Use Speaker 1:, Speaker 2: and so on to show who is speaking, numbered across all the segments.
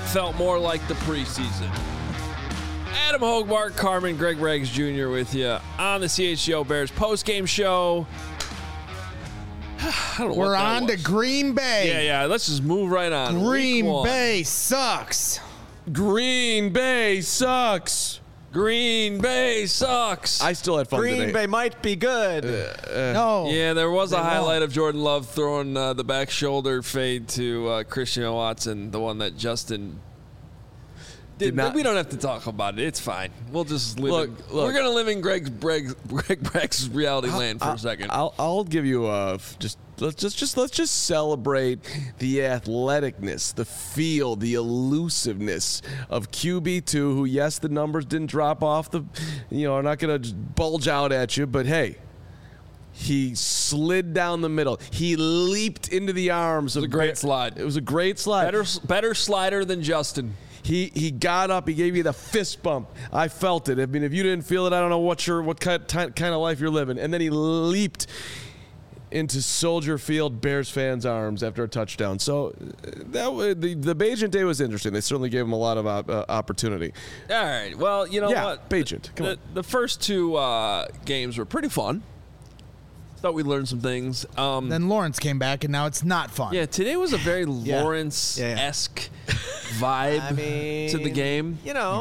Speaker 1: felt more like the preseason. Adam Hogbark, Carmen, Greg Reggs Jr. with you on the CHGO Bears postgame show. I don't know
Speaker 2: We're on to Green Bay.
Speaker 1: Yeah. Let's just move right on.
Speaker 2: Green Bay sucks.
Speaker 1: Green Bay sucks. Green Bay sucks.
Speaker 3: I still had fun today.
Speaker 4: Green Bay might be good.
Speaker 2: No.
Speaker 1: Yeah, there was a highlight of Jordan Love throwing the back shoulder fade to Christian Watson, the one that Justin did not. We don't have to talk about it. It's fine. We'll just live. We're gonna live in Greg Breck's reality land for a second.
Speaker 3: I'll give you let's just celebrate the athleticness, the feel, the elusiveness of QB2. Who, yes, the numbers didn't drop off are not gonna bulge out at you, but hey. He slid down the middle. He leaped into the arms of.
Speaker 1: It was a great slide.
Speaker 3: It was a great slide.
Speaker 1: Better slider than Justin.
Speaker 3: He got up. He gave you the fist bump. I felt it. I mean, if you didn't feel it, I don't know what kind of life you're living. And then he leaped into Soldier Field Bears fans' arms after a touchdown. So the Bagent day was interesting. They certainly gave him a lot of opportunity.
Speaker 1: All right. Well, you know what?
Speaker 3: Bagent. Come on.
Speaker 1: The first two games were pretty fun. Thought we learned some things.
Speaker 2: Then Lawrence came back, and now it's not fun.
Speaker 1: Yeah, today was a very Lawrence-esque vibe to the game.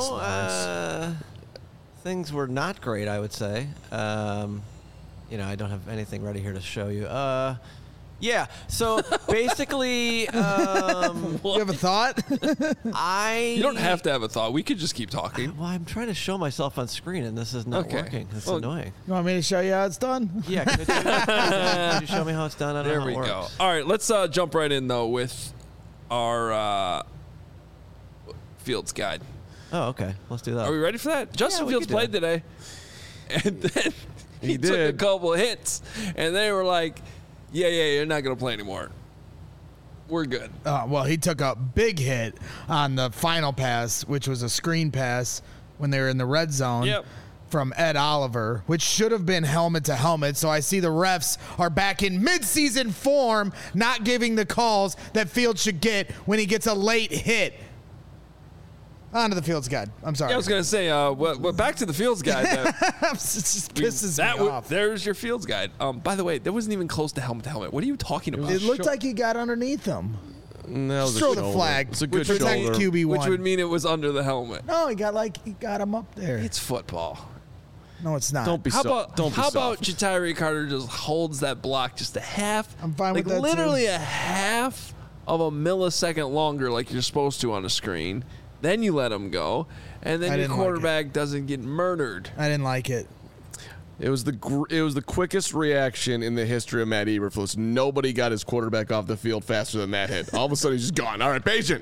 Speaker 4: Things were not great, I would say. I don't have anything ready here to show you. So basically,
Speaker 2: you have a thought?
Speaker 1: You don't have to have a thought. We could just keep talking.
Speaker 4: I'm trying to show myself on screen, and this is not working. It's annoying.
Speaker 2: You want me to show you how it's done?
Speaker 4: Yeah, could you show me how it's done? I don't know how it works.
Speaker 1: There we go. All right, let's jump right in, though, with our Fields guide.
Speaker 4: Oh, okay. Let's do that.
Speaker 1: Are we ready for that? Justin Fields played today, and then he took a couple of hits, and they were like, yeah, you're not going to play anymore. We're good.
Speaker 2: Well, he took a big hit on the final pass, which was a screen pass when they were in the red zone from Ed Oliver, which should have been helmet to helmet. So I see the refs are back in midseason form, not giving the calls that Fields should get when he gets a late hit. On to the Fields guide. I'm sorry.
Speaker 1: Yeah, I was going to say, back to the Fields guide.
Speaker 2: It just pisses me off.
Speaker 1: There's your Fields guide. By the way, that wasn't even close to helmet to helmet. What are you talking about?
Speaker 2: It looked like he got underneath him.
Speaker 3: No,
Speaker 2: just throw the flag.
Speaker 3: It's a good
Speaker 2: protect
Speaker 3: shoulder.
Speaker 2: QB1.
Speaker 1: Which would mean it was under the helmet.
Speaker 2: No, he got him up there.
Speaker 1: It's football.
Speaker 2: No, it's not.
Speaker 3: Don't be soft.
Speaker 1: How about Ja'Tyre Carter just holds that block just a half?
Speaker 2: I'm fine with that,
Speaker 1: literally
Speaker 2: too.
Speaker 1: a half of a millisecond longer like you're supposed to on a screen. Then you let him go, and then your quarterback doesn't get murdered.
Speaker 2: I didn't like it.
Speaker 3: It was the quickest reaction in the history of Matt Eberflus. Nobody got his quarterback off the field faster than that hit. All of a sudden, he's just gone. All right, Bagent.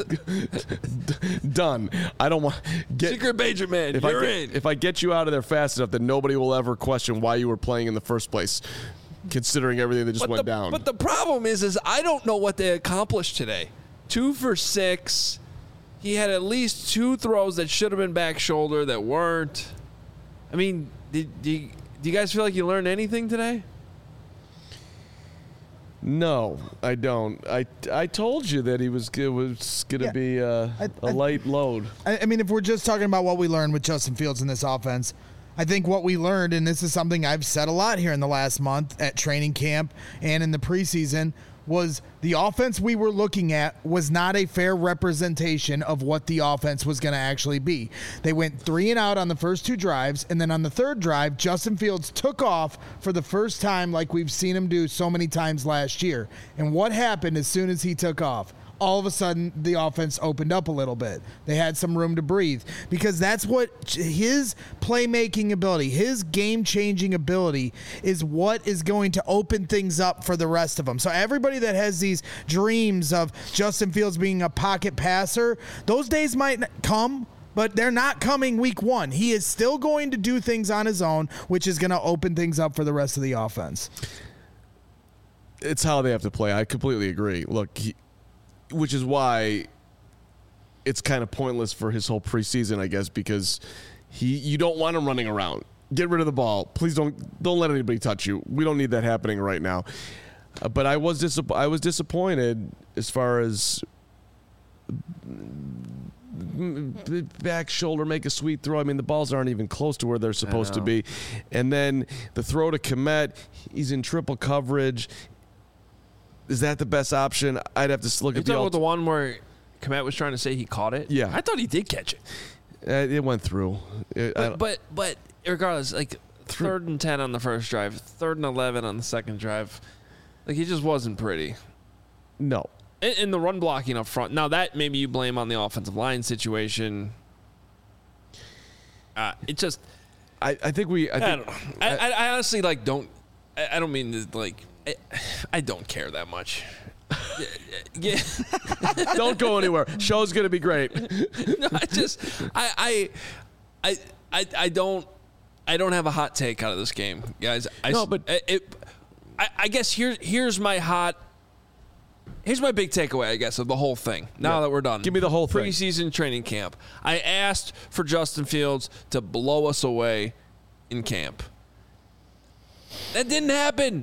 Speaker 3: Done. I don't want
Speaker 1: Secret Bagent man. You're in.
Speaker 3: If I get you out of there fast enough, then nobody will ever question why you were playing in the first place, considering everything that just went down.
Speaker 1: But the problem is I don't know what they accomplished today. 2 for 6. He had at least 2 throws that should have been back shoulder that weren't. I mean, do you guys feel like you learned anything today?
Speaker 3: No, I don't. I told you that it was going to be a light load.
Speaker 2: I mean, if we're just talking about what we learned with Justin Fields in this offense, I think what we learned, and this is something I've said a lot here in the last month at training camp and in the preseason, was the offense we were looking at was not a fair representation of what the offense was going to actually be. They went 3 and out on the first 2 drives, and then on the third drive, Justin Fields took off for the first time like we've seen him do so many times last year. And what happened as soon as he took off? All of a sudden, the offense opened up a little bit. They had some room to breathe because that's what his playmaking ability, his game-changing ability is what is going to open things up for the rest of them. So everybody that has these dreams of Justin Fields being a pocket passer, those days might come, but they're not coming week 1. He is still going to do things on his own, which is going to open things up for the rest of the offense.
Speaker 3: It's how they have to play. I completely agree. Look, which is why it's kind of pointless for his whole preseason, I guess, because you don't want him running around. Get rid of the ball. Please don't let anybody touch you. We don't need that happening right now. But I was disappointed as far as back shoulder, make a sweet throw. I mean, the balls aren't even close to where they're supposed to be. And then the throw to Kmet, he's in triple coverage. Is that the best option? I'd have to look at
Speaker 1: the one where Kmet was trying to say he caught it.
Speaker 3: Yeah,
Speaker 1: I thought he did catch it.
Speaker 3: It went through.
Speaker 1: But regardless, like 3rd and 10 on the first drive, 3rd and 11 on the second drive, like he just wasn't pretty.
Speaker 3: No.
Speaker 1: In the run blocking up front. Now that maybe you blame on the offensive line situation. It just.
Speaker 3: I think we. I
Speaker 1: don't know. I honestly don't. I don't mean to like. I don't care that much. Yeah.
Speaker 3: Don't go anywhere. Show's gonna be great.
Speaker 1: No, I don't have a hot take out of this game, guys. I guess here's my big takeaway, I guess, of the whole thing. Now that we're done,
Speaker 3: give me the whole thing.
Speaker 1: Preseason training camp. I asked for Justin Fields to blow us away in camp. That didn't happen.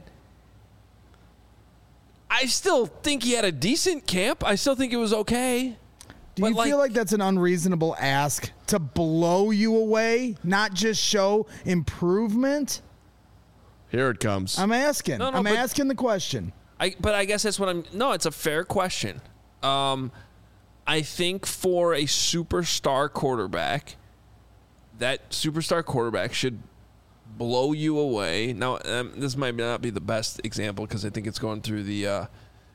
Speaker 1: I still think he had a decent camp. I still think it was okay.
Speaker 2: Do you feel like that's an unreasonable ask to blow you away, not just show improvement?
Speaker 3: Here it comes.
Speaker 2: I'm asking. I'm asking the question.
Speaker 1: But I guess that's what I'm. No, it's a fair question. I think for a superstar quarterback, that superstar quarterback should blow you away. Now, this might not be the best example because I think it's going through the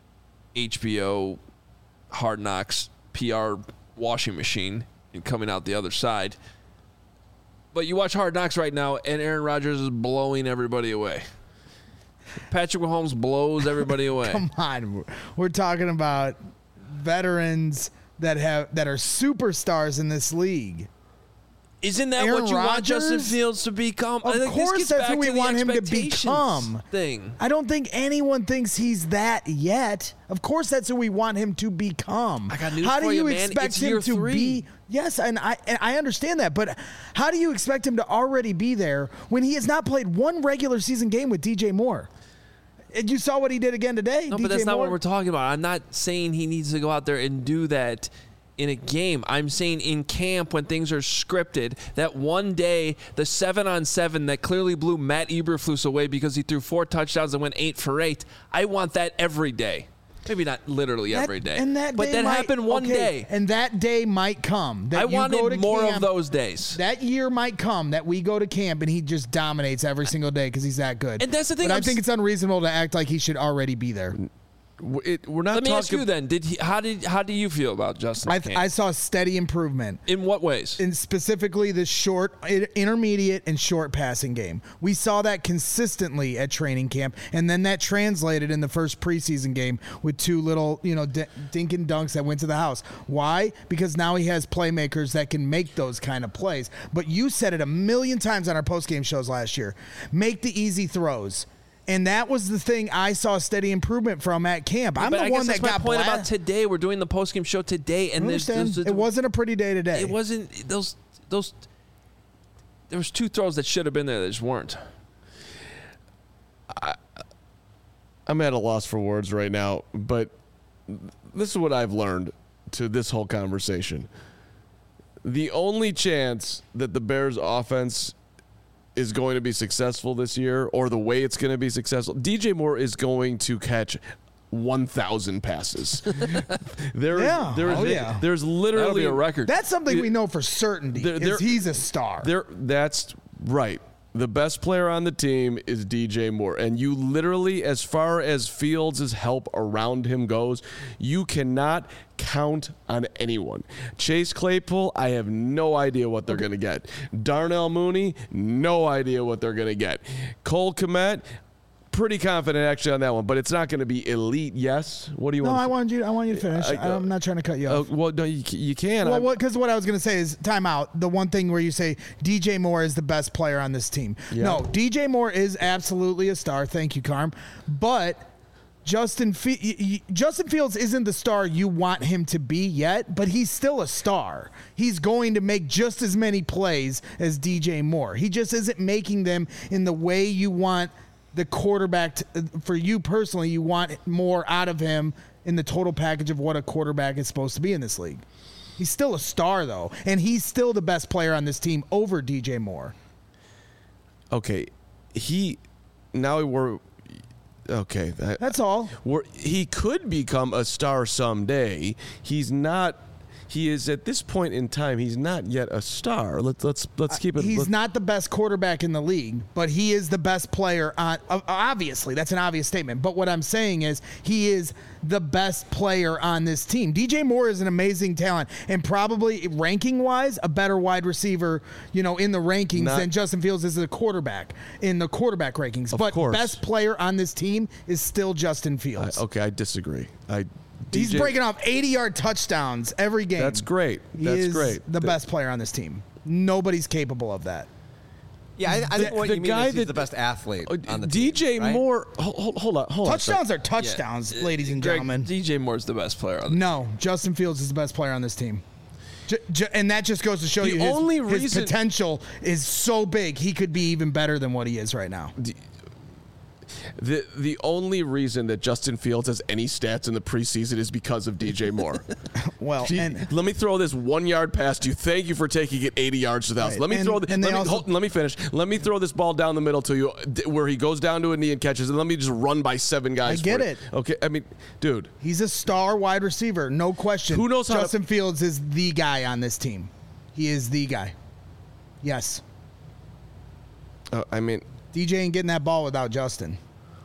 Speaker 1: HBO Hard Knocks PR washing machine and coming out the other side. But you watch Hard Knocks right now, and Aaron Rodgers is blowing everybody away. Patrick Mahomes blows everybody away.
Speaker 2: Come on, we're talking about veterans that are superstars in this league.
Speaker 1: Isn't that
Speaker 2: Aaron
Speaker 1: what you want
Speaker 2: Rodgers?
Speaker 1: Justin Fields to become?
Speaker 2: Of course, that's what we want him to become.
Speaker 1: Thing.
Speaker 2: I don't think anyone thinks he's that yet. Of course, that's who we want him to become.
Speaker 1: I got news
Speaker 2: how do
Speaker 1: for
Speaker 2: you
Speaker 1: you, man.
Speaker 2: expect
Speaker 1: It's
Speaker 2: him
Speaker 1: year
Speaker 2: to
Speaker 1: 3.
Speaker 2: be? Yes, and I understand that, but how do you expect him to already be there when he has not played one regular season game with DJ Moore? And you saw what he did again today.
Speaker 1: No,
Speaker 2: DJ
Speaker 1: but that's not
Speaker 2: Moore.
Speaker 1: what we're talking about. I'm not saying he needs to go out there and do that in a game. I'm saying in camp when things are scripted, that one day, the 7-on-7 that clearly blew Matt Eberflus away because he threw 4 touchdowns and went 8 for 8. I want that every day. Maybe not literally every day. But that happened one day.
Speaker 2: And that day might come.
Speaker 1: I wanted more of those days.
Speaker 2: That year might come that we go to camp and he just dominates every single day because he's that good.
Speaker 1: And that's the thing.
Speaker 2: But I think it's unreasonable to act like he should already be there.
Speaker 3: We're not.
Speaker 1: Let me ask you then. How do you feel about Justin?
Speaker 2: I saw steady improvement.
Speaker 1: In what ways?
Speaker 2: In specifically the short, intermediate, and short passing game. We saw that consistently at training camp, and then that translated in the first preseason game with 2 little, dink and dunks that went to the house. Why? Because now he has playmakers that can make those kind of plays. But you said it a million times on our postgame shows last year. Make the easy throws. And that was the thing I saw steady improvement from at camp. I'm the one that got
Speaker 1: my point about today. We're doing the postgame show today, and
Speaker 2: it wasn't a pretty day today.
Speaker 1: It wasn't those. There was 2 throws that should have been there that just weren't.
Speaker 3: I'm at a loss for words right now, but this is what I've learned to this whole conversation. The only chance that the Bears offense is going to be successful this year, or the way it's going to be successful, DJ Moore is going to catch 1,000 passes. There's literally
Speaker 1: that'll be a record.
Speaker 2: That's something we know for certainty. He's a star.
Speaker 3: That's right. The best player on the team is DJ Moore. And you literally, as far as Fields' help around him goes, you cannot count on anyone. Chase Claypool, I have no idea what they're going to get. Darnell Mooney, no idea what they're going to get. Cole Kmet, pretty confident actually on that one, but it's not going to be elite. Yes. What do you want?
Speaker 2: No, I want you to finish. I'm not trying to cut you off.
Speaker 3: Well, no, you can.
Speaker 2: Well, because what I was going to say is time out. The one thing where you say DJ Moore is the best player on this team. Yeah. No, DJ Moore is absolutely a star. Thank you, Carm. But Justin Fields isn't the star you want him to be yet, but he's still a star. He's going to make just as many plays as DJ Moore. He just isn't making them in the way you want the quarterback for you personally. You want more out of him in the total package of what a quarterback is supposed to be in this league. He's still a star, though, and he's still the best player on this team over DJ Moore.
Speaker 3: Okay, that's
Speaker 2: all.
Speaker 3: He could become a star someday. He's not. He is at this point in time. He's not yet a star. Let's keep it.
Speaker 2: He's not the best quarterback in the league, but he is the best player on. Obviously, that's an obvious statement. But what I'm saying is, he is the best player on this team. DJ Moore is an amazing talent, and probably ranking-wise, a better wide receiver, in the rankings than Justin Fields is a quarterback in the quarterback rankings. But best player on this team is still Justin Fields.
Speaker 3: I disagree.
Speaker 2: He's breaking off 80-yard touchdowns every game.
Speaker 3: That's great.
Speaker 2: He is the best player on this team. Nobody's capable of that.
Speaker 4: Yeah, I think what you mean is he's the best athlete on the team.
Speaker 3: DJ Moore, hold on.
Speaker 2: Touchdowns are touchdowns, ladies and gentlemen.
Speaker 1: DJ Moore's the best player on the team.
Speaker 2: No, Justin Fields is the best player on this team. And that just goes to show you his potential is so big, he could be even better than what he is right now.
Speaker 3: The only reason that Justin Fields has any stats in the preseason is because of DJ Moore.
Speaker 2: Well,
Speaker 3: let me throw this 1 yard past you. Thank you for taking it 80 yards to the house. Let me finish. Let me throw this ball down the middle to you where he goes down to a knee and catches, and let me just run by 7 guys.
Speaker 2: I get it.
Speaker 3: Okay, I mean, dude.
Speaker 2: He's a star wide receiver, no question.
Speaker 3: Who knows how
Speaker 2: Justin Fields is the guy on this team. He is the guy. Yes.
Speaker 3: I mean,
Speaker 2: DJ ain't getting that ball without Justin.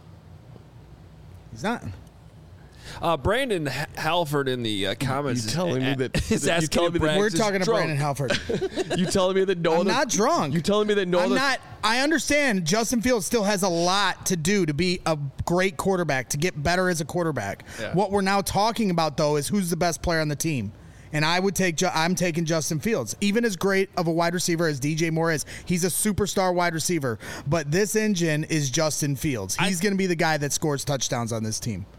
Speaker 2: He's not.
Speaker 1: Brandon Halford in the comments
Speaker 3: you telling me that
Speaker 1: is asking
Speaker 2: we're talking to Brandon Halford.
Speaker 3: You telling me that
Speaker 2: I'm not drunk.
Speaker 3: You telling me that
Speaker 2: I'm not. I understand Justin Fields still has a lot to do to be a great quarterback, to get better as a quarterback.
Speaker 1: Yeah.
Speaker 2: What we're now talking about, though, is who's the best player on the team. And I'm taking Justin Fields. Even as great of a wide receiver as DJ Moore is, he's a superstar wide receiver. But this engine is Justin Fields. He's going to be the guy that scores touchdowns on this team.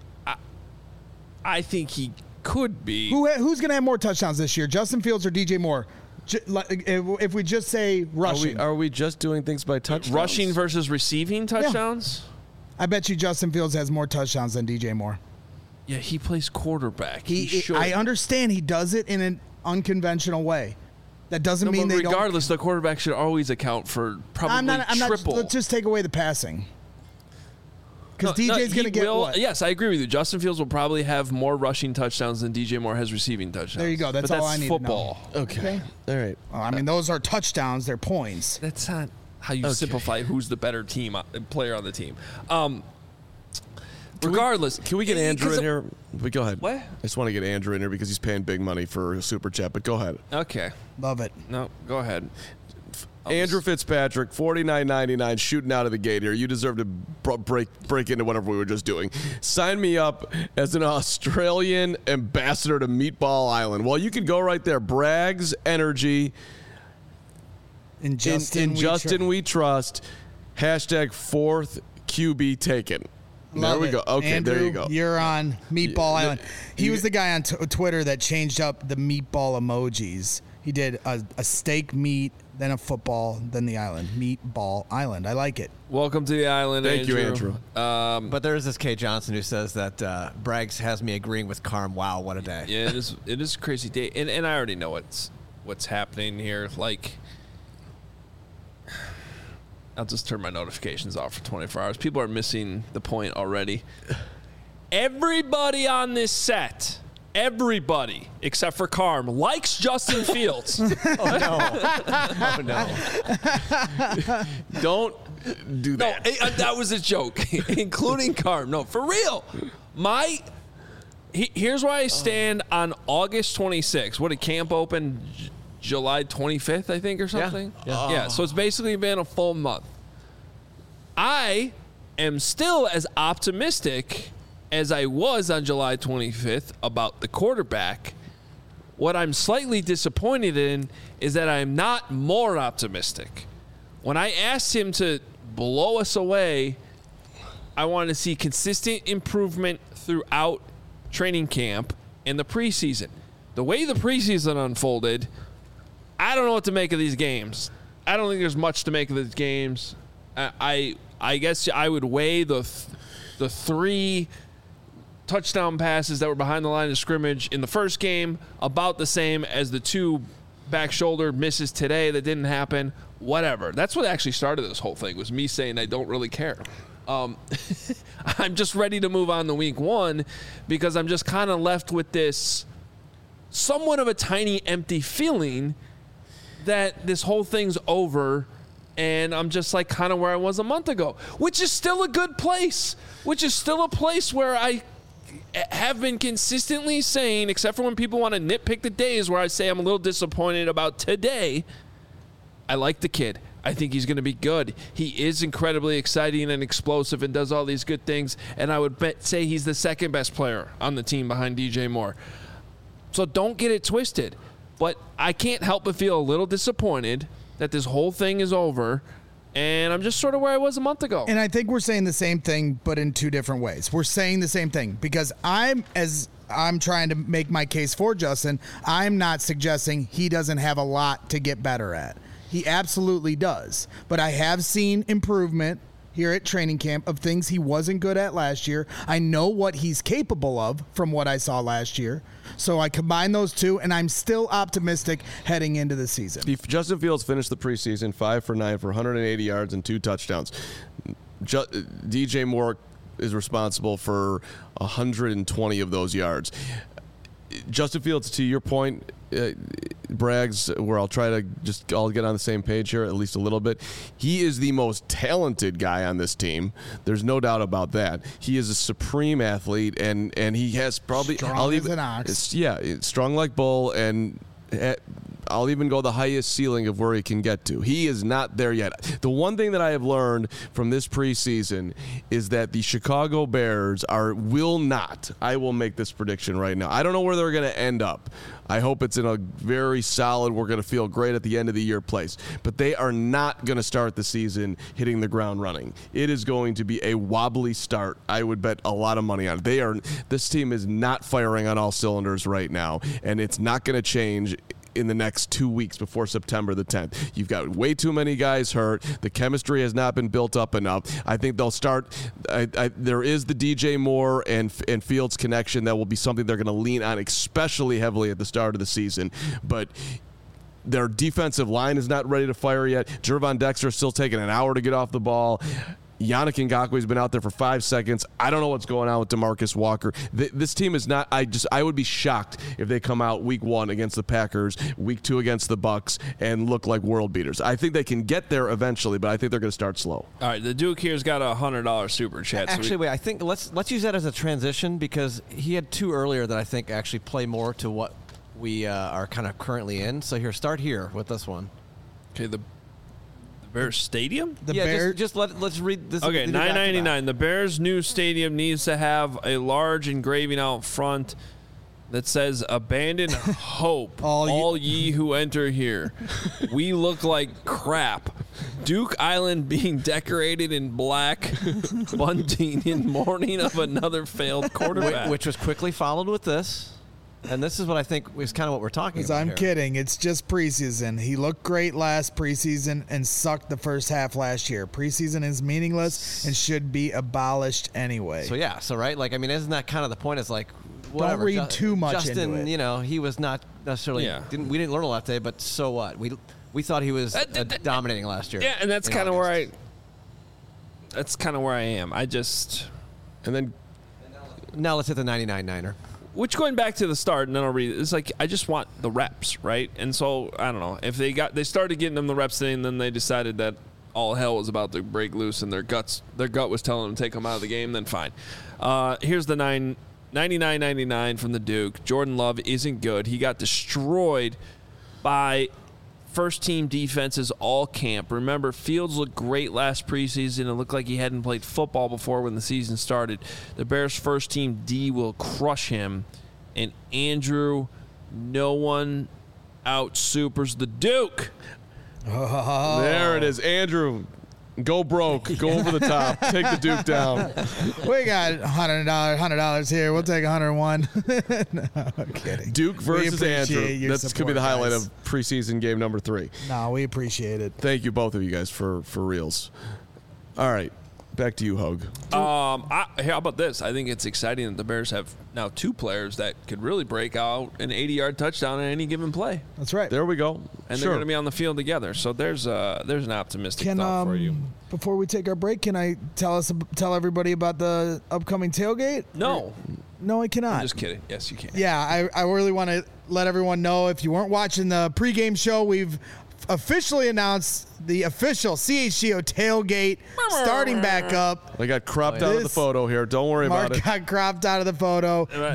Speaker 1: I think he could be.
Speaker 2: Who's going to have more touchdowns this year, Justin Fields or DJ Moore? If we just say rushing.
Speaker 3: Are we just doing things by touchdowns?
Speaker 1: Rushing versus receiving touchdowns?
Speaker 2: Yeah. I bet you Justin Fields has more touchdowns than DJ Moore.
Speaker 1: Yeah, he plays quarterback.
Speaker 2: I understand he does it in an unconventional way. That doesn't mean they don't.
Speaker 1: Regardless, the quarterback should always account for probably triple.
Speaker 2: Let's just take away the passing. Because DJ's going to get what?
Speaker 1: Yes, I agree with you. Justin Fields will probably have more rushing touchdowns than DJ Moore has receiving touchdowns.
Speaker 2: There you go. That's all I need
Speaker 1: football.
Speaker 2: to know.
Speaker 3: Okay. All right.
Speaker 2: Well, I mean, those are touchdowns. They're points.
Speaker 1: That's not how you simplify who's the better player on the team. Regardless,
Speaker 3: can we get Andrew in here? Go ahead.
Speaker 1: What?
Speaker 3: I just want to get Andrew in here because he's paying big money for a super chat. But go ahead.
Speaker 1: Okay.
Speaker 2: Love it.
Speaker 1: No, go ahead.
Speaker 3: Andrew Fitzpatrick, $49.99, shooting out of the gate here. You deserve to break into whatever we were just doing. Sign me up as an Australian ambassador to Meatball Island. Well, you can go right there. Bragg's Energy.
Speaker 2: In Justin,
Speaker 3: we trust. Hashtag 4th QB taken.
Speaker 2: Love
Speaker 3: there we go. Okay,
Speaker 2: Andrew,
Speaker 3: there you go.
Speaker 2: You're on Meatball Island. He was the guy on Twitter that changed up the meatball emojis. He did a steak meat, then a football, then the island. Meatball Island. I like it.
Speaker 1: Welcome to the island,
Speaker 3: Thank you, Andrew.
Speaker 4: But there is this Kay Johnson who says that Braggs has me agreeing with Carm. Wow, what a day.
Speaker 1: Yeah, it is a crazy day. And I already know what's happening here. Like, I'll just turn my notifications off for 24 hours. People are missing the point already. Everybody on this set, everybody except for Carm, likes Justin Fields.
Speaker 4: Oh, no.
Speaker 3: Don't do that.
Speaker 1: No, that was a joke, including Carm. No, for real. Here's where I stand on August 26th. What did camp open? July 25th, I think, or something? Yeah, so it's basically been a full month. I am still as optimistic as I was on July 25th about the quarterback. What I'm slightly disappointed in is that I'm not more optimistic. When I asked him to blow us away, I wanted to see consistent improvement throughout training camp and the preseason. The way the preseason unfolded, I don't know what to make of these games. I don't think there's much to make of these games. I guess I would weigh the 3 touchdown passes that were behind the line of scrimmage in the first game, about the same as the 2 back shoulder misses today that didn't happen. Whatever. That's what actually started this whole thing, was me saying I don't really care. I'm just ready to move on to week 1 because I'm just kind of left with this somewhat of a tiny empty feeling that this whole thing's over, and I'm just like kind of where I was a month ago, which is still a good place, which is still a place where I have been consistently saying, except for when people want to nitpick the days where I say I'm a little disappointed about today, I like the kid. I think he's going to be good. He is incredibly exciting and explosive and does all these good things, and I would say he's the second best player on the team behind DJ Moore. So don't get it twisted. But I can't help but feel a little disappointed that this whole thing is over, and I'm just sort of where I was a month ago.
Speaker 2: And I think we're saying the same thing, but in 2 different ways. We're saying the same thing because I'm trying to make my case for Justin. I'm not suggesting he doesn't have a lot to get better at. He absolutely does. But I have seen improvement here at training camp of things he wasn't good at last year. I know what he's capable of from what I saw last year. So I combine those 2, and I'm still optimistic heading into the season.
Speaker 3: Justin Fields finished the preseason 5 for 9 for 180 yards and 2 touchdowns. DJ Moore is responsible for 120 of those yards. Justin Fields, to your point, brags, where I'll try to just all get on the same page here at least a little bit. He is the most talented guy on this team. There's no doubt about that. He is a supreme athlete, and he has probably
Speaker 2: strong as an ox.
Speaker 3: Yeah, strong like bull, and I'll even go the highest ceiling of where he can get to. He is not there yet. The one thing that I have learned from this preseason is that the Chicago Bears will not. I will make this prediction right now. I don't know where they're going to end up. I hope it's in a very solid, we're going to feel great at the end of the year place. But they are not going to start the season hitting the ground running. It is going to be a wobbly start. I would bet a lot of money on it. This team is not firing on all cylinders right now, and it's not going to change in the next 2 weeks before September the 10th. You've got way too many guys hurt. The chemistry has not been built up enough. I think they'll start. There is the DJ Moore and Fields connection that will be something they're going to lean on, especially heavily at the start of the season. But their defensive line is not ready to fire yet. Gervon Dexter is still taking an hour to get off the ball. Yannick Ngakoue's been out there for 5 seconds. I don't know what's going on with DeMarcus Walker. This team is not. I would be shocked if they come out week 1 against the Packers, week 2 against the Bucks, and look like world beaters. I think they can get there eventually, but I think they're going to start slow.
Speaker 1: All right, the Duke here's got a $100 super chat.
Speaker 4: Actually, wait. I think let's use that as a transition because he had 2 earlier that I think actually play more to what we are kind of currently in. So start here with this one.
Speaker 1: Okay, the Bears Stadium?
Speaker 4: Let's read this.
Speaker 1: Okay, $9.99. The Bears' new stadium needs to have a large engraving out front that says, "Abandon hope, all ye who enter here. We look like crap. Duke Island being decorated in black, bunting in mourning of another failed quarterback."
Speaker 4: Which was quickly followed with this. And this is what I think is kind of what we're talking about.
Speaker 2: I'm kidding. It's just preseason. He looked great last preseason and sucked the first half last year. Preseason is meaningless and should be abolished anyway.
Speaker 4: So, right? Like, I mean, isn't that kind of the point? It's like, whatever.
Speaker 2: Don't read too much
Speaker 4: Justin,
Speaker 2: into it.
Speaker 4: He was not necessarily, we didn't learn a lot today, but so what? We thought he was dominating last year.
Speaker 1: Yeah, and that's kind of where that's kind of where I am. And then.
Speaker 4: Now let's hit the 99-9er.
Speaker 1: Which, going back to the start, and then I'll read it, it's like I just want the reps, right? And so, I don't know. If they started getting them the reps today, and then they decided that all hell was about to break loose and their gut was telling them to take them out of the game, then fine. Here's the 99.99 from the Duke. Jordan Love isn't good. He got destroyed by first-team defenses all camp. Remember, Fields looked great last preseason. It looked like he hadn't played football before when the season started. The Bears' first-team D will crush him. And Andrew, no one out-supers the Duke.
Speaker 3: Oh. There it is. Andrew, go broke. Go over the top. Take the Duke down.
Speaker 2: We got $100 here. We'll take 101. No, I'm kidding.
Speaker 3: Duke versus Andrew. That could be the highlight of preseason game number 3.
Speaker 2: No, we appreciate it.
Speaker 3: Thank you, both of you guys, for reals. All right. Back to you, Hogue.
Speaker 1: How about this? I think it's exciting that the Bears have now 2 players that could really break out an 80-yard touchdown in any given play.
Speaker 2: That's right.
Speaker 3: There we go.
Speaker 1: And they're going to be on the field together. So there's an optimistic thought for you.
Speaker 2: Before we take our break, can I tell everybody about the upcoming tailgate?
Speaker 1: No.
Speaker 2: No, I cannot.
Speaker 1: I'm just kidding. Yes, you can.
Speaker 2: Yeah, I really want to let everyone know, if you weren't watching the pregame show, we've officially announced the official CHGO tailgate starting back up.
Speaker 3: I got cropped out of the photo here. Don't worry about it.
Speaker 2: Mark got cropped out of the photo.
Speaker 1: Right.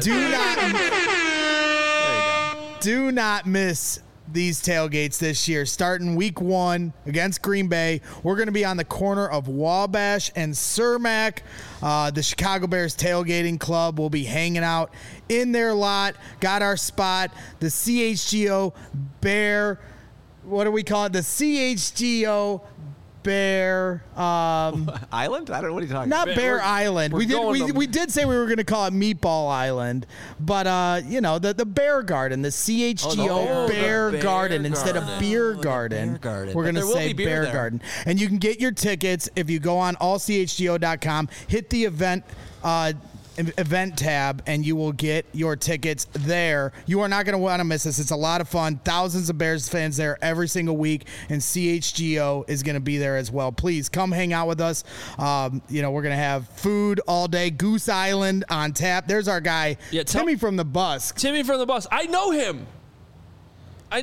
Speaker 2: Do not miss these tailgates this year. Starting week 1 against Green Bay, we're going to be on the corner of Wabash and Cermak. The Chicago Bears Tailgating Club will be hanging out in their lot. Got our spot. The CHGO Bear. What do we call it? The CHGO Bear
Speaker 4: Island? I don't know what are you talking about.
Speaker 2: Not Bear Island. We did say we were going to call it Meatball Island, but the Bear Garden, the CHGO Bear Garden instead of Beer Garden. We're going to say Bear Garden. And you can get your tickets if you go on allchgo.com, hit the event tab, and you will get your tickets there. You are not going to want to miss this. It's a lot of fun. Thousands of Bears fans there every single week, and CHGO is going to be there as well. Please come hang out with us. We're going to have food all day. Goose Island on tap. There's our guy, Timmy from the bus.
Speaker 1: Timmy from the bus. I know him.
Speaker 3: I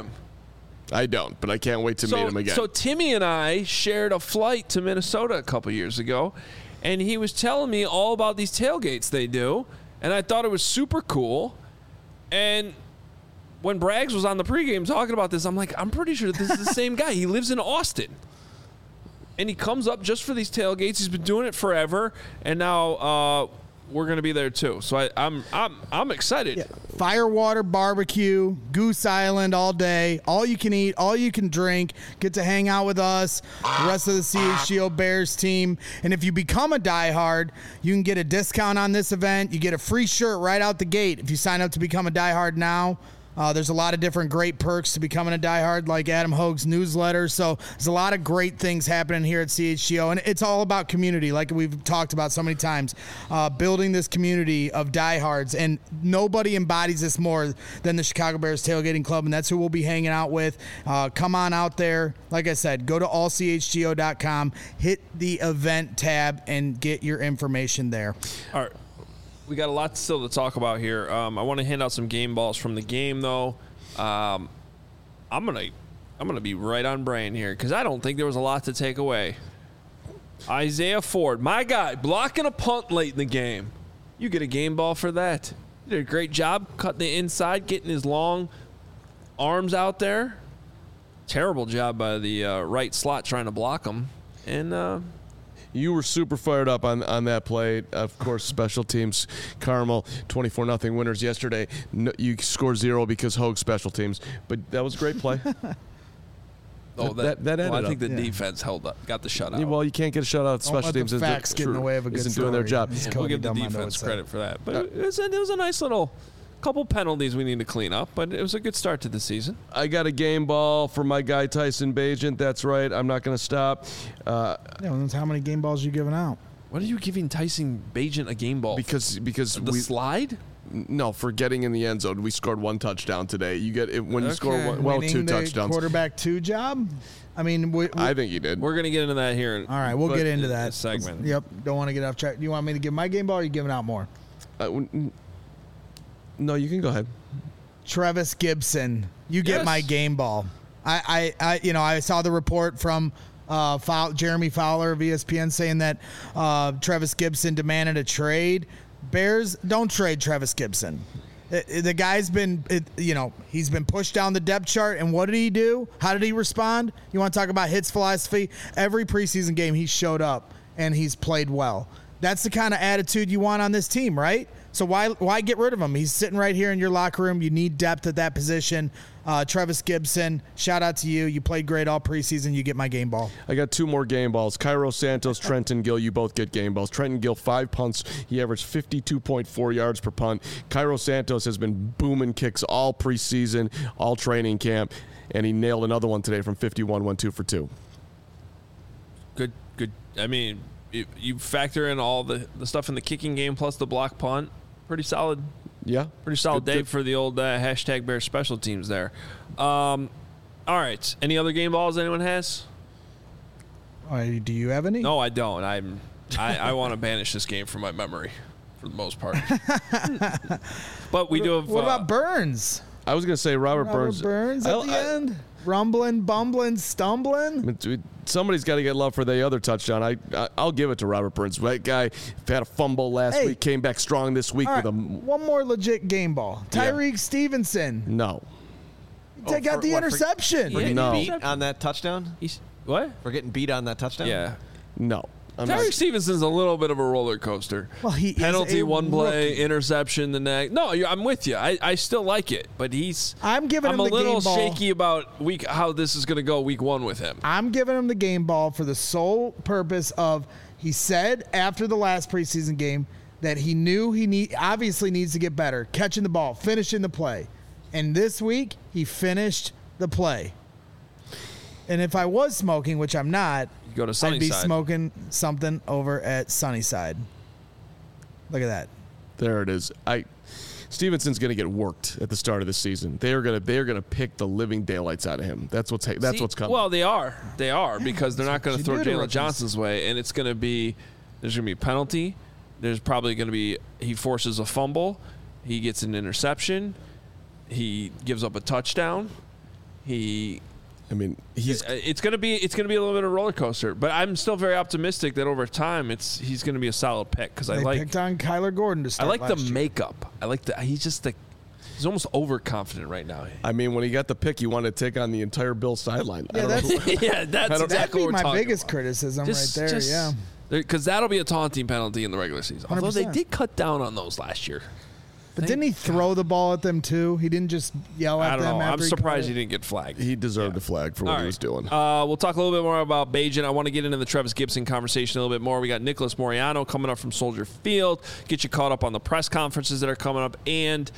Speaker 3: don't, but I can't wait to meet him again.
Speaker 1: So Timmy and I shared a flight to Minnesota a couple years ago, and he was telling me all about these tailgates they do, and I thought it was super cool. And when Braggs was on the pregame talking about this, I'm like, I'm pretty sure this is the same guy. He lives in Austin. And he comes up just for these tailgates. He's been doing it forever, and now we're going to be there too. So I'm excited.
Speaker 2: Yeah. Firewater barbecue, Goose Island all day. All you can eat, all you can drink. Get to hang out with us, the rest of the CHGO Bears team. And if you become a diehard, you can get a discount on this event. You get a free shirt right out the gate if you sign up to become a diehard now. There's a lot of different great perks to becoming a diehard, like Adam Hogue's newsletter. So there's a lot of great things happening here at CHGO, and it's all about community, like we've talked about so many times. Building this community of diehards, and nobody embodies this more than the Chicago Bears Tailgating Club, and that's who we'll be hanging out with. Come on out there. Like I said, go to allchgo.com, hit the event tab, and get your information there.
Speaker 1: All right. We got a lot still to talk about here. I want to hand out some game balls from the game, though. I'm gonna be right on brain here because I don't think there was a lot to take away. Isaiah Ford, my guy, blocking a punt late in the game. You get a game ball for that. You did a great job cutting the inside, getting his long arms out there. Terrible job by the right slot trying to block him. And
Speaker 3: you were super fired up on that play. Of course, special teams, Carmel, 24-0 winners yesterday. No, you scored 0 because Hogue special teams, but that was a great play.
Speaker 1: I think the defense held up, got the shutout.
Speaker 3: Yeah, well, you can't get a shutout. Special teams
Speaker 2: get in the way of a good
Speaker 3: isn't doing their job.
Speaker 1: We'll give the defense credit for that. But it was a nice little couple penalties we need to clean up, but it was a good start to the season.
Speaker 3: I got a game ball for my guy Tyson Bagent. That's right. I'm not going to stop.
Speaker 2: That's how many game balls you giving out?
Speaker 1: What are you giving Tyson Bagent a game ball?
Speaker 3: Because
Speaker 1: the slide?
Speaker 3: No, for getting in the end zone. We scored 1 touchdown today. You get it when you score 2 touchdowns.
Speaker 2: Quarterback 2 job. I mean,
Speaker 3: I think he did.
Speaker 1: We're going to get into that here.
Speaker 2: All right, we'll get into that
Speaker 1: segment.
Speaker 2: Yep. Don't want to get off track. Do you want me to give my game ball, or are you giving out more?
Speaker 3: No, you can go ahead.
Speaker 2: Travis Gibson, you get my game ball. I saw the report from Jeremy Fowler of ESPN saying that Travis Gibson demanded a trade. Bears, don't trade Travis Gibson. The guy's been, he's been pushed down the depth chart, and what did he do? How did he respond? You want to talk about hits philosophy? Every preseason game he showed up, and he's played well. That's the kind of attitude you want on this team, right? So why get rid of him? He's sitting right here in your locker room. You need depth at that position. Travis Gibson, shout out to you. You played great all preseason. You get my game ball.
Speaker 3: I got 2 more game balls. Cairo Santos, Trenton Gill, you both get game balls. Trenton Gill, 5 punts. He averaged 52.4 yards per punt. Cairo Santos has been booming kicks all preseason, all training camp, and he nailed another one today from 51, went 2 for 2.
Speaker 1: Good. I mean, you factor in all the stuff in the kicking game plus the block punt. Pretty solid.
Speaker 3: Yeah.
Speaker 1: Pretty solid day for the old hashtag Bears special teams there. All right. Any other game balls anyone has?
Speaker 2: Do you have any?
Speaker 1: No, I don't. I want to banish this game from my memory for the most part. But we do have.
Speaker 2: What about Burns?
Speaker 3: I was going to say Robert Burns.
Speaker 2: At the end? Rumbling, bumbling, stumbling?
Speaker 3: Somebody's got to get love for the other touchdown. I'll give it to Robert Burns. That guy had a fumble last week, came back strong this week with a...
Speaker 2: One more legit game ball. Tyreek Stevenson.
Speaker 3: No.
Speaker 2: Got the interception.
Speaker 4: For getting beat on that touchdown?
Speaker 1: What?
Speaker 4: For getting beat on that touchdown?
Speaker 1: Yeah.
Speaker 3: No.
Speaker 1: Tyreek Stevenson's a little bit of a roller coaster.
Speaker 2: Well, he
Speaker 1: penalty
Speaker 2: is a
Speaker 1: one play,
Speaker 2: rookie.
Speaker 1: Interception the next. No, I'm with you. I still like it, but
Speaker 2: I'm giving him the game ball.
Speaker 1: I'm a little shaky about how this is going to go week 1 with him.
Speaker 2: I'm giving him the game ball for the sole purpose of he said after the last preseason game that he knew obviously needs to get better, catching the ball, finishing the play, and this week he finished the play. And if I was smoking, which I'm not,
Speaker 1: go to Sunnyside.
Speaker 2: I'd be smoking something over at Sunnyside. Look at that.
Speaker 3: There it is. Stevenson's going to get worked at the start of the season. They are going to pick the living daylights out of him. That's what's coming.
Speaker 1: Well, they are because they're not going to throw Jalen Johnson's way, and there's going to be a penalty. There's probably going to be he forces a fumble, he gets an interception, he gives up a touchdown, it's going to be a little bit of a roller coaster, but I'm still very optimistic that over time he's going to be a solid pick because I
Speaker 2: picked on Kyler Gordon to start.
Speaker 1: I like the makeup. I like he's almost overconfident right now.
Speaker 3: I mean, when he got the pick, he wanted to take on the entire Bills sideline.
Speaker 2: Yeah, that's
Speaker 1: exactly what we're
Speaker 2: my biggest
Speaker 1: about.
Speaker 2: criticism right there. Yeah,
Speaker 1: because that'll be a taunting penalty in the regular season. 100%. Although they did cut down on those last year.
Speaker 2: But didn't he throw the ball at them too? He didn't just yell at them.
Speaker 1: I'm surprised he didn't get flagged.
Speaker 3: He deserved a flag for what he was doing.
Speaker 1: We'll talk a little bit more about Bagent. I want to get into the Travis Gibson conversation a little bit more. We got Nicholas Moriano coming up from Soldier Field. Get you caught up on the press conferences that are coming up, and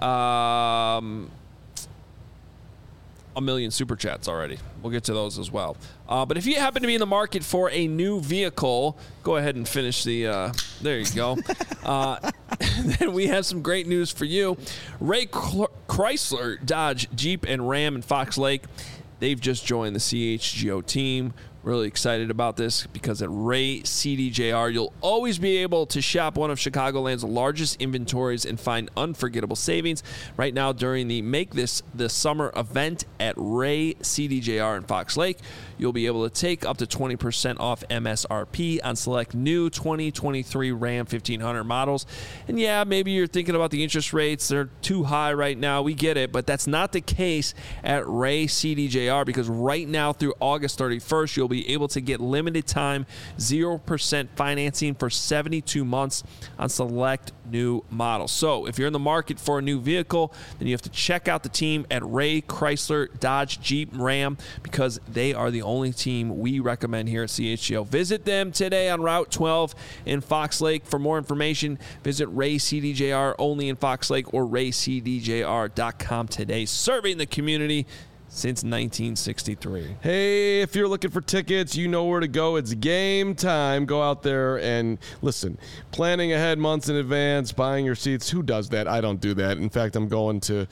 Speaker 1: a million super chats already. We'll get to those as well. But if you happen to be in the market for a new vehicle, go ahead and finish the. There you go. Then we have some great news for you. Ray Chrysler, Dodge, Jeep, and Ram in Fox Lake. They've just joined the CHGO team. Really excited about this because at Ray CDJR, you'll always be able to shop one of Chicagoland's largest inventories and find unforgettable savings. Right now, during the Make This the Summer event at Ray CDJR in Fox Lake, you'll be able to take up to 20% off MSRP on select new 2023 Ram 1500 models. And yeah, maybe you're thinking about the interest rates. They're too high right now. We get it, but that's not the case at Ray CDJR because right now through August 31st, you'll be able to get limited time 0% financing for 72 months on select new models. So if you're in the market for a new vehicle, then you have to check out the team at Ray Chrysler, Dodge, Jeep, Ram because they are the only team we recommend here at CHGO. Visit them today on Route 12 in Fox Lake. For more information, visit Ray CDJR only in Fox Lake or raycdjr.com today. Serving the community since 1963.
Speaker 3: Hey, if you're looking for tickets, you know where to go. It's game time. Go out there and listen. Planning ahead months in advance, buying your seats. Who does that? I don't do that. In fact, I'm going to,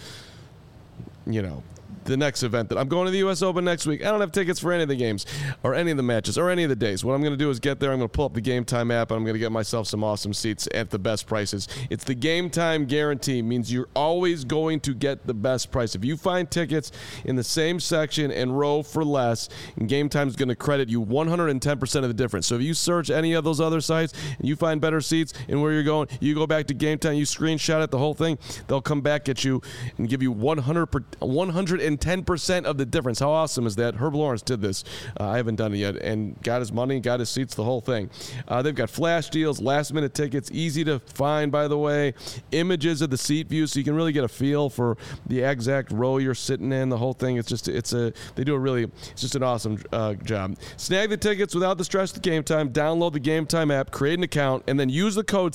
Speaker 3: the next event that I'm going to the U.S. Open next week. I don't have tickets for any of the games or any of the matches or any of the days. What I'm going to do is get there. I'm going to pull up the Game Time app and I'm going to get myself some awesome seats at the best prices. It's the Game Time guarantee. It means you're always going to get the best price. If you find tickets in the same section and row for less, Game Time is going to credit you 110% of the difference. So if you search any of those other sites and you find better seats and where you're going, you go back to Game Time, you screenshot it, the whole thing, they'll come back at you and give you 110% of the difference. How awesome is that? Herb Lawrence did this. I haven't done it yet, and got his money, got his seats, the whole thing. They've got flash deals, last-minute tickets, easy to find, by the way. Images of the seat view, so you can really get a feel for the exact row you're sitting in. The whole thing. It's just an awesome job. Snag the tickets without the stress of Game Time. Download the Game Time app, create an account, and then use the code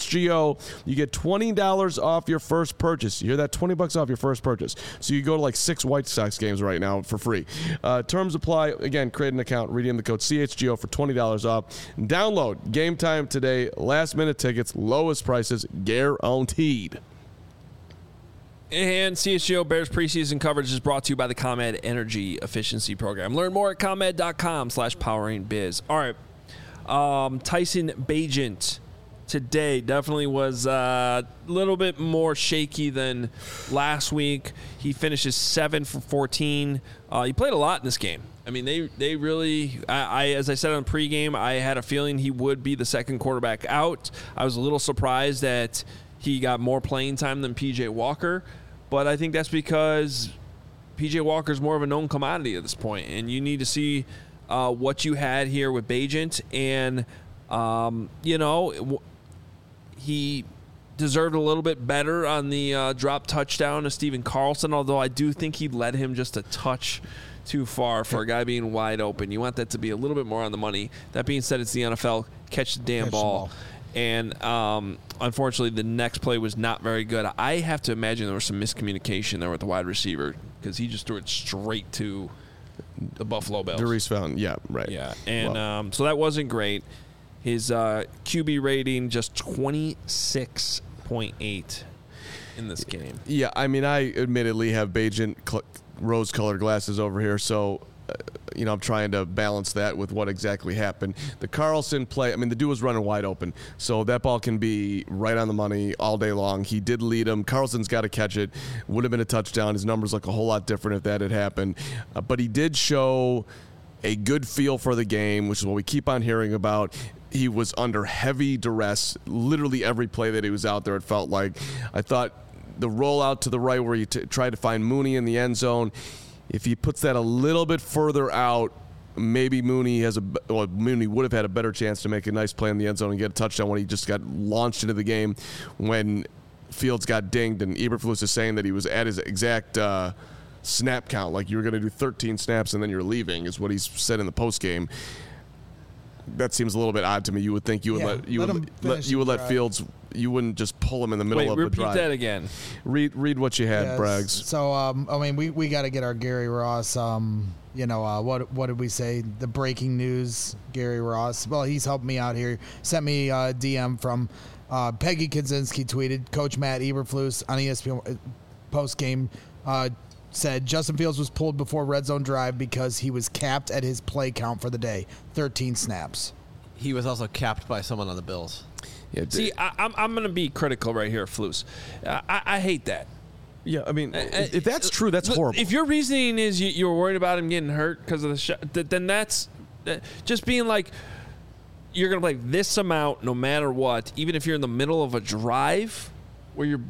Speaker 3: CHGO. You get $20 off your first purchase. You hear that? $20 off your first purchase. So you go to like 6 6 White Sox games right now for free. Terms apply. Again, create an account, redeem the code CHGO for $20 off. Download Game Time today. Last-minute tickets, lowest prices, guaranteed.
Speaker 1: And CHGO Bears preseason coverage is brought to you by the ComEd Energy Efficiency Program. Learn more at ComEd.com/poweringbiz. All right. Tyson Bagent today definitely was a little bit more shaky than last week. He finishes 7 for 14. He played a lot in this game. I mean, they really, as I said on pregame, I had a feeling he would be the second quarterback out. I was a little surprised that he got more playing time than P.J. Walker, but I think that's because P.J. Walker's more of a known commodity at this point, and you need to see what you had here with Bagent, and he deserved a little bit better on the drop touchdown to Steven Carlson, although I do think he led him just a touch too far for a guy being wide open. You want that to be a little bit more on the money. That being said, it's the NFL. Catch the damn ball. And unfortunately, the next play was not very good. I have to imagine there was some miscommunication there with the wide receiver because he just threw it straight to the Buffalo Bills.
Speaker 3: Darius Fountain, yeah, right.
Speaker 1: Yeah, and so that wasn't great. His QB rating just 26.8 in this game.
Speaker 3: Yeah, I mean, I admittedly have Bagent rose-colored glasses over here, so I'm trying to balance that with what exactly happened. The Carlson play, I mean, the dude was running wide open, so that ball can be right on the money all day long. He did lead him. Carlson's got to catch it. Would have been a touchdown. His numbers look a whole lot different if that had happened. But he did show a good feel for the game, which is what we keep on hearing about. He was under heavy duress. Literally every play that he was out there, it felt like. I thought the rollout to the right where he tried to find Mooney in the end zone, if he puts that a little bit further out, maybe Mooney would have had a better chance to make a nice play in the end zone and get a touchdown when he just got launched into the game when Fields got dinged. And Eberflus is saying that he was at his exact snap count, like you were going to do 13 snaps and then you're leaving, is what he said in the postgame. That seems a little bit odd to me. You would think you would let Fields. You wouldn't just pull him in the middle of the drive.
Speaker 1: Repeat that again.
Speaker 3: Read what you had, Braggs.
Speaker 2: So I mean, we got to get our Gary Ross. What did we say? The breaking news, Gary Ross. Well, he's helped me out here. Sent me a DM from Peggy Kaczynski. Tweeted Coach Matt Eberflus on ESPN post game. Said Justin Fields was pulled before red zone drive because he was capped at his play count for the day, 13 snaps.
Speaker 4: He was also capped by someone on the Bills.
Speaker 1: Yeah, see, I'm going to be critical right here, Flus. I hate that.
Speaker 3: Yeah, I mean, if that's true, that's horrible.
Speaker 1: If your reasoning is you're worried about him getting hurt because of the shot, then that's just being like, you're going to play this amount no matter what, even if you're in the middle of a drive where you're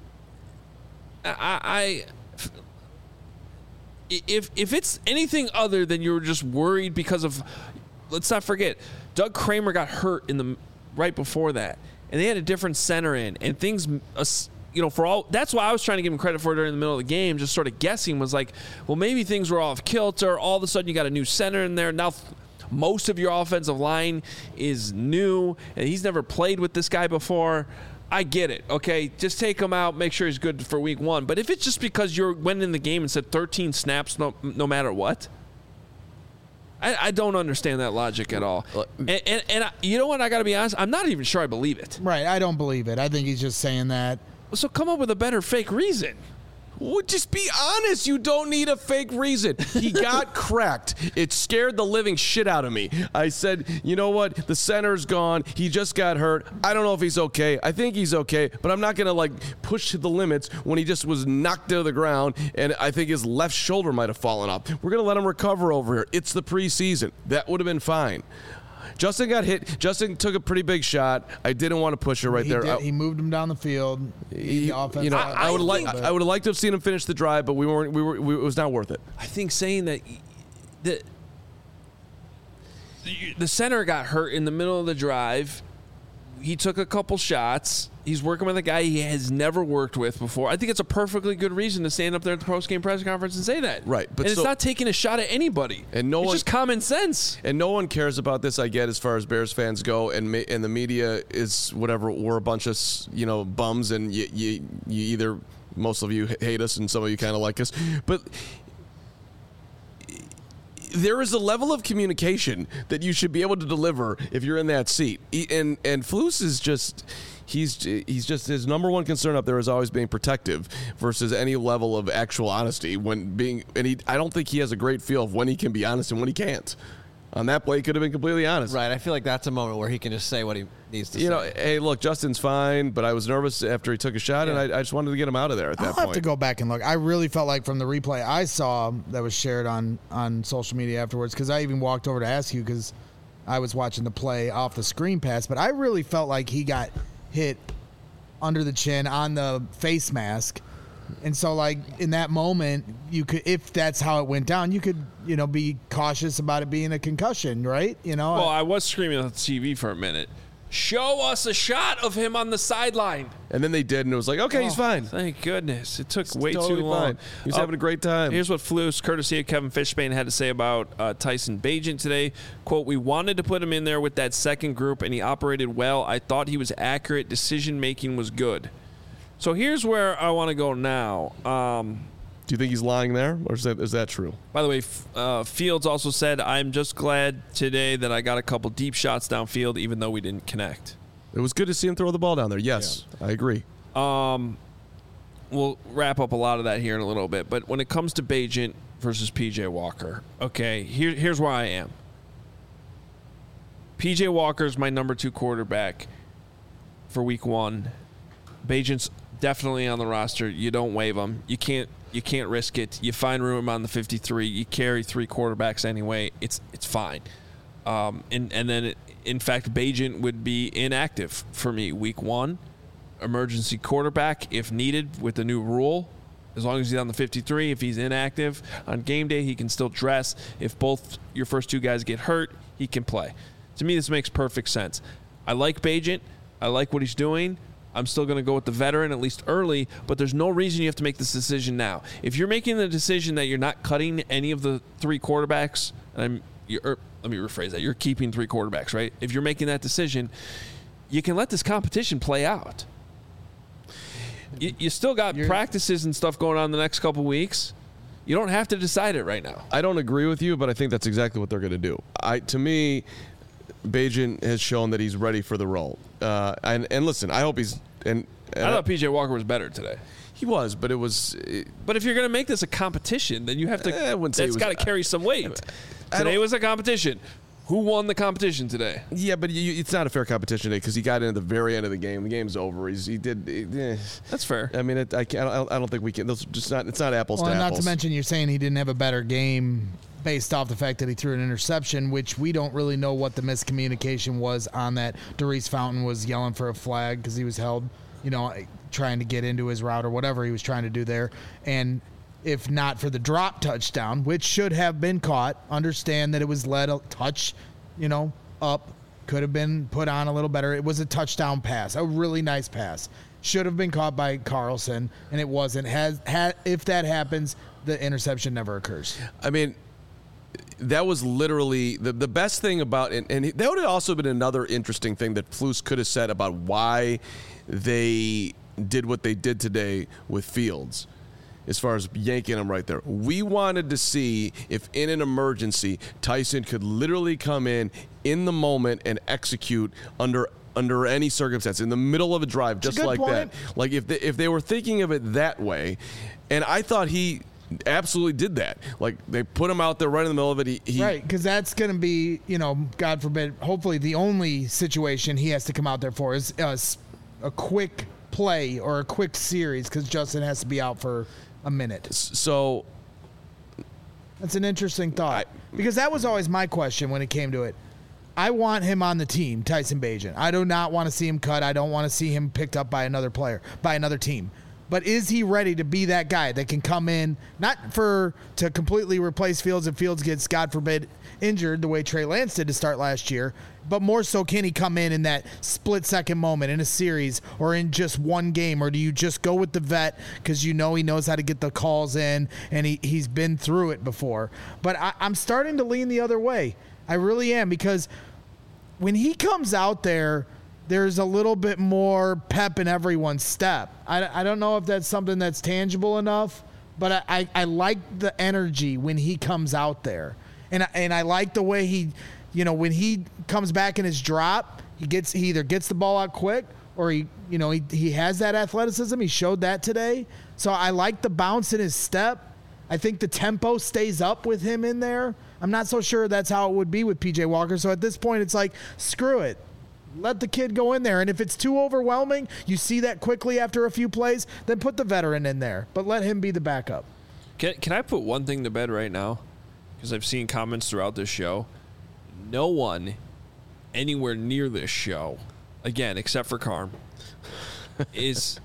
Speaker 1: If it's anything other than you're just worried because of, let's not forget, Doug Kramer got hurt right before that, and they had a different center in, and things, for all, that's why I was trying to give him credit for it during the middle of the game, just sort of guessing, was like, well, maybe things were off kilter. All of a sudden, you got a new center in there. Now, most of your offensive line is new, and he's never played with this guy before. I get it, okay? Just take him out, make sure he's good for week 1. But if it's just because you went in the game and said 13 snaps no matter what, I don't understand that logic at all. And you know what? I got to be honest. I'm not even sure I believe it.
Speaker 2: Right. I don't believe it. I think he's just saying that.
Speaker 1: So come up with a better fake reason.
Speaker 3: Well, just be honest. You don't need a fake reason. He got cracked. It scared the living shit out of me. I said, you know what? The center's gone. He just got hurt. I don't know if he's okay. I think he's okay, but I'm not going to push to the limits when he just was knocked to the ground, and I think his left shoulder might have fallen off. We're going to let him recover over here. It's the preseason. That would have been fine. Justin got hit. Justin took a pretty big shot. I didn't want to push her right there.
Speaker 2: He moved him down the field.
Speaker 3: I would have liked to have seen him finish the drive, but we weren't. It was not worth it.
Speaker 1: I think saying that the center got hurt in the middle of the drive. He took a couple shots. He's working with a guy he has never worked with before. I think it's a perfectly good reason to stand up there at the post-game press conference and say that.
Speaker 3: Right.
Speaker 1: But it's not taking a shot at anybody. And it's just common sense.
Speaker 3: And no one cares about this, I get, as far as Bears fans go. And the media is whatever. We're a bunch of, bums. And you either, most of you hate us and some of you kind of like us. But there is a level of communication that you should be able to deliver if you're in that seat. And Flus is just. He's just his number one concern up there is always being protective versus any level of actual honesty I don't think he has a great feel of when he can be honest and when he can't. On that play, he could have been completely honest.
Speaker 4: Right. I feel like that's a moment where he can just say what he needs to say.
Speaker 3: Hey, look, Justin's fine, but I was nervous after he took a shot, and I just wanted to get him out of there at that point.
Speaker 2: I'll have to go back and look. I really felt like from the replay I saw that was shared on social media afterwards, because I even walked over to ask you because I was watching the play off the screen pass, but I really felt like he got hit under the chin on the face mask. And so, like, in that moment, you could, if that's how it went down, you could, be cautious about it being a concussion, right?
Speaker 1: Well, I was screaming on the TV for a minute. Show us a shot of him on the sideline.
Speaker 3: And then they did, and it was like, okay, he's fine.
Speaker 1: Thank goodness. It took way
Speaker 3: totally
Speaker 1: too long.
Speaker 3: Fine. He was having a great time.
Speaker 1: Here's what Flus, courtesy of Kevin Fishbane, had to say about Tyson Bagent today. Quote, we wanted to put him in there with that second group, and he operated well. I thought he was accurate. Decision-making was good. So here's where I want to go now.
Speaker 3: Do you think he's lying there, or is that true?
Speaker 1: By the way, Fields also said, I'm just glad today that I got a couple deep shots downfield, even though we didn't connect.
Speaker 3: It was good to see him throw the ball down there. Yes, yeah. I agree.
Speaker 1: We'll wrap up a lot of that here in a little bit. But when it comes to Bagent versus P.J. Walker, okay, here's where I am. P.J. Walker's my number 2 quarterback for week 1. Bagent's definitely on the roster. You don't waive him. You can't risk it. You find room on the 53. You carry 3 quarterbacks anyway. It's fine. And then, in fact, Bagent would be inactive for me week 1. Emergency quarterback if needed with the new rule. As long as he's on the 53, if he's inactive on game day, he can still dress. If both your first 2 guys get hurt, he can play. To me, this makes perfect sense. I like Bagent. I like what he's doing. I'm still going to go with the veteran, at least early, but there's no reason you have to make this decision now. If you're making the decision that you're not cutting any of the 3 quarterbacks, let me rephrase that. You're keeping 3 quarterbacks, right? If you're making that decision, you can let this competition play out. You still got practices and stuff going on the next couple weeks. You don't have to decide it right now.
Speaker 3: I don't agree with you, but I think that's exactly what they're going to do. To me, Bagent has shown that he's ready for the role. And listen, I hope he's. I
Speaker 1: thought P.J. Walker was better today.
Speaker 3: He was, but it was.
Speaker 1: But if you're going to make this a competition, then you have to. That's got to carry some weight. Today was a competition. Who won the competition today?
Speaker 3: Yeah, but it's not a fair competition today because he got in at the very end of the game. The game's over.
Speaker 1: That's fair.
Speaker 3: I mean, I don't think we can. It's not apples to apples.
Speaker 2: Not to mention, you're saying he didn't have a better game based off the fact that he threw an interception, which we don't really know what the miscommunication was on that. Darius Fountain was yelling for a flag because he was held, trying to get into his route or whatever he was trying to do there. And if not for the drop touchdown, which should have been caught, understand that it was led a touch, up, could have been put on a little better. It was a touchdown pass, a really nice pass. Should have been caught by Carlson, and it wasn't. If that happens, the interception never occurs.
Speaker 3: I mean, that was literally the best thing about it. And that would have also been another interesting thing that Flus could have said about why they did what they did today with Fields. As far as yanking him right there. We wanted to see if in an emergency, Tyson could literally come in the moment and execute under any circumstance, in the middle of a drive, just like that. Like if they were thinking of it that way, and I thought he absolutely did that. Like they put him out there right in the middle of it.
Speaker 2: Right, because that's going to be, God forbid, hopefully the only situation he has to come out there for is a quick play or a quick series because Justin has to be out for a minute.
Speaker 3: So
Speaker 2: that's an interesting thought because that was always my question when it came to it. I want him on the team, Tyson Bagent. I do not want to see him cut. I don't want to see him picked up by another player, by another team. But is he ready to be that guy that can come in, not to completely replace Fields if Fields gets, God forbid, injured the way Trey Lance did to start last year, but more so can he come in that split-second moment in a series or in just one game, or do you just go with the vet because he knows how to get the calls in and he's been through it before? But I'm starting to lean the other way. I really am, because when he comes out there, there's a little bit more pep in everyone's step. I don't know if that's something that's tangible enough, but I like the energy when he comes out there. And I like the way he, when he comes back in his drop, he either gets the ball out quick or he has that athleticism. He showed that today. So I like the bounce in his step. I think the tempo stays up with him in there. I'm not so sure that's how it would be with PJ Walker. So at this point, it's like, screw it. Let the kid go in there. And if it's too overwhelming, you see that quickly after a few plays, then put the veteran in there. But let him be the backup.
Speaker 1: Can I put one thing to bed right now? Because I've seen comments throughout this show. No one anywhere near this show, again, except for Carm, is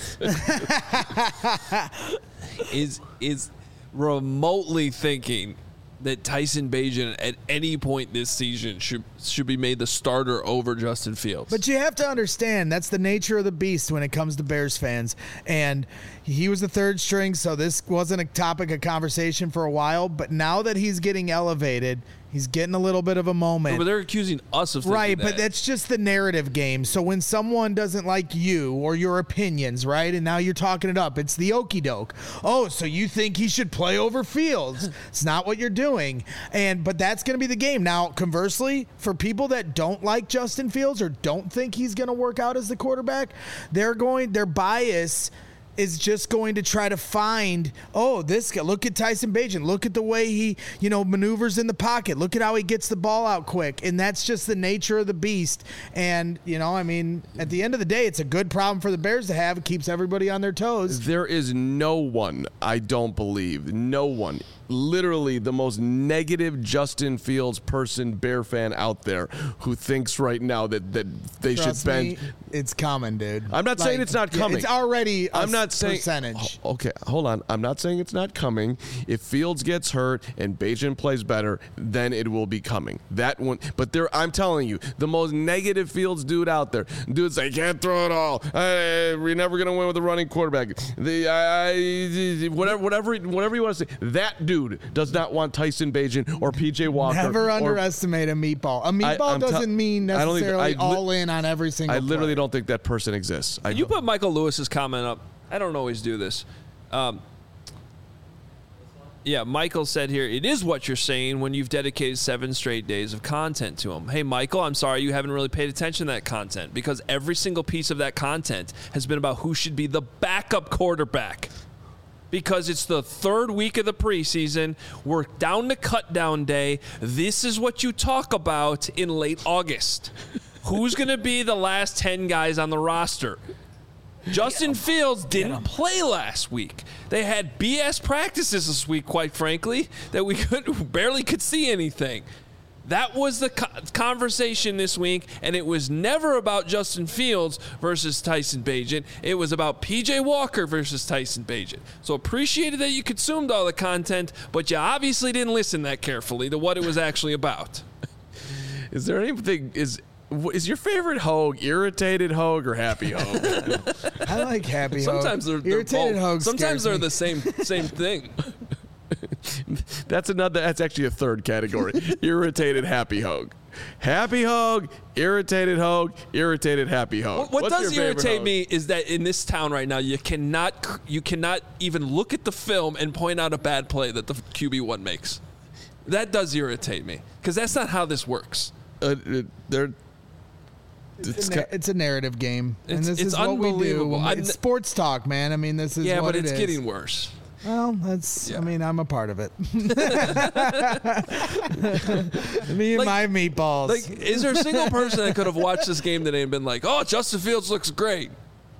Speaker 1: remotely thinking that Tyson Bagent at any point this season should be made the starter over Justin Fields.
Speaker 2: But you have to understand, that's the nature of the beast when it comes to Bears fans. And he was the third string, so this wasn't a topic of conversation for a while. But now that he's getting elevated, he's getting a little bit of a moment.
Speaker 1: No, but they're accusing us of thinking
Speaker 2: right,
Speaker 1: that.
Speaker 2: But that's just the narrative game. So when someone doesn't like you or your opinions, right, and now you're talking it up, it's the okie doke. Oh, so you think he should play over Fields? It's not what you're doing. But that's going to be the game. Now, conversely, for people that don't like Justin Fields or don't think he's going to work out as the quarterback, their bias is just going to try to find, this guy, look at Tyson Bagent. Look at the way he, maneuvers in the pocket. Look at how he gets the ball out quick. And that's just the nature of the beast. And, at the end of the day, it's a good problem for the Bears to have. It keeps everybody on their toes.
Speaker 3: There is no one, I don't believe, no one, literally the most negative Justin Fields person, Bear fan out there who thinks right now that they
Speaker 2: Trust
Speaker 3: should bench.
Speaker 2: me, it's coming, dude.
Speaker 3: I'm not saying it's not coming.
Speaker 2: It's already
Speaker 3: I'm not saying
Speaker 2: percentage.
Speaker 3: Okay, hold on. I'm not saying it's not coming. If Fields gets hurt and Bagent plays better, then it will be coming. That one. But I'm telling you, the most negative Fields dude out there. Dudes say, can't throw it all. We're never going to win with a running quarterback. Whatever you want to say. That dude does not want Tyson Bagent or PJ Walker.
Speaker 2: Never underestimate a meatball. A meatball doesn't mean necessarily all in on every single
Speaker 3: I literally
Speaker 2: play.
Speaker 3: don't think that person exists.
Speaker 1: Can you put Michael Lewis's comment up? I don't always do this. Michael said here, it is what you're saying when you've dedicated 7 straight days of content to him. Hey, Michael, I'm sorry you haven't really paid attention to that content because every single piece of that content has been about who should be the backup quarterback. Because it's the 3rd week of the preseason. We're down to cut down day. This is what you talk about in late August. Who's going to be the last 10 guys on the roster? Justin Fields didn't play last week. They had BS practices this week, quite frankly, that we barely could see anything. That was the conversation this week, and it was never about Justin Fields versus Tyson Bagent. It was about P.J. Walker versus Tyson Bagent. So appreciated that you consumed all the content, but you obviously didn't listen that carefully to what it was actually about.
Speaker 3: Is there anything... Is your favorite Hogue Irritated Hogue or Happy Hogue?
Speaker 2: I like Happy Hogue.
Speaker 1: Sometimes they're
Speaker 2: Irritated
Speaker 1: both.
Speaker 2: Hogue.
Speaker 1: Sometimes they're the same thing.
Speaker 3: That's actually a 3rd category. Irritated Happy Hogue. Happy Hogue, Irritated Hogue, Irritated Happy Hogue.
Speaker 1: What does irritate me is that in this town right now, you cannot even look at the film and point out a bad play that the QB1 makes. That does irritate me because that's not how this works.
Speaker 2: It's a narrative game, and this is what we do. It's sports talk, man. I mean, this is what it is.
Speaker 1: But it's getting worse.
Speaker 2: Well, I mean, I'm a part of it. Me and my meatballs.
Speaker 1: Is there a single person that could have watched this game today and been like, "Oh, Justin Fields looks great"?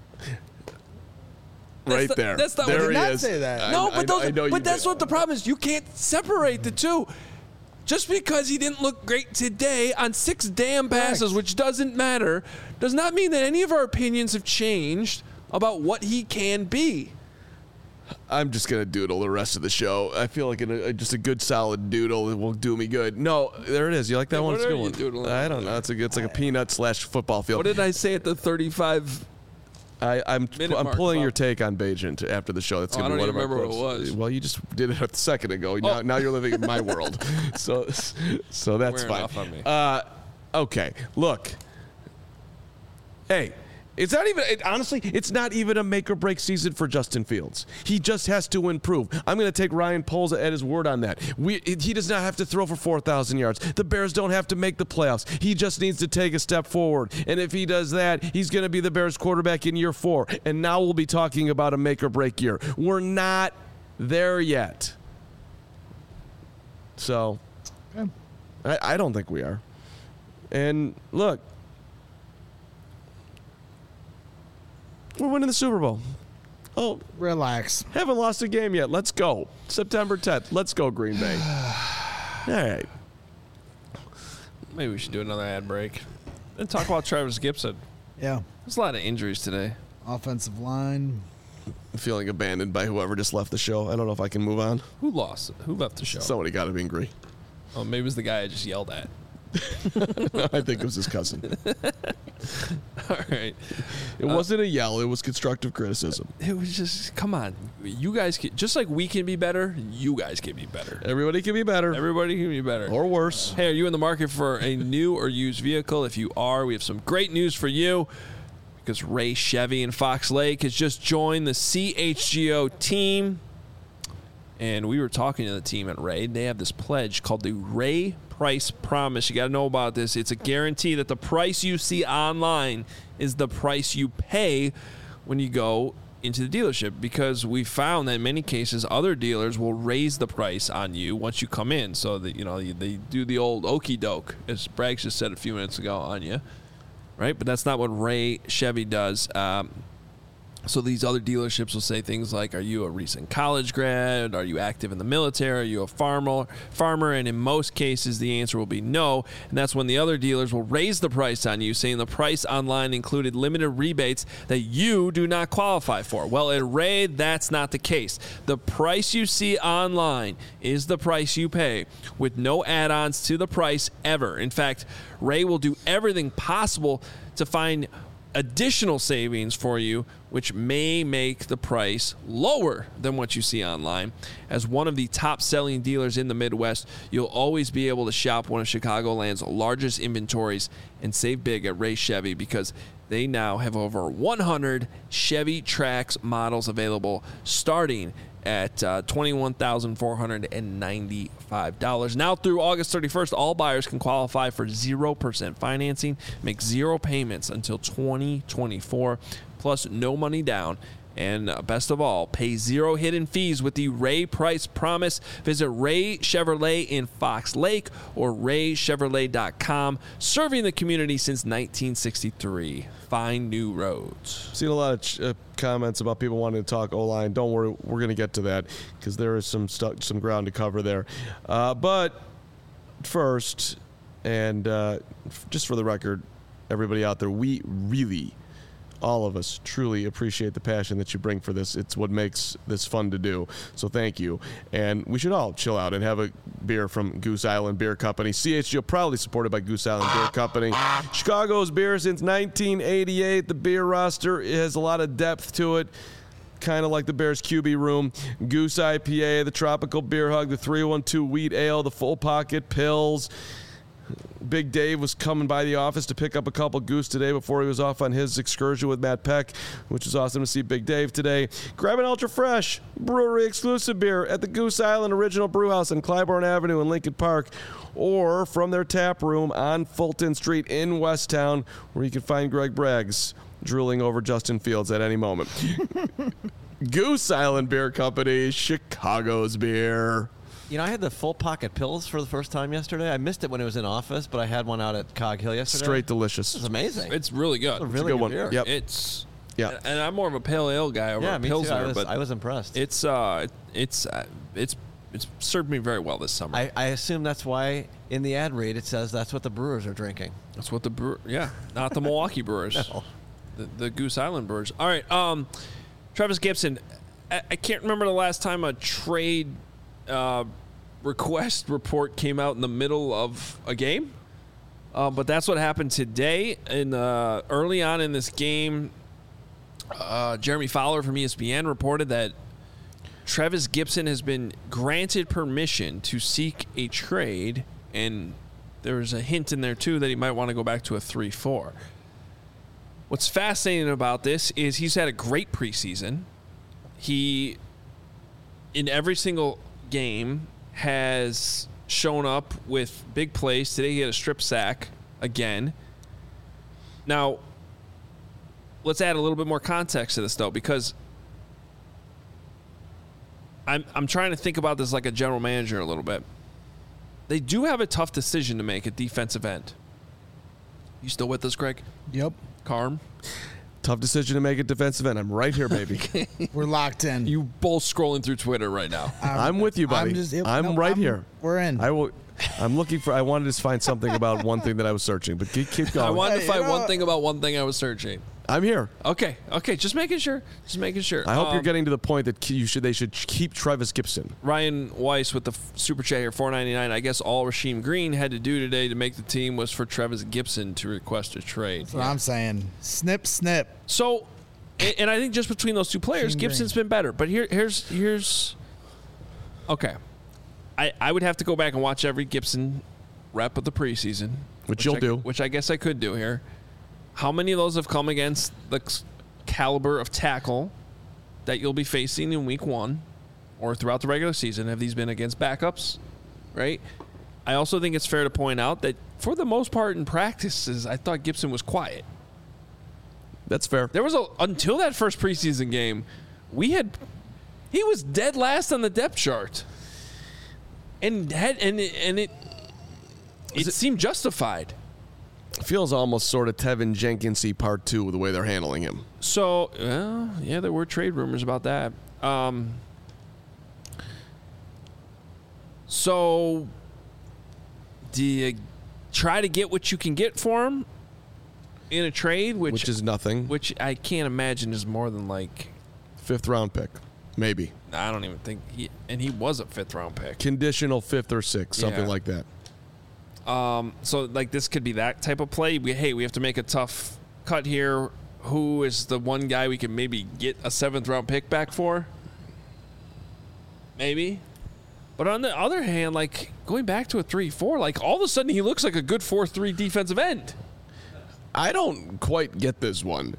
Speaker 3: There.
Speaker 1: That's not
Speaker 2: I
Speaker 1: what
Speaker 2: did
Speaker 1: he
Speaker 2: not
Speaker 1: is.
Speaker 2: say that.
Speaker 1: No,
Speaker 3: but
Speaker 1: that's what the problem is. You can't separate the two. Just because he didn't look great today on 6 damn passes, which doesn't matter, does not mean that any of our opinions have changed about what he can be.
Speaker 3: I'm just going to doodle the rest of the show. I feel like just a good solid doodle will do me good. No, there it is. You like that one?
Speaker 1: What
Speaker 3: it's a
Speaker 1: are
Speaker 3: good
Speaker 1: you
Speaker 3: one.
Speaker 1: doodling?
Speaker 3: I don't know. It's like a peanut/football field.
Speaker 1: What did I say at the 35?
Speaker 3: I'm pulling your take on Bagent after the show. That's gonna
Speaker 1: I don't
Speaker 3: be one
Speaker 1: even
Speaker 3: of our
Speaker 1: remember what
Speaker 3: quotes.
Speaker 1: it was.
Speaker 3: Well, you just did it a second ago. Now you're living in my world. So that's
Speaker 1: Wearing
Speaker 3: fine.
Speaker 1: off on me.
Speaker 3: Okay, look. Hey, It's not even, honestly, it's not even a make or break season for Justin Fields. He just has to improve. I'm going to take Ryan Poles at his word on that. He does not have to throw for 4,000 yards. The Bears don't have to make the playoffs. He just needs to take a step forward. And if he does that, he's going to be the Bears quarterback in year 4. And now we'll be talking about a make or break year. We're not there yet. So, I don't think we are. And look, we're winning the Super Bowl. Oh,
Speaker 2: relax.
Speaker 3: Haven't lost a game yet. Let's go. September 10th. Let's go, Green Bay. All right.
Speaker 1: Maybe we should do another ad break and talk about Travis Gibson.
Speaker 2: Yeah.
Speaker 1: There's a lot of injuries today.
Speaker 2: Offensive line.
Speaker 3: I'm feeling abandoned by whoever just left the show. I don't know if I can move on.
Speaker 1: Who lost? Who left the show?
Speaker 3: Somebody got to be angry.
Speaker 1: Oh, maybe it was the guy I just yelled at.
Speaker 3: I think it was his cousin.
Speaker 1: All right.
Speaker 3: It wasn't a yell. It was constructive criticism.
Speaker 1: It was just, come on. You guys can, just like we can be better, you guys can be better.
Speaker 3: Everybody can be better.
Speaker 1: Everybody can be better.
Speaker 3: Or worse.
Speaker 1: Hey, are you in the market for a new or used vehicle? If you are, we have some great news for you, because Ray Chevy in Fox Lake has just joined the CHGO team. And we were talking to the team at Ray. They have this pledge called the Ray Price Promise. You got to know about this. It's a guarantee that the price you see online is the price you pay when you go into the dealership, because we found that in many cases other dealers will raise the price on you once you come in. So that, you know, they do the old okey doke, as Braggs just said a few minutes ago, on you, right? But that's not what Ray Chevy does. So these other dealerships will say things like, are you a recent college grad? Are you active in the military? Are you a farmer? And in most cases, the answer will be no. And that's when the other dealers will raise the price on you, saying the price online included limited rebates that you do not qualify for. Well, at Ray, that's not the case. The price you see online is the price you pay, with no add-ons to the price ever. In fact, Ray will do everything possible to find additional savings for you, which may make the price lower than what you see online. As one of the top-selling dealers in the Midwest, you'll always be able to shop one of Chicagoland's largest inventories and save big at Ray Chevy, because they now have over 100 Chevy Trax models available, starting at $21,495. Now through August 31st, all buyers can qualify for 0% financing, make 0 payments until 2024, plus no money down. And best of all, pay 0 hidden fees with the Ray Price Promise. Visit Ray Chevrolet in Fox Lake or raychevrolet.com, serving the community since 1963. Find new roads.
Speaker 3: Seen a lot of comments about people wanting to talk O-line. Don't worry, we're going to get to that, because there is some ground to cover there. But first, and just for the record, everybody out there, we really, all of us, truly appreciate the passion that you bring for this. It's what makes this fun to do. So thank you. And we should all chill out and have a beer from Goose Island Beer Company. CHGO proudly supported by Goose Island Beer Company. Chicago's beer since 1988. The beer roster has a lot of depth to it, kind of like the Bears QB room. Goose IPA, the Tropical Beer Hug, the 312 Wheat Ale, the Full Pocket Pills. Big Dave was coming by the office to pick up a couple Goose today before he was off on his excursion with Matt Peck, which is awesome to see Big Dave today. Grab an Ultra Fresh brewery exclusive beer at the Goose Island Original Brewhouse on Clybourne Avenue in Lincoln Park, or from their tap room on Fulton Street in Westtown, where you can find Greg Braggs drooling over Justin Fields at any moment. Goose Island Beer Company, Chicago's beer.
Speaker 4: You know, I had the Full Pocket Pills for the first time yesterday. I missed it when it was in office, but I had one out at Cog Hill yesterday.
Speaker 3: Straight delicious.
Speaker 4: It's amazing.
Speaker 1: It's really good.
Speaker 4: It's a really
Speaker 3: good one.
Speaker 4: beer.
Speaker 3: Yep.
Speaker 1: It's,
Speaker 3: yeah.
Speaker 1: And I'm more of a pale ale guy over a
Speaker 4: me
Speaker 1: Pilsner,
Speaker 4: too.
Speaker 1: but
Speaker 4: I was impressed.
Speaker 1: it's served me very well this summer.
Speaker 4: I assume that's why in the ad read it says that's what the Brewers are drinking.
Speaker 1: That's what not the Milwaukee Brewers.
Speaker 4: No.
Speaker 1: The Goose Island Brewers. All right, Travis Gibson. I can't remember the last time a trade request report came out in the middle of a game, but that's what happened today. Early on in this game, Jeremy Fowler from ESPN reported that Travis Gibson has been granted permission to seek a trade, and there was a hint in there too that he might want to go back to a 3-4. What's fascinating about this is he's had a great preseason. He, in every single game, has shown up with big plays. Today he had a strip sack again. Now, let's add a little bit more context to this, though, because I'm trying to think about this like a general manager a little bit. They do have a tough decision to make at defensive end. You still with us, Greg?
Speaker 2: Yep.
Speaker 1: Carm?
Speaker 3: Tough decision to make at defensive end. I'm right here, baby.
Speaker 2: We're locked in.
Speaker 1: You both scrolling through Twitter right now.
Speaker 3: I'm with you, buddy. I'm right here.
Speaker 2: We're in.
Speaker 3: I'm looking for. I wanted to find something about one thing that I was searching, but keep going.
Speaker 1: I wanted to find one thing about one thing I was searching.
Speaker 3: I'm here.
Speaker 1: Okay. Just making sure.
Speaker 3: I hope you're getting to the point that they should keep Trevis Gipson.
Speaker 1: Ryan Weiss with the super chat here, $4.99. I guess all Rasheem Green had to do today to make the team was for Trevis Gipson to request a trade.
Speaker 2: That's what I'm saying. Snip, snip.
Speaker 1: So, and I think just between those two players, Gibson's been better. But here's okay. I would have to go back and watch every Gibson rep of the preseason,
Speaker 3: which you'll do.
Speaker 1: Which I guess I could do here. How many of those have come against the caliber of tackle that you'll be facing in week 1 or throughout the regular season? Have these been against backups, right? I also think it's fair to point out that for the most part in practices, I thought Gibson was quiet.
Speaker 3: That's fair.
Speaker 1: There was until that first preseason game, he was dead last on the depth chart. And it seemed justified.
Speaker 3: Feels almost sort of Tevin Jenkins-y part 2 the way they're handling him.
Speaker 1: So, yeah, there were trade rumors about that. So, do you try to get what you can get for him in a trade? Which
Speaker 3: is nothing.
Speaker 1: Which I can't imagine is more than like
Speaker 3: 5th round pick. Maybe.
Speaker 1: I don't even think he was a 5th round pick.
Speaker 3: Conditional 5th or 6th, something like that.
Speaker 1: So like this could be that type of play. We have to make a tough cut here. Who is the one guy we can maybe get a 7th round pick back for? Maybe. But on the other hand, like going back to a 3-4, like all of a sudden he looks like a good 4-3 defensive end.
Speaker 3: I don't quite get this one.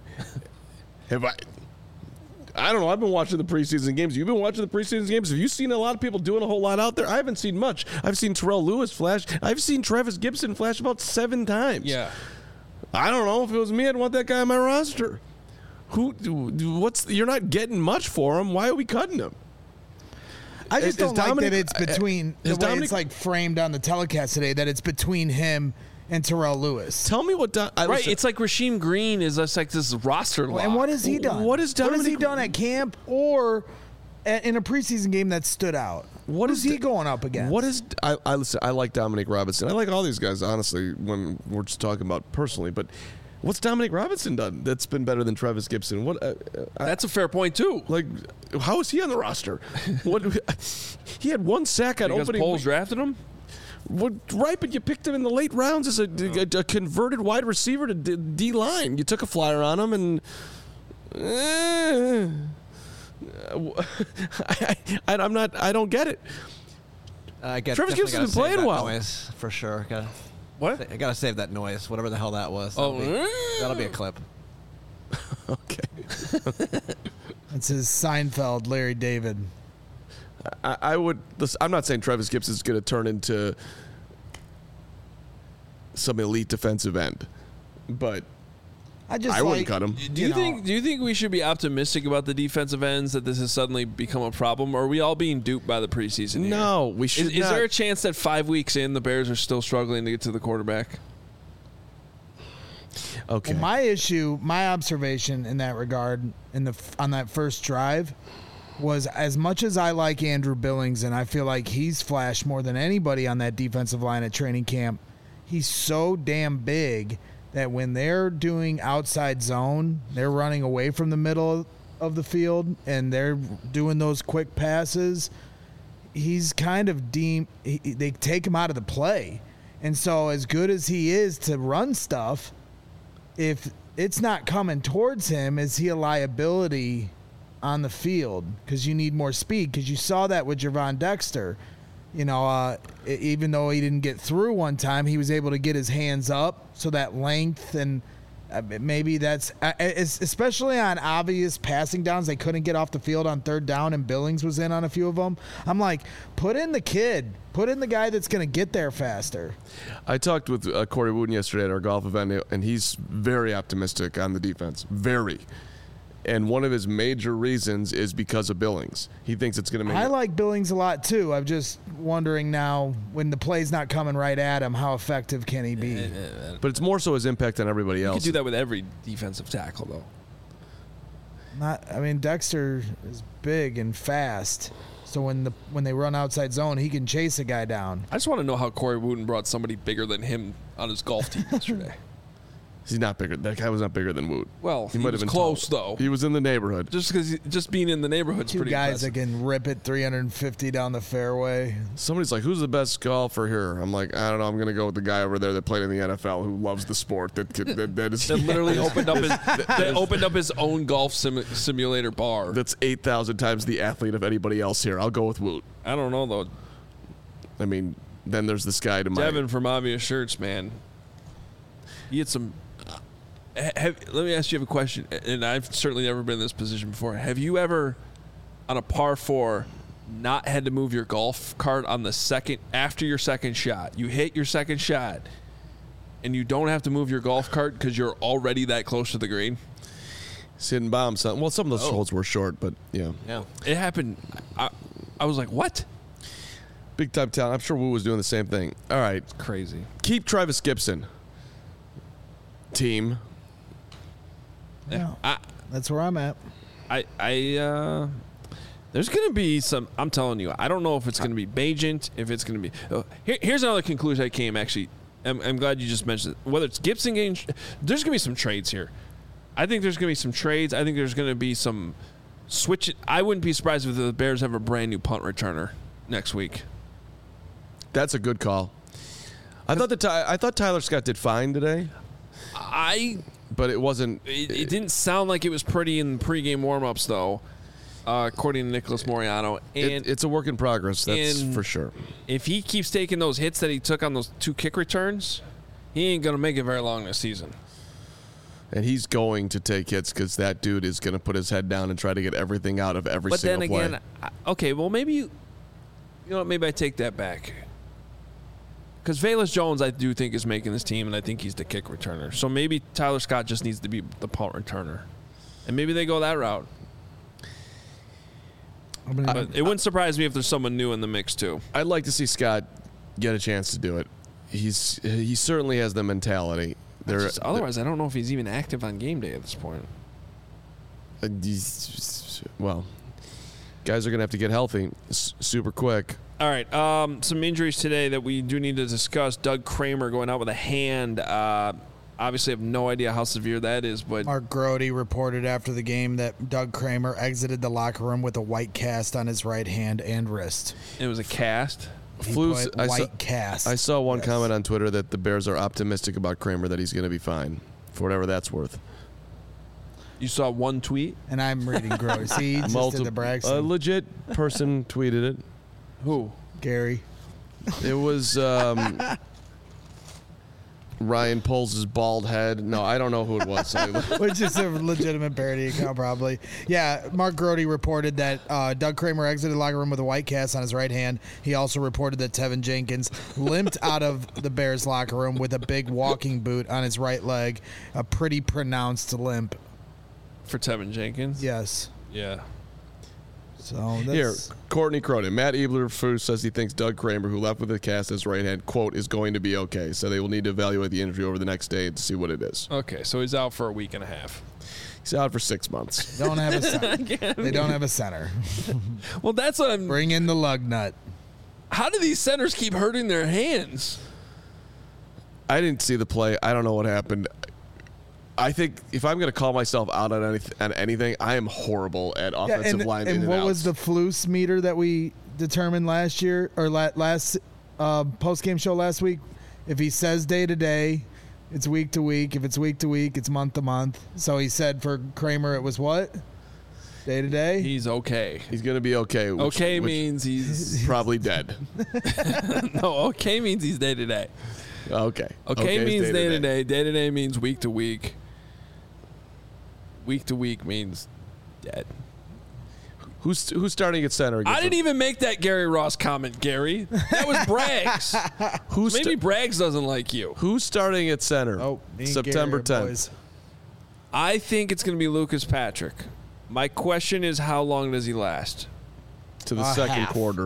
Speaker 3: I don't know. I've been watching the preseason games. You've been watching the preseason games. Have you seen a lot of people doing a whole lot out there? I haven't seen much. I've seen Terrell Lewis flash. I've seen Trevis Gipson flash about 7 times.
Speaker 1: Yeah.
Speaker 3: I don't know. If it was me, I'd want that guy on my roster. You're not getting much for him. Why are we cutting him?
Speaker 2: I just don't like that it's between the way it's like framed on the telecast today, that it's between him and Terrell Lewis.
Speaker 3: Tell me what...
Speaker 1: Right, it's like Rasheem Green is just like this roster lock.
Speaker 2: And what has he done?
Speaker 3: What has he
Speaker 2: done at camp or in a preseason game that stood out? What is he going up against?
Speaker 3: Listen, I like Dominic Robinson. I like all these guys, honestly, when we're just talking about personally. But what's Dominic Robinson done that's been better than Trevis Gipson?
Speaker 1: That's a fair point, too.
Speaker 3: Like, how is he on the roster? He had 1 sack at opening.
Speaker 1: Because Poles drafted him?
Speaker 3: Right, but you picked him in the late rounds as a converted wide receiver to D-line. You took a flyer on him, and I don't get it. Trevis Gipson's been playing well.
Speaker 4: Noise, for sure.
Speaker 1: What?
Speaker 4: I gotta save that noise, whatever the hell that was. That'll be a clip.
Speaker 3: Okay.
Speaker 2: That's his Seinfeld, Larry David.
Speaker 3: I'm not saying Trevis Gipson is going to turn into some elite defensive end, but I wouldn't cut him.
Speaker 1: Do you think we should be optimistic about the defensive ends, that this has suddenly become a problem, or are we all being duped by the preseason here?
Speaker 3: No, we should not.
Speaker 1: Is there a chance that 5 weeks in, the Bears are still struggling to get to the quarterback?
Speaker 3: Okay.
Speaker 2: Well, my observation in that regard, on that first drive, was as much as I like Andrew Billings, and I feel like he's flashed more than anybody on that defensive line at training camp, he's so damn big that when they're doing outside zone, they're running away from the middle of the field, and they're doing those quick passes, he's kind of they take him out of the play. And so as good as he is to run stuff, if it's not coming towards him, is he a liability on the field? Because you need more speed, because you saw that with Gervon Dexter. Even though he didn't get through one time, he was able to get his hands up, so that length, and maybe that's especially on obvious passing downs. They couldn't get off the field on third down, and Billings was in on a few of them. I'm like, put in the kid. Put in the guy that's going to get there faster.
Speaker 3: I talked with Corey Wooten yesterday at our golf event, and he's very optimistic on the defense. Very. And one of his major reasons is because of Billings. He thinks it's going to make
Speaker 2: I like Billings a lot, too. I'm just wondering now, when the play's not coming right at him, how effective can he be?
Speaker 3: But it's more so his impact on everybody else.
Speaker 1: You could do that with every defensive tackle, though.
Speaker 2: Dexter is big and fast. So when they run outside zone, he can chase a guy down.
Speaker 1: I just want to know how Corey Wooten brought somebody bigger than him on his golf team yesterday.
Speaker 3: He's not bigger. That guy was not bigger than Woot.
Speaker 1: Well, he
Speaker 3: might
Speaker 1: was
Speaker 3: have been
Speaker 1: close,
Speaker 3: tall.
Speaker 1: though.
Speaker 3: He was in the neighborhood.
Speaker 1: Just being in the neighborhood's
Speaker 2: Two
Speaker 1: pretty
Speaker 2: guys
Speaker 1: impressive.
Speaker 2: that can rip it 350 down the fairway.
Speaker 3: Somebody's like, who's the best golfer here? I'm like, I don't know. I'm going to go with the guy over there that played in the NFL who loves the sport. That is
Speaker 1: That literally opened up his own golf simulator bar.
Speaker 3: That's 8,000 times the athlete of anybody else here. I'll go with Woot.
Speaker 1: I don't know, though.
Speaker 3: I mean, then there's this guy to my...
Speaker 1: Devin from Obvious Shirts, man. He had some... let me ask you a question, and I've certainly never been in this position before. Have you ever, on a par 4, not had to move your golf cart on the second after your second shot? You hit your second shot, and you don't have to move your golf cart because you're already that close to the green?
Speaker 3: Hitting bombs. Well, some of those holes were short, but yeah.
Speaker 1: It happened. I was like, what?
Speaker 3: Big time talent. I'm sure Wu was doing the same thing. All right.
Speaker 1: Crazy.
Speaker 3: Keep Travis Gibson. Team.
Speaker 2: Yeah, that's where I'm at.
Speaker 1: There's going to be some, I'm telling you, I don't know if it's going to be Bagent, if it's going to be, here's another conclusion I came, actually. I'm glad you just mentioned it. Whether it's Gibson getting, there's going to be some trades here. I think there's going to be some trades. I think there's going to be some switch. I wouldn't be surprised if the Bears have a brand new punt returner next week.
Speaker 3: That's a good call. I thought Tyler Scott did fine today. But it wasn't.
Speaker 1: It didn't sound like it was pretty in pregame warmups, though, according to Nicholas Moriano. And
Speaker 3: it's a work in progress. That's for sure.
Speaker 1: If he keeps taking those hits that he took on those 2 kick returns, he ain't going to make it very long this season.
Speaker 3: And he's going to take hits because that dude is going to put his head down and try to get everything out of every single play. But then again,
Speaker 1: okay, well, maybe you know what? Maybe I take that back. Because Velus Jones, I do think, is making this team, and I think he's the kick returner. So maybe Tyler Scott just needs to be the punt returner. And maybe they go that route. But it wouldn't surprise me if there's someone new in the mix, too.
Speaker 3: I'd like to see Scott get a chance to do it. He certainly has the mentality.
Speaker 1: Otherwise, I don't know if he's even active on game day at this point.
Speaker 3: Well, guys are going to have to get healthy super quick.
Speaker 1: All right, some injuries today that we do need to discuss. Doug Kramer going out with a hand. Obviously, I have no idea how severe that is. But
Speaker 2: Mark Grody reported after the game that Doug Kramer exited the locker room with a white cast on his right hand and wrist.
Speaker 1: It was a cast?
Speaker 2: Cast.
Speaker 3: I saw one comment on Twitter that the Bears are optimistic about Kramer, that he's going to be fine, for whatever that's worth.
Speaker 1: You saw one tweet?
Speaker 2: And I'm reading Grody. See, he just did the Braxton.
Speaker 3: A legit person tweeted it.
Speaker 1: Who?
Speaker 2: Gary.
Speaker 3: It was Ryan pulls his bald head. No, I don't know who it was.
Speaker 2: Which is a legitimate parody account, probably. Yeah, Mark Grody reported that Doug Kramer exited the locker room with a white cast on his right hand. He also reported that Tevin Jenkins limped out of the Bears locker room with a big walking boot on his right leg, a pretty pronounced limp.
Speaker 1: For Tevin Jenkins?
Speaker 2: Yes.
Speaker 1: Yeah.
Speaker 2: So
Speaker 3: here, Courtney Cronin. Matt Eberflus says he thinks Doug Kramer, who left with a cast on his right hand, quote, is going to be okay. So they will need to evaluate the injury over the next day to see what it is.
Speaker 1: Okay, so he's out for a week and a half.
Speaker 3: He's out for 6 months.
Speaker 2: Don't have a center. They don't have a center.
Speaker 1: Well, that's what I'm...
Speaker 2: Bring in the lug nut.
Speaker 1: How do these centers keep hurting their hands?
Speaker 3: I didn't see the play. I don't know what happened. I think if I'm going to call myself out on anything, I am horrible at offensive line in and
Speaker 2: what
Speaker 3: outs.
Speaker 2: was the Flus meter that we determined last year or last post-game show last week? If he says day to day, it's week to week. If it's week to week, it's month to month. So he said for Kramer it was what? Day to day?
Speaker 1: He's okay.
Speaker 3: He's going to be okay.
Speaker 1: Which means he's
Speaker 3: probably dead.
Speaker 1: No, okay means he's day to day.
Speaker 3: Okay.
Speaker 1: Okay means day to day. Day to day means week to week. week to week means dead.
Speaker 3: Who's starting at center?
Speaker 1: I didn't even make that Gary Ross comment, Gary. That was Braggs. Maybe Braggs doesn't like you.
Speaker 3: Who's starting at center?
Speaker 2: Oh,
Speaker 3: September 10th.
Speaker 2: Boys.
Speaker 1: I think it's going to be Lucas Patrick. My question is, how long does he last?
Speaker 3: To the second
Speaker 2: half.
Speaker 3: quarter.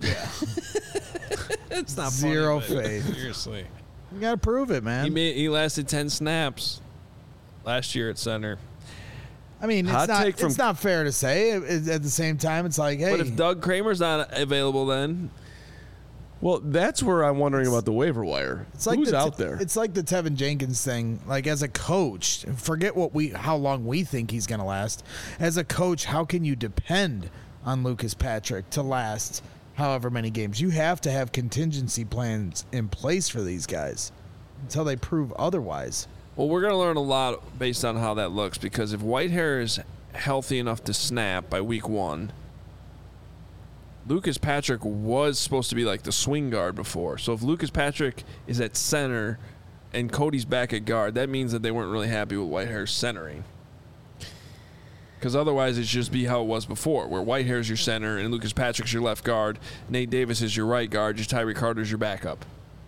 Speaker 1: It's not
Speaker 2: Zero
Speaker 1: funny,
Speaker 2: faith.
Speaker 1: Seriously.
Speaker 2: You got to prove it, man.
Speaker 1: He lasted 10 snaps last year at center.
Speaker 2: I mean, it's not fair to say. At the same time, it's like, hey.
Speaker 1: But if Doug Kramer's not available then?
Speaker 3: Well, that's where I'm wondering about the waiver wire.
Speaker 2: It's like
Speaker 3: Who's out there?
Speaker 2: It's like the Tevin Jenkins thing. Like, as a coach, forget how long we think he's going to last. As a coach, how can you depend on Lucas Patrick to last however many games? You have to have contingency plans in place for these guys until they prove otherwise.
Speaker 1: Well, we're going to learn a lot based on how that looks, because if Whitehair is healthy enough to snap by week 1, Lucas Patrick was supposed to be like the swing guard before. So if Lucas Patrick is at center and Cody's back at guard, that means that they weren't really happy with Whitehair's centering. Because otherwise it's just be how it was before, where Whitehair's your center and Lucas Patrick's your left guard, Nate Davis is your right guard, your Tyree Carter's your backup.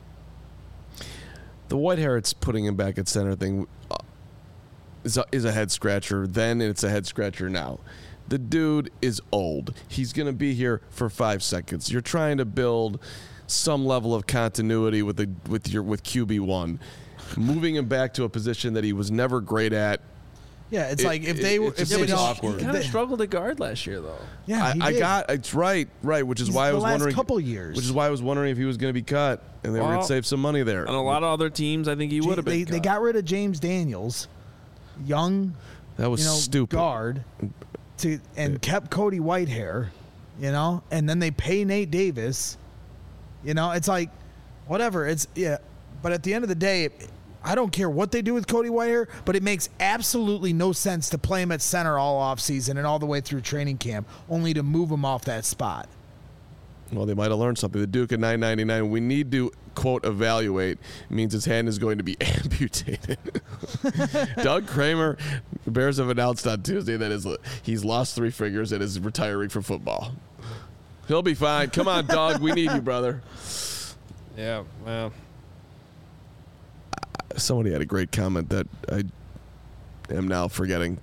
Speaker 3: The Whitehair, it's putting him back at center thing is a head scratcher then, and it's a head scratcher now. The dude is old. He's going to be here for 5 seconds. You're trying to build some level of continuity with QB1. Moving him back to a position that he was never great at.
Speaker 2: Yeah, it's like if they
Speaker 3: it's awkward.
Speaker 1: He kind of struggled at guard last year, though.
Speaker 2: Yeah,
Speaker 3: it's right, which is why I was wondering.
Speaker 2: Couple years.
Speaker 3: Which is why I was wondering if he was going to be cut, and they were going to save some money there.
Speaker 1: And a lot of other teams, I think he would have been.
Speaker 2: They got rid of James Daniels, young.
Speaker 3: That was stupid.
Speaker 2: Guard, and kept Cody Whitehair, and then they pay Nate Davis. It's like, whatever. But at the end of the day, I don't care what they do with Cody Whitehair, but it makes absolutely no sense to play him at center all offseason and all the way through training camp, only to move him off that spot.
Speaker 3: Well, they might have learned something. The Duke at $9.99, we need to, quote, evaluate, means his hand is going to be amputated. Doug Kramer, the Bears have announced on Tuesday that he's lost 3 figures and is retiring from football. He'll be fine. Come on, Doug. We need you, brother.
Speaker 1: Yeah, well.
Speaker 3: Somebody had a great comment that I am now forgetting.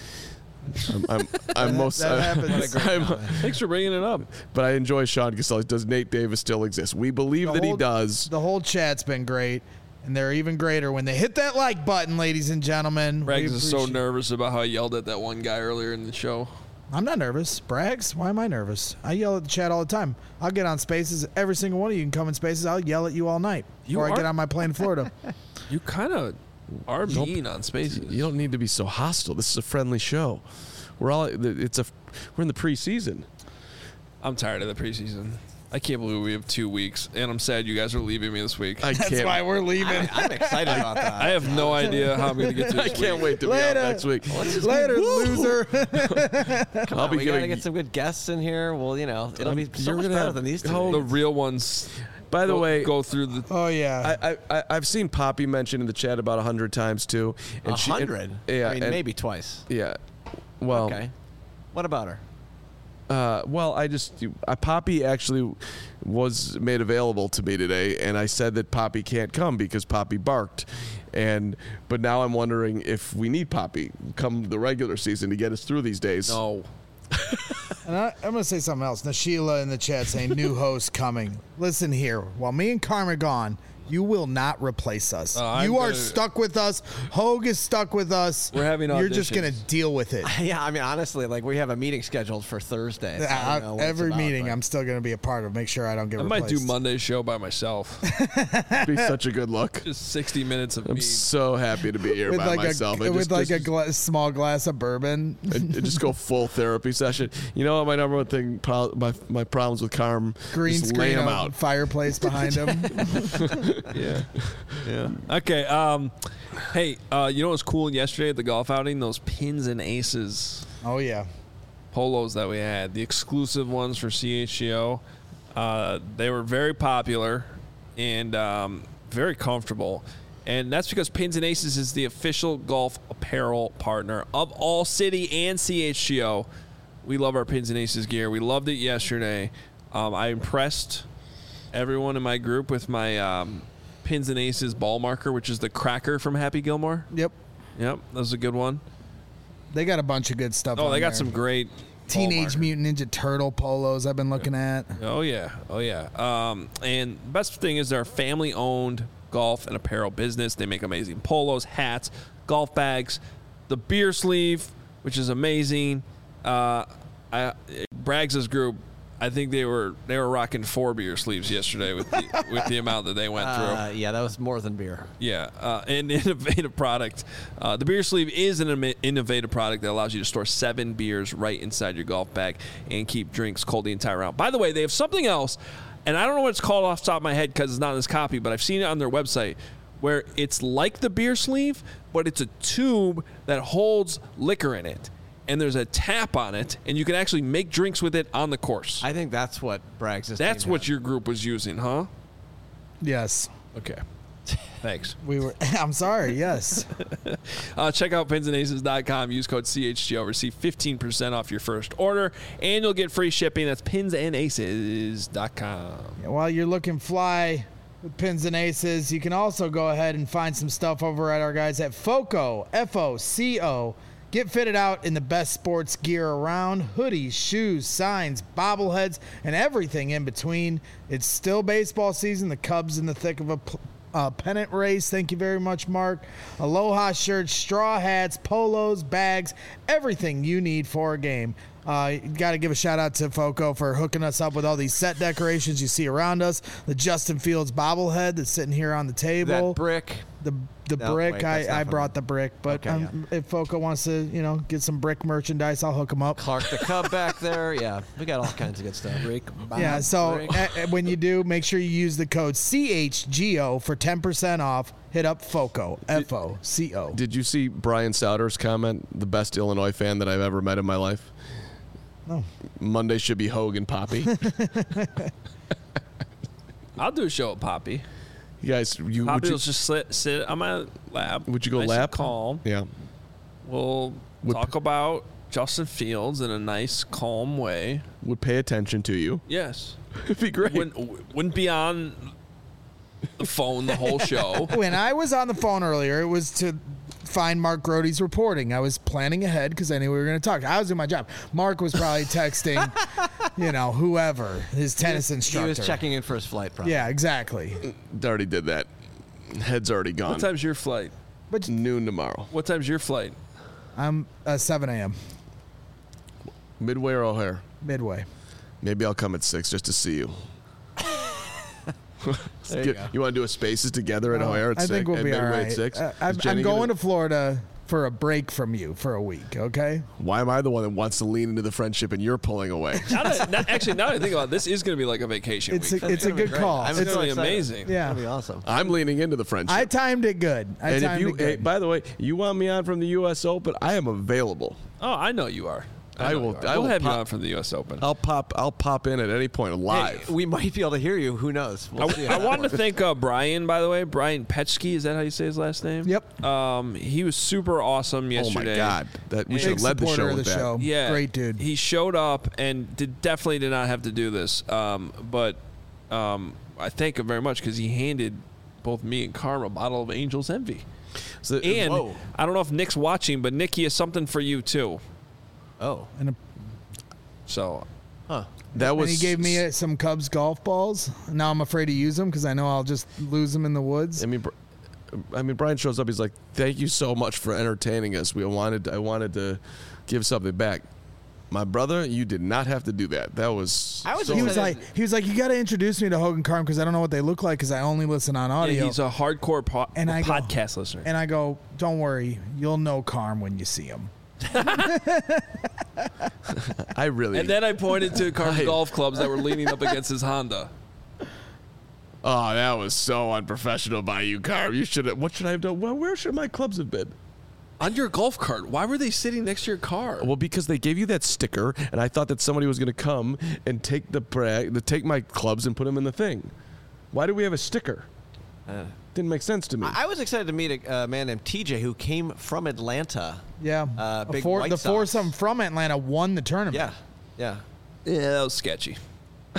Speaker 3: I'm most.
Speaker 1: Thanks for bringing it up.
Speaker 3: But I enjoy Sean Caselli. Does Nate Davis still exist? We believe that he does.
Speaker 2: The whole chat's been great, and they're even greater when they hit that like button, ladies and gentlemen.
Speaker 1: Braggs is so nervous about how I yelled at that one guy earlier in the show.
Speaker 2: I'm not nervous. Braggs, why am I nervous? I yell at the chat all the time. I'll get on Spaces. Every single one of you can come in Spaces. I'll yell at you all night before I get on my plane to Florida.
Speaker 1: You kind of are mean on Spaces.
Speaker 3: You don't need to be so hostile. This is a friendly show. We're in the preseason.
Speaker 1: I'm tired of the preseason. I can't believe we have 2 weeks, and I'm sad you guys are leaving me this week.
Speaker 2: That's why we're leaving.
Speaker 4: I'm excited about that.
Speaker 1: I have no idea how I'm going to get to this
Speaker 3: I can't wait to be out next week.
Speaker 2: Later, loser.
Speaker 4: Come on, we got to get some good guests in here. Well, it'll be so much better than these two.
Speaker 1: The real ones.
Speaker 3: By the way,
Speaker 1: go through the.
Speaker 2: Oh yeah,
Speaker 3: I've seen Poppy mentioned in the chat about 100 times too.
Speaker 4: 100?
Speaker 3: Yeah,
Speaker 4: maybe twice.
Speaker 3: Yeah. Well.
Speaker 4: Okay. What about her?
Speaker 3: Poppy actually was made available to me today, and I said that Poppy can't come because Poppy barked. But now I'm wondering if we need Poppy come the regular season to get us through these days.
Speaker 1: No.
Speaker 2: And I'm going to say something else. Nashila in the chat saying new host coming. Listen here. While me and Carm are gone, you will not replace us. You are stuck with us. Hogue is stuck with us.
Speaker 1: We're having auditions.
Speaker 2: You're just going to deal with it.
Speaker 4: Yeah, I mean, honestly, we have a meeting scheduled for Thursday. So
Speaker 2: every meeting I'm still going to be a part of. Make sure I don't get replaced.
Speaker 1: I might do Monday's show by myself.
Speaker 3: It'd be such a good look.
Speaker 1: Just 60 minutes of me.
Speaker 3: I'm so happy to be here
Speaker 2: with
Speaker 3: by myself.
Speaker 2: With a small glass of bourbon.
Speaker 3: And just go full therapy session. You know what my number one thing, my problems with Carm,
Speaker 2: green
Speaker 3: just
Speaker 2: screen
Speaker 3: lay him
Speaker 2: out. Fireplace behind him.
Speaker 1: Yeah. Yeah. Okay. Hey, you know what was cool yesterday at the golf outing? Those pins and aces.
Speaker 2: Oh yeah.
Speaker 1: Polos that we had, the exclusive ones for CHGO. They were very popular and very comfortable. And that's because Pins and Aces is the official golf apparel partner of All City and CHGO. We love our Pins and Aces gear. We loved it yesterday. I impressed everyone in my group with my Pins and Aces ball marker, which is the cracker from Happy Gilmore.
Speaker 2: Yep.
Speaker 1: That was a good one.
Speaker 2: They got a bunch of good stuff.
Speaker 1: Oh,
Speaker 2: on
Speaker 1: they got
Speaker 2: there.
Speaker 1: some great
Speaker 2: Teenage Mutant Ninja Turtle polos I've been looking at.
Speaker 1: Oh, yeah. And the best thing is they're a family-owned golf and apparel business. They make amazing polos, hats, golf bags, the beer sleeve, which is amazing. Braggs' group, I think they were rocking 4 beer sleeves yesterday with the amount that they went through.
Speaker 4: Yeah, that was more than beer.
Speaker 1: Yeah, an innovative product. The beer sleeve is an innovative product that allows you to store 7 beers right inside your golf bag and keep drinks cold the entire round. By the way, they have something else, and I don't know what it's called off the top of my head because it's not in this copy, but I've seen it on their website, where it's like the beer sleeve, but it's a tube that holds liquor in it. And there's a tap on it, and you can actually make drinks with it on the course.
Speaker 4: I think that's what Braggs is.
Speaker 1: That's what your group was using, huh?
Speaker 2: Yes.
Speaker 1: Okay. Thanks.
Speaker 2: We were. I'm sorry. Yes.
Speaker 1: Check out pinsandaces.com. Use code CHGO. Receive 15% off your first order, and you'll get free shipping. That's pinsandaces.com.
Speaker 2: While you're looking fly with Pins and Aces, you can also go ahead and find some stuff over at our guys at FOCO, F-O-C-O. Get fitted out in the best sports gear around. Hoodies, shoes, signs, bobbleheads, and everything in between. It's still baseball season. The Cubs in the thick of a pennant race. Thank you very much, Mark. Aloha shirts, straw hats, polos, bags, everything you need for a game. Got to give a shout out to FOCO for hooking us up with all these set decorations you see around us. The Justin Fields bobblehead that's sitting here on the table.
Speaker 4: That brick.
Speaker 2: The
Speaker 4: No,
Speaker 2: brick,
Speaker 4: wait, that's not
Speaker 2: I
Speaker 4: from
Speaker 2: brought
Speaker 4: them.
Speaker 2: the brick, but
Speaker 4: Okay,
Speaker 2: if FOCO wants to, get some brick merchandise, I'll hook them up.
Speaker 4: Clark the Cub back there. Yeah, we got all kinds of good stuff.
Speaker 2: Yeah, so when you do, make sure you use the code CHGO for 10% off. Hit up FOCO, F-O-C-O.
Speaker 3: Did you see Brian Souders' comment, the best Illinois fan that I've ever met in my life?
Speaker 2: No.
Speaker 3: Monday should be Hogan Poppy.
Speaker 1: I'll do a show at Poppy.
Speaker 3: You guys,
Speaker 1: Poppy will just sit on my lap.
Speaker 3: Would you go
Speaker 1: nice
Speaker 3: lap?
Speaker 1: and calm.
Speaker 3: Yeah.
Speaker 1: We'll talk about Justin Fields in a nice, calm way.
Speaker 3: Would pay attention to you.
Speaker 1: Yes.
Speaker 3: It'd be great.
Speaker 1: Wouldn't be on the phone the whole show.
Speaker 2: When I was on the phone earlier, it was to find Mark Grote's reporting. I was planning ahead because I knew we were going to talk. I was doing my job. Mark was probably texting, whoever, his tennis instructor.
Speaker 4: He was checking in for his flight, probably.
Speaker 2: Yeah, exactly.
Speaker 3: Already did that. Head's already gone.
Speaker 1: What time's your flight?
Speaker 2: But
Speaker 3: Noon tomorrow.
Speaker 1: What time's your flight?
Speaker 2: I'm 7 a.m.
Speaker 3: Midway or O'Hare?
Speaker 2: Midway.
Speaker 3: Maybe I'll come at 6 just to see you. You want to do a Spaces together at O'Hare at 6?
Speaker 2: I think we'll be all
Speaker 3: Midway
Speaker 2: right.
Speaker 3: at 6?
Speaker 2: I'm going to Florida for a break from you for a week, okay?
Speaker 3: Why am I the one that wants to lean into the friendship and you're pulling away?
Speaker 1: Now that I think about it, this is going to be like a vacation
Speaker 2: It's
Speaker 1: week.
Speaker 2: a good call.
Speaker 1: It's going to be amazing.
Speaker 2: Yeah.
Speaker 4: That'd be awesome.
Speaker 3: I'm leaning into the friendship.
Speaker 2: I timed it good.
Speaker 3: Hey, by the way, you want me on from the U.S. Open? I am available.
Speaker 1: Oh, I know you are.
Speaker 3: I will
Speaker 1: We'll have you
Speaker 3: pop-
Speaker 1: on from the U.S. Open.
Speaker 3: I'll pop in at any point live.
Speaker 4: Hey, we might be able to hear you. Who knows? We'll see how
Speaker 1: I
Speaker 4: that
Speaker 1: wanted to
Speaker 4: works.
Speaker 1: thank Brian, by the way. Brian Petschke, is that how you say his last name?
Speaker 2: Yep.
Speaker 1: He was super awesome
Speaker 3: Oh
Speaker 1: yesterday.
Speaker 3: my God, that we
Speaker 1: Big
Speaker 3: should have led the
Speaker 2: supporter
Speaker 3: show
Speaker 2: of
Speaker 3: with
Speaker 2: the
Speaker 3: that.
Speaker 2: show.
Speaker 1: Yeah,
Speaker 2: Great dude.
Speaker 1: He showed up and definitely did not have to do this, but I thank him very much because he handed both me and Karma a bottle of Angel's Envy.
Speaker 3: So,
Speaker 1: And
Speaker 4: Whoa.
Speaker 1: I don't know if Nick's watching, but Nick, he has something for you too.
Speaker 4: Oh.
Speaker 1: So
Speaker 3: that was
Speaker 2: And he gave me some Cubs golf balls. Now I'm afraid to use them because I know I'll just lose them in the woods.
Speaker 3: I mean, Brian shows up. He's like, "Thank you so much for entertaining us. I wanted to give something back." My brother, you did not have to do that. That was.
Speaker 4: I was
Speaker 3: so-
Speaker 2: He was like, you got to introduce me to Hogan Carm because I don't know what they look like because I only listen on audio.
Speaker 1: yeah, he's a hardcore
Speaker 2: And I go-
Speaker 1: podcast listener.
Speaker 2: And I go, don't worry, you'll know Carm when you see him.
Speaker 3: I really.
Speaker 1: And then I pointed to Carm's golf clubs that were leaning up against his Honda.
Speaker 3: Oh, that was so unprofessional by you, Carm. You should have. What should I have done? Well, where should my clubs have been?
Speaker 1: On your golf cart. Why were they sitting next to your car?
Speaker 3: Well, because they gave you that sticker, and I thought that somebody was going to come and take take my clubs and put them in the thing. Why do we have a sticker? Didn't make sense to me.
Speaker 4: I was excited to meet a man named TJ who came from Atlanta.
Speaker 2: Yeah.
Speaker 4: Big White
Speaker 2: The
Speaker 4: Sox.
Speaker 2: foursome from Atlanta won the tournament.
Speaker 4: Yeah. Yeah.
Speaker 1: Yeah, that was sketchy.
Speaker 4: I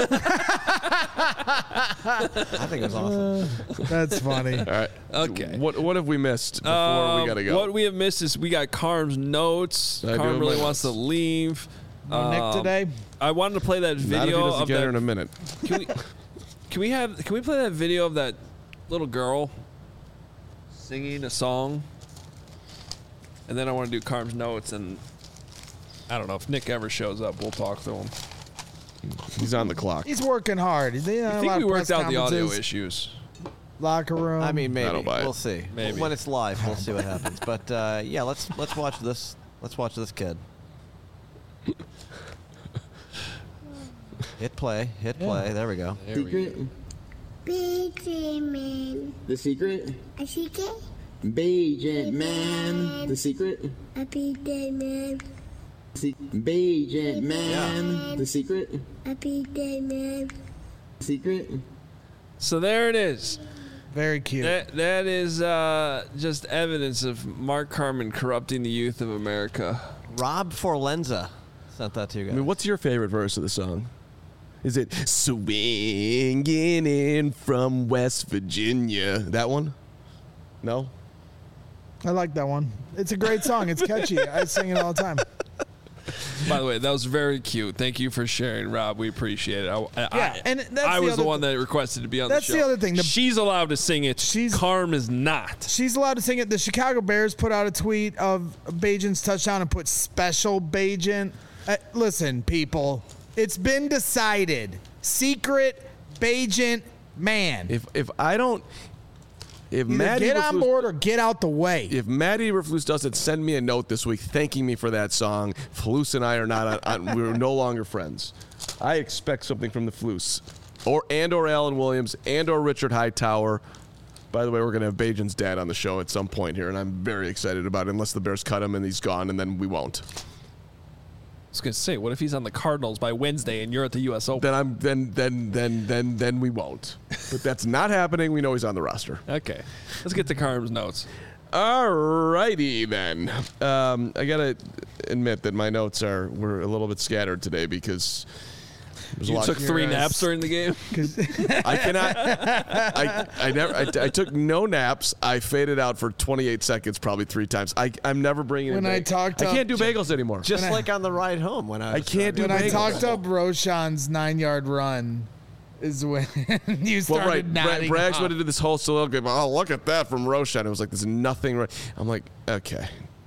Speaker 4: think it was awesome.
Speaker 2: That's funny.
Speaker 3: All right.
Speaker 1: Okay.
Speaker 3: What have we missed before we got to go?
Speaker 1: What we have missed is we got Carm's notes.
Speaker 3: I do
Speaker 1: Carm
Speaker 3: have
Speaker 1: really
Speaker 3: my
Speaker 1: wants to
Speaker 3: notes.
Speaker 1: leave.
Speaker 2: No Nick today.
Speaker 1: I wanted to play that
Speaker 3: Not if he
Speaker 1: video
Speaker 3: doesn't
Speaker 1: of
Speaker 3: get
Speaker 1: that.
Speaker 3: her in a minute.
Speaker 1: Can we play that video of that little girl singing a song? And then I want to do Carm's notes, and I don't know if Nick ever shows up. We'll talk to him.
Speaker 3: He's on the clock.
Speaker 2: He's working hard.
Speaker 1: I think we worked out the audio issues.
Speaker 2: Locker room.
Speaker 4: I mean, maybe
Speaker 3: I don't buy it.
Speaker 4: we'll see.
Speaker 1: Maybe.
Speaker 4: When it's live, we'll see what happens. But yeah, let's watch this. Let's watch this kid. Hit play. Hit play. There we go.
Speaker 5: Secret?
Speaker 6: Beijing man.
Speaker 5: The secret?
Speaker 6: A secret?
Speaker 5: Beijing man. The secret?
Speaker 6: A Beijing man.
Speaker 5: Beijing man. The secret?
Speaker 6: A Beijing man.
Speaker 5: Secret?
Speaker 1: So there it is.
Speaker 2: Very cute.
Speaker 1: That is just evidence of Mark Carman corrupting the youth of America.
Speaker 4: Rob Forlenza sent that to you guys.
Speaker 3: I mean, what's your favorite verse of the song? Is it swinging in from West Virginia? That one? No?
Speaker 2: I like that one. It's a great song. It's catchy. I sing it all the time.
Speaker 1: By the way, that was very cute. Thank you for sharing, Rob. We appreciate it.
Speaker 2: And that's
Speaker 1: I
Speaker 2: the
Speaker 1: was the
Speaker 2: other
Speaker 1: one that requested to be on the show.
Speaker 2: That's the other thing.
Speaker 1: She's allowed to sing it.
Speaker 2: She's-
Speaker 1: Carm is not.
Speaker 2: She's allowed to sing it. The Chicago Bears put out a tweet of Bajan's touchdown and put special Bajan. Listen, people, it's been decided. Secret Bajan man.
Speaker 3: If I don't... If
Speaker 2: Either
Speaker 3: Matt
Speaker 2: get on
Speaker 3: Eberflus-
Speaker 2: board or get out the way.
Speaker 3: If Matt Eberflus doesn't send me a note this week thanking me for that song, Flus and I are not we're no longer friends. I expect something from the Flus, or Alan Williams or Richard Hightower. By the way, we're going to have Bajan's dad on the show at some point here, and I'm very excited about it. Unless the Bears cut him and he's gone, and then we won't.
Speaker 1: I was gonna say, what if he's on the Cardinals by Wednesday and you're at the U.S. Open?
Speaker 3: Then we won't. But that's not happening. We know he's on the roster.
Speaker 1: Okay, let's get to Carm's notes.
Speaker 3: All righty then. I gotta admit that my notes were a little bit scattered today because there's a
Speaker 1: You
Speaker 3: lot.
Speaker 1: took 3 naps during the game.
Speaker 3: I cannot. I took no naps. I faded out for 28 seconds, probably 3 times. I'm never bringing.
Speaker 2: When
Speaker 3: in
Speaker 2: I
Speaker 3: bagels.
Speaker 2: talked
Speaker 3: I
Speaker 2: up-
Speaker 3: can't do bagels anymore.
Speaker 4: Just like on the ride home when I was
Speaker 3: can't do
Speaker 2: When I
Speaker 3: bagels.
Speaker 2: talked up Roshan's 9-yard run is when you started
Speaker 3: Well, right.
Speaker 2: nodding
Speaker 3: Braggs
Speaker 2: off.
Speaker 3: went into this whole soliloquy. Oh, look at that from Roshan. It was like there's nothing right. I'm like, okay.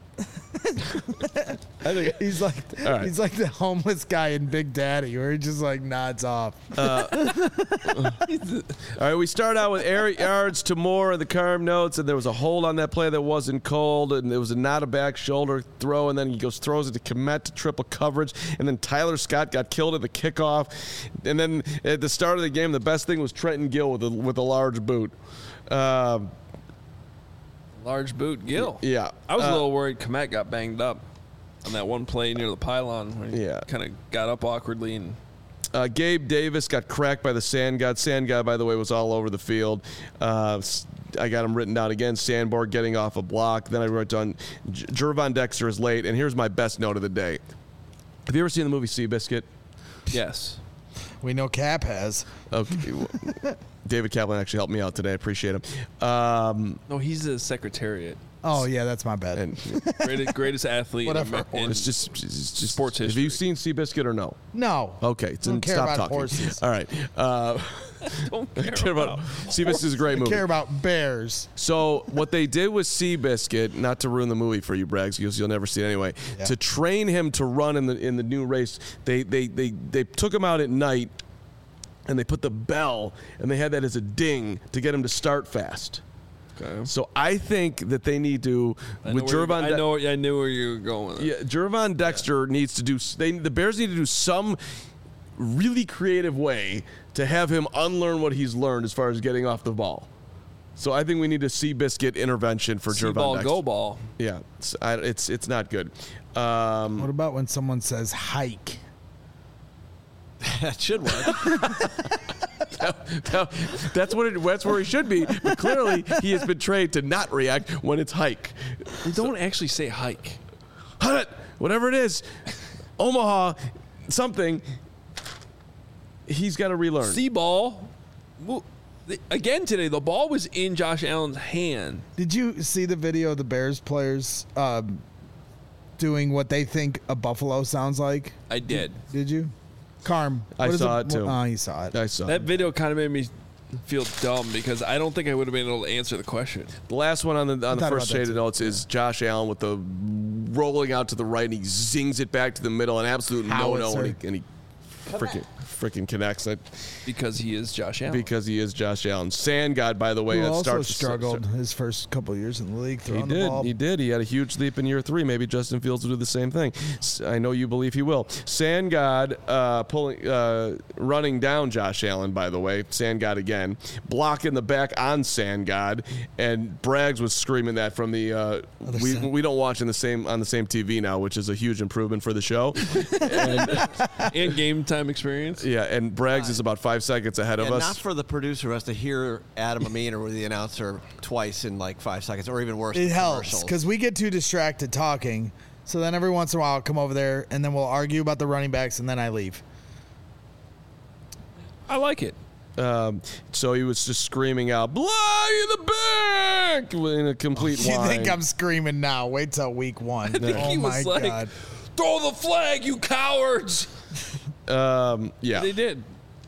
Speaker 3: I think
Speaker 2: He's like
Speaker 3: All right.
Speaker 2: he's like the homeless guy in Big Daddy, where he just like nods off.
Speaker 3: All right, we start out with air yards to Moore in the Carm notes, and there was a hold on that play that wasn't called, and it was not a back shoulder throw, and then he throws it to Kmet to triple coverage, and then Tyler Scott got killed at the kickoff, and then at the start of the game, the best thing was Trenton Gill with a large boot.
Speaker 1: Large boot, Gill.
Speaker 3: Yeah.
Speaker 1: I was a little worried Komet got banged up on that one play near the pylon where he
Speaker 3: Yeah.
Speaker 1: kind of got up awkwardly and
Speaker 3: Gabe Davis got cracked by the Sand God. Sand God, by the way, was all over the field. I got him written down again. Sandborg getting off a block. Then I wrote down Gervon Dexter is late. And here's my best note of the day. Have you ever seen the movie Seabiscuit?
Speaker 1: yes.
Speaker 2: We know Cap has.
Speaker 3: Okay. David Kaplan actually helped me out today. I appreciate him.
Speaker 1: No, he's a secretariat.
Speaker 2: Oh yeah, that's my bad.
Speaker 3: And
Speaker 1: Greatest athlete
Speaker 2: Whatever.
Speaker 1: in
Speaker 3: it's just
Speaker 1: sports
Speaker 3: Have
Speaker 1: history.
Speaker 3: you seen Seabiscuit or no?
Speaker 2: No.
Speaker 3: Okay,
Speaker 2: Don't care
Speaker 3: stop
Speaker 2: about
Speaker 3: talking.
Speaker 2: horses.
Speaker 3: All right.
Speaker 1: Don't
Speaker 3: Care about Seabiscuit is a great
Speaker 2: I
Speaker 3: movie.
Speaker 2: care about bears.
Speaker 3: So what they did with Seabiscuit, not to ruin the movie for you, Braggs, because you'll never see it anyway,
Speaker 2: Yeah.
Speaker 3: to train him to run in the new race, they took him out at night, and they put the bell, and they had that as a ding to get him to start fast.
Speaker 1: Okay.
Speaker 3: So I think that they need to with Gervon.
Speaker 1: I knew where you were going with it.
Speaker 3: Yeah, Gervon Dexter needs to do. The Bears need to do some really creative way to have him unlearn what he's learned as far as getting off the ball. So I think we need a Seabiscuit intervention for Gervon
Speaker 1: ball,
Speaker 3: Dexter.
Speaker 1: go ball.
Speaker 3: Yeah, it's not good.
Speaker 2: What about when someone says hike?
Speaker 4: That should work.
Speaker 3: That's where he should be. But clearly, he has been trained to not react when it's hike.
Speaker 1: They don't actually say hike.
Speaker 3: Hut, whatever it is, Omaha, something. He's got to relearn.
Speaker 1: See ball. Again today, the ball was in Josh Allen's hand.
Speaker 2: Did you see the video of the Bears players doing what they think a buffalo sounds like?
Speaker 1: I did.
Speaker 2: Did you? Carm.
Speaker 3: I saw it too.
Speaker 2: Oh, you saw it.
Speaker 3: I saw
Speaker 1: That
Speaker 3: it.
Speaker 1: video kind of made me feel dumb because I don't think I would have been able to answer the question.
Speaker 3: The last one on the
Speaker 2: thought
Speaker 3: first
Speaker 2: about that
Speaker 3: shaded
Speaker 2: too.
Speaker 3: notes is Josh Allen with the rolling out to the right, and he zings it back to the middle, an absolute no-no,
Speaker 2: Howitzer.
Speaker 3: and he freaking connects it
Speaker 1: Because he is Josh Allen.
Speaker 3: because he is Josh Allen. Sand God, by the way,
Speaker 2: Who
Speaker 3: that
Speaker 2: also
Speaker 3: starts
Speaker 2: struggled his first couple years in the league
Speaker 3: He
Speaker 2: throwing the
Speaker 3: did.
Speaker 2: ball.
Speaker 3: He did. He had a huge leap in year 3. Maybe Justin Fields will do the same thing. I know you believe he will. Sand God running down Josh Allen, by the way. Sand God again. Block in the back on Sand God. And Braggs was screaming that from the we don't watch on the same TV now, which is a huge improvement for the show.
Speaker 1: And game time experience.
Speaker 3: Yeah, and Braggs is about 5 seconds ahead of
Speaker 4: And
Speaker 3: us.
Speaker 4: not for the producer who has to hear Adam Amin or the announcer twice in like 5 seconds, or even worse.
Speaker 2: It helps
Speaker 4: commercials.
Speaker 2: because we get too distracted talking. So then every once in a while I'll come over there and then we'll argue about the running backs and then I leave.
Speaker 1: I like it.
Speaker 3: So he was just screaming out, "Block in the back!" in a complete
Speaker 2: You
Speaker 3: whine.
Speaker 2: think I'm screaming now? Wait till week 1.
Speaker 1: think
Speaker 2: Oh
Speaker 1: he
Speaker 2: my
Speaker 1: was like,
Speaker 2: God.
Speaker 1: Throw the flag, you cowards.
Speaker 3: Yeah.
Speaker 1: They did.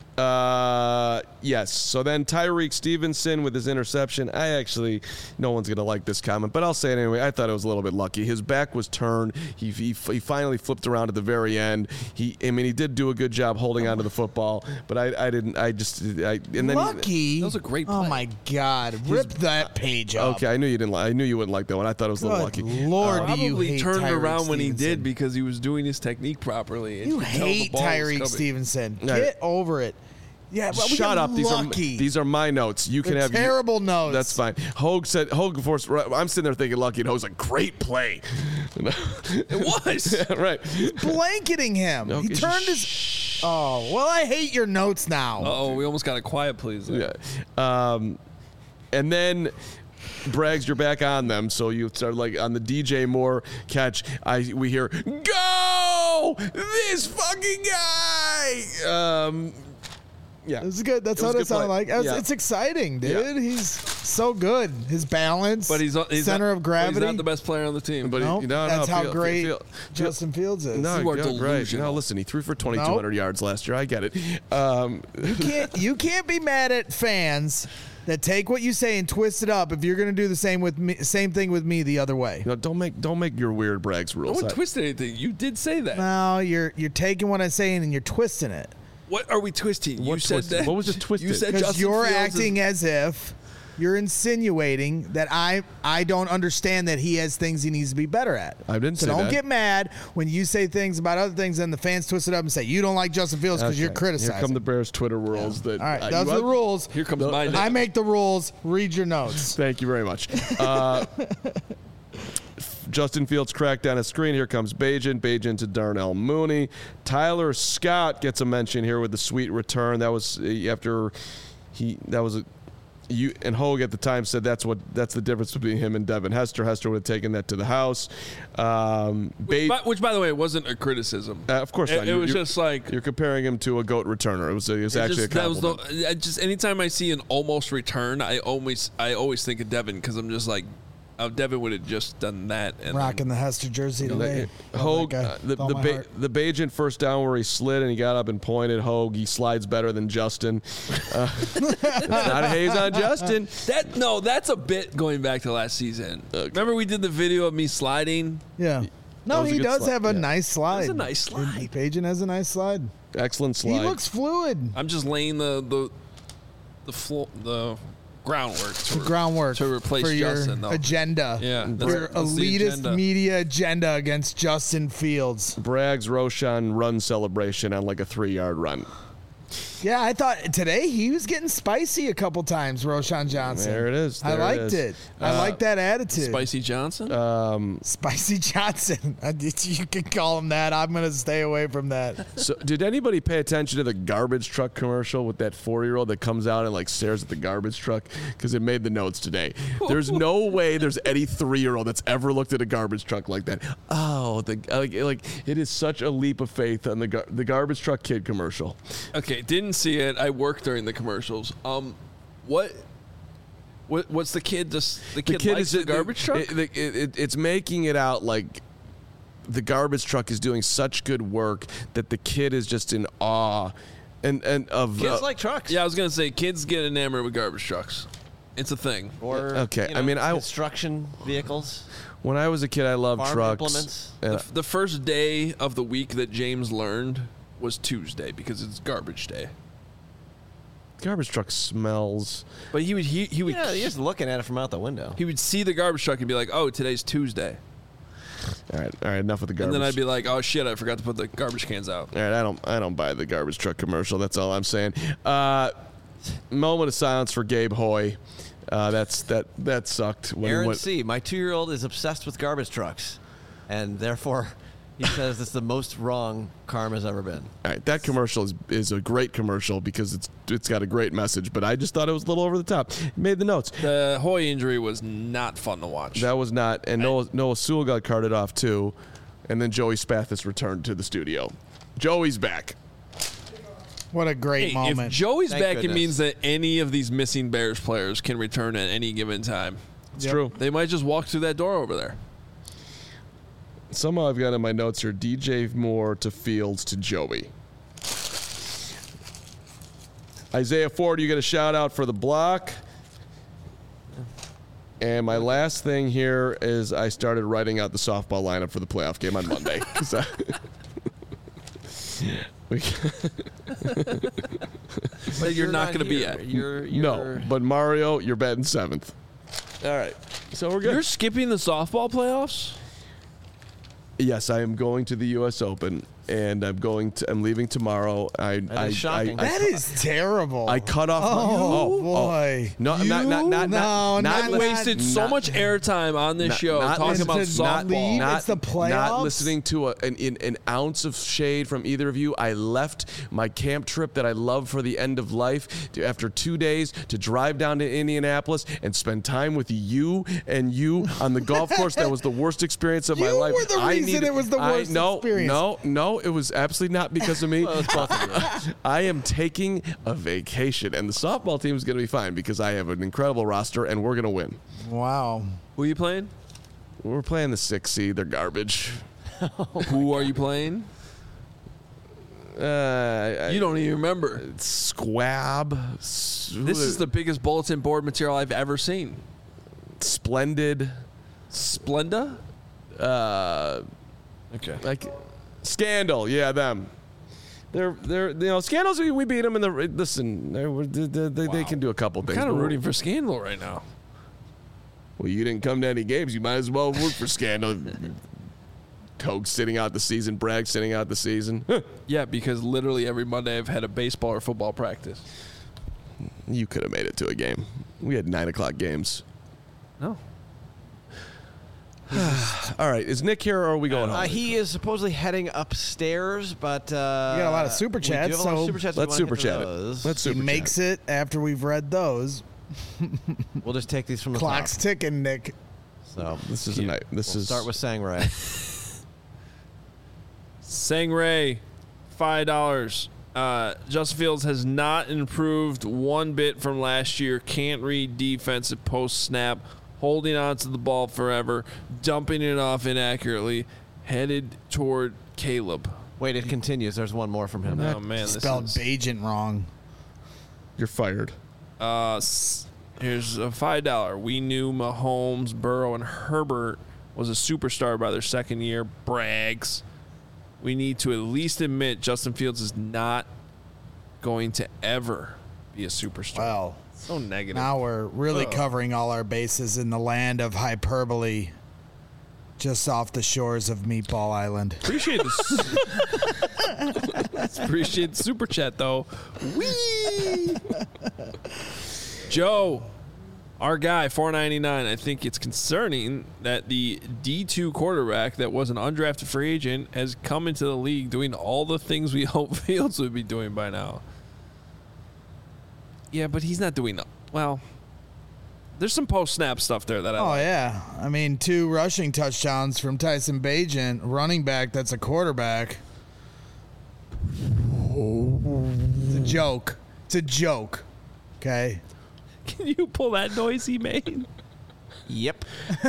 Speaker 3: Yes. So then Tyreek Stevenson with his interception. No one's going to like this comment, but I'll say it anyway. I thought it was a little bit lucky. His back was turned. He finally flipped around at the very end. He did do a good job holding onto the football, but I didn't. And then
Speaker 2: Lucky.
Speaker 1: That was a great
Speaker 2: Oh
Speaker 1: play.
Speaker 2: my God. Rip that page up.
Speaker 3: Okay, I knew you didn't. I knew you wouldn't like that one. I thought it was a little lucky.
Speaker 2: Lord, do you
Speaker 1: Probably
Speaker 2: hate
Speaker 1: turned
Speaker 2: Tyreek
Speaker 1: around when he
Speaker 2: Stevenson.
Speaker 1: did because he was doing his technique properly. And
Speaker 2: You
Speaker 1: could tell the
Speaker 2: hate
Speaker 1: ball was
Speaker 2: Tyreek
Speaker 1: coming.
Speaker 2: Stevenson.
Speaker 3: Yeah.
Speaker 2: Get over it. Yeah, but we
Speaker 3: Shut
Speaker 2: got
Speaker 3: up.
Speaker 2: Lucky.
Speaker 3: These are my notes. You can
Speaker 2: They're
Speaker 3: have
Speaker 2: terrible notes.
Speaker 3: That's fine. Hogue said. I'm sitting there thinking Lucky, and Hogue's a great play.
Speaker 1: It was.
Speaker 3: Yeah, right.
Speaker 2: Blanketing him.
Speaker 3: Okay,
Speaker 2: He turned his. Oh well, I hate your notes now.
Speaker 1: Uh-oh, we almost got a quiet please.
Speaker 3: Yeah. And then Braggs, you're back on them, so you start like on the DJ Moore catch. We hear go this fucking guy. Yeah,
Speaker 2: This is good. That's
Speaker 3: It was
Speaker 2: what
Speaker 3: a
Speaker 2: it
Speaker 3: good
Speaker 2: sounded
Speaker 3: play.
Speaker 2: like.
Speaker 3: Yeah.
Speaker 2: It's exciting, dude.
Speaker 3: Yeah.
Speaker 2: He's so good. His balance,
Speaker 1: But he's
Speaker 2: center
Speaker 1: not,
Speaker 2: of gravity.
Speaker 1: But he's not the best player on the team.
Speaker 3: But
Speaker 2: Nope. That's how great
Speaker 3: Feel-
Speaker 2: Justin Fields is.
Speaker 3: No,
Speaker 1: You are
Speaker 3: right.
Speaker 1: delusional.
Speaker 3: No, listen, he threw for 2,200 yards last year. I get it.
Speaker 2: You can't be mad at fans that take what you say and twist it up if you're going to do the same thing with me the other way.
Speaker 3: Don't make your weird Braggs
Speaker 1: no
Speaker 3: rules.
Speaker 1: one twisted anything. You did say that.
Speaker 2: No, you're taking what I'm saying and you're twisting it
Speaker 1: What are we twisting? You
Speaker 3: What
Speaker 1: said
Speaker 3: twisted?
Speaker 1: that.
Speaker 3: What was just twisted?
Speaker 1: You said
Speaker 2: because
Speaker 1: Justin
Speaker 2: you're
Speaker 1: Fields
Speaker 2: acting as if you're insinuating that I don't understand that he has things he needs to be better at.
Speaker 3: I didn't
Speaker 2: so
Speaker 3: say
Speaker 2: don't
Speaker 3: that.
Speaker 2: get mad when you say things about other things and the fans twist it up and say you don't like Justin Fields because you're
Speaker 3: Okay.
Speaker 2: criticizing.
Speaker 3: Here come the Bears Twitter rules. That
Speaker 2: All right,
Speaker 3: you
Speaker 2: those are the rules.
Speaker 1: Here comes my
Speaker 2: I make the rules. Read your notes.
Speaker 3: Thank you very much. Justin Fields cracked down a screen. Here comes Bajan to Darnell Mooney. Tyler Scott gets a mention here with the sweet return. That was after you and Hogue at the time said that's the difference between him and Devin Hester. Hester would have taken that to the house.
Speaker 1: Which, by the way, wasn't a criticism.
Speaker 3: Of course not.
Speaker 1: It was just like
Speaker 3: you're comparing him to a GOAT returner. It was actually a compliment.
Speaker 1: just anytime I see an almost return, I always think of Devin because I'm just like, Devin would have just done that. And
Speaker 2: Rocking the Hester jersey today.
Speaker 3: Hogue,
Speaker 2: Love that guy.
Speaker 3: the
Speaker 2: With all my heart.
Speaker 3: Bajan first down where he slid and he got up and pointed. Hogue, he slides better than Justin. It's not a haze on Justin.
Speaker 1: That's a bit going back to last season. Remember we did the video of me sliding?
Speaker 2: Yeah.
Speaker 3: That
Speaker 2: No,
Speaker 3: was a
Speaker 2: he
Speaker 3: good
Speaker 2: does
Speaker 3: slide,
Speaker 2: have a
Speaker 3: yeah.
Speaker 2: nice slide.
Speaker 1: It's a nice slide.
Speaker 2: Pajan has a nice slide.
Speaker 3: Excellent slide.
Speaker 2: He looks fluid.
Speaker 1: I'm just laying the groundwork.
Speaker 2: The groundwork
Speaker 1: to replace
Speaker 2: for your
Speaker 1: Justin, though.
Speaker 2: agenda.
Speaker 1: Yeah,
Speaker 2: Your
Speaker 1: that's the
Speaker 2: elitist
Speaker 1: agenda.
Speaker 2: media agenda against Justin Fields.
Speaker 3: Braggs Roshan run celebration on like a 3-yard run.
Speaker 2: Yeah, I thought today he was getting spicy a couple times, Roshan Johnson.
Speaker 3: There it is.
Speaker 2: I
Speaker 3: There
Speaker 2: liked it. I like that attitude.
Speaker 1: Spicy Johnson?
Speaker 2: Spicy Johnson. You can call him that. I'm going to stay away from that.
Speaker 3: So, did anybody pay attention to the garbage truck commercial with that 4-year-old that comes out and like stares at the garbage truck? Because it made the notes today. There's no way there's any 3-year-old that's ever looked at a garbage truck like that. Oh, like it is such a leap of faith on the garbage truck kid commercial.
Speaker 1: Okay, didn't see it. I worked during the commercials. What's the kid? The kid likes the garbage truck?
Speaker 3: It's making it out like the garbage truck is doing such good work that the kid is just in awe and of
Speaker 4: Kids like trucks.
Speaker 1: Yeah, I was gonna say kids get enamored with garbage trucks. It's a thing.
Speaker 4: Or
Speaker 3: okay.
Speaker 4: you know,
Speaker 3: I mean,
Speaker 4: construction vehicles.
Speaker 3: When I was a kid, I loved
Speaker 4: Farm
Speaker 3: trucks.
Speaker 4: implements.
Speaker 1: The first day of the week that James learned was Tuesday because it's garbage day.
Speaker 3: Garbage truck smells.
Speaker 1: But he would
Speaker 4: Yeah, you're just looking at it from out the window.
Speaker 1: he would see the garbage truck and be like, "Oh, today's Tuesday,"
Speaker 3: All right. Enough with the garbage.
Speaker 1: and then I'd be like, "Oh shit, I forgot to put the garbage cans out."
Speaker 3: All right, I don't buy the garbage truck commercial. That's all I'm saying. Moment of silence for Gabe Hoy. That sucked. When
Speaker 4: Aaron
Speaker 3: he went,
Speaker 4: C., my 2-year-old is obsessed with garbage trucks, and therefore he says it's the most wrong Karma's ever been.
Speaker 3: all right, that commercial is a great commercial because it's got a great message. But I just thought it was a little over the top. Made the notes.
Speaker 1: The Hoy injury was not fun to watch.
Speaker 3: That was not. And Noah Sewell got carted off too, and then Joey Spathis returned to the studio. Joey's back.
Speaker 2: What a great
Speaker 1: Hey,
Speaker 2: moment.
Speaker 1: if Joey's
Speaker 4: Thank
Speaker 1: back,
Speaker 4: goodness.
Speaker 1: it means that any of these missing Bears players can return at any given time.
Speaker 3: It's true.
Speaker 1: They might just walk through that door over there.
Speaker 3: Somehow I've got in my notes here DJ Moore to Fields to Joey. Isaiah Ford, you get a shout out for the block. And my last thing here is I started writing out the softball lineup for the playoff game on Monday.
Speaker 1: But you're not going to be
Speaker 4: here.
Speaker 1: at.
Speaker 3: No, but Mario, you're batting 7th. All right, so we're good.
Speaker 1: You're skipping the softball playoffs?
Speaker 3: Yes, I am going to the U.S. Open, and I'm leaving tomorrow.
Speaker 4: That is shocking.
Speaker 2: That is terrible.
Speaker 3: I cut off.
Speaker 2: Oh, boy.
Speaker 3: No, I'm not.
Speaker 2: not
Speaker 1: You wasted so much airtime on this show talking about softball.
Speaker 2: It's the playoffs?
Speaker 3: Not listening to an ounce of shade from either of you. I left my camp trip that I love for the end of life after 2 days to drive down to Indianapolis and spend time with you on the golf course. That was the worst experience of my life.
Speaker 2: You were the reason it was the worst experience.
Speaker 3: No, it was absolutely not because of me. I am taking a vacation, and the softball team is going to be fine because I have an incredible roster, and we're going to win.
Speaker 2: Wow.
Speaker 1: Who are you playing?
Speaker 3: We're playing the 6 seed. They're garbage.
Speaker 1: Who are you playing? You don't even remember.
Speaker 3: Squab.
Speaker 1: This is the biggest bulletin board material I've ever seen.
Speaker 3: Splendid.
Speaker 1: Splenda? Okay.
Speaker 3: Like Scandal. Yeah, them. They're Scandals. We beat them in the. Listen, they can do a couple things.
Speaker 1: Kind of
Speaker 3: but
Speaker 1: rooting for Scandal right now.
Speaker 3: Well, you didn't come to any games. You might as well root for Scandal. Coke sitting out the season. Bragg sitting out the season.
Speaker 1: Yeah, because literally every Monday I've had a baseball or football practice.
Speaker 3: You could have made it to a game. We had 9:00 games.
Speaker 1: No.
Speaker 3: All right, is Nick here or are we going home?
Speaker 4: He is supposedly heading upstairs, but we
Speaker 2: got a lot of super chats,
Speaker 4: We do have a lot of
Speaker 2: so
Speaker 4: super chats.
Speaker 3: Let's super chat it. Let's
Speaker 2: He
Speaker 3: super
Speaker 2: makes
Speaker 3: chat.
Speaker 2: it after we've read those.
Speaker 4: We'll just take these from the
Speaker 2: Clock's
Speaker 4: top.
Speaker 2: ticking, Nick.
Speaker 4: So
Speaker 3: This is a night.
Speaker 4: we'll start with Sangray.
Speaker 1: Sangray, $5. Justin Fields has not improved one bit from last year. Can't read defensive post snap. Holding on to the ball forever. Dumping it off inaccurately. Headed toward Caleb.
Speaker 4: Wait, it continues. There's one more from him.
Speaker 1: Oh, man. This
Speaker 2: Spelled
Speaker 1: is,
Speaker 2: Bajent wrong.
Speaker 3: You're fired.
Speaker 1: here's a $5. We knew Mahomes, Burrow, and Herbert was a superstar by their second year. Brags. We need to at least admit Justin Fields is not going to ever be a superstar.
Speaker 2: Well,
Speaker 1: So negative.
Speaker 2: now we're really covering all our bases in the land of hyperbole. just off the shores of Meatball Island.
Speaker 1: Appreciate this. Appreciate the super chat though. Whee! Joe, our guy, $4.99. I think it's concerning that the D2 quarterback that was an undrafted free agent has come into the league doing all the things we hope Fields would be doing by now. Yeah, but he's not doing well. There's some post-snap stuff there that I like.
Speaker 2: Yeah. I mean, 2 rushing touchdowns from Tyson Bagent, running back that's a quarterback. It's a joke. It's a joke. Okay?
Speaker 1: Can you pull that noise he made?
Speaker 4: Yep.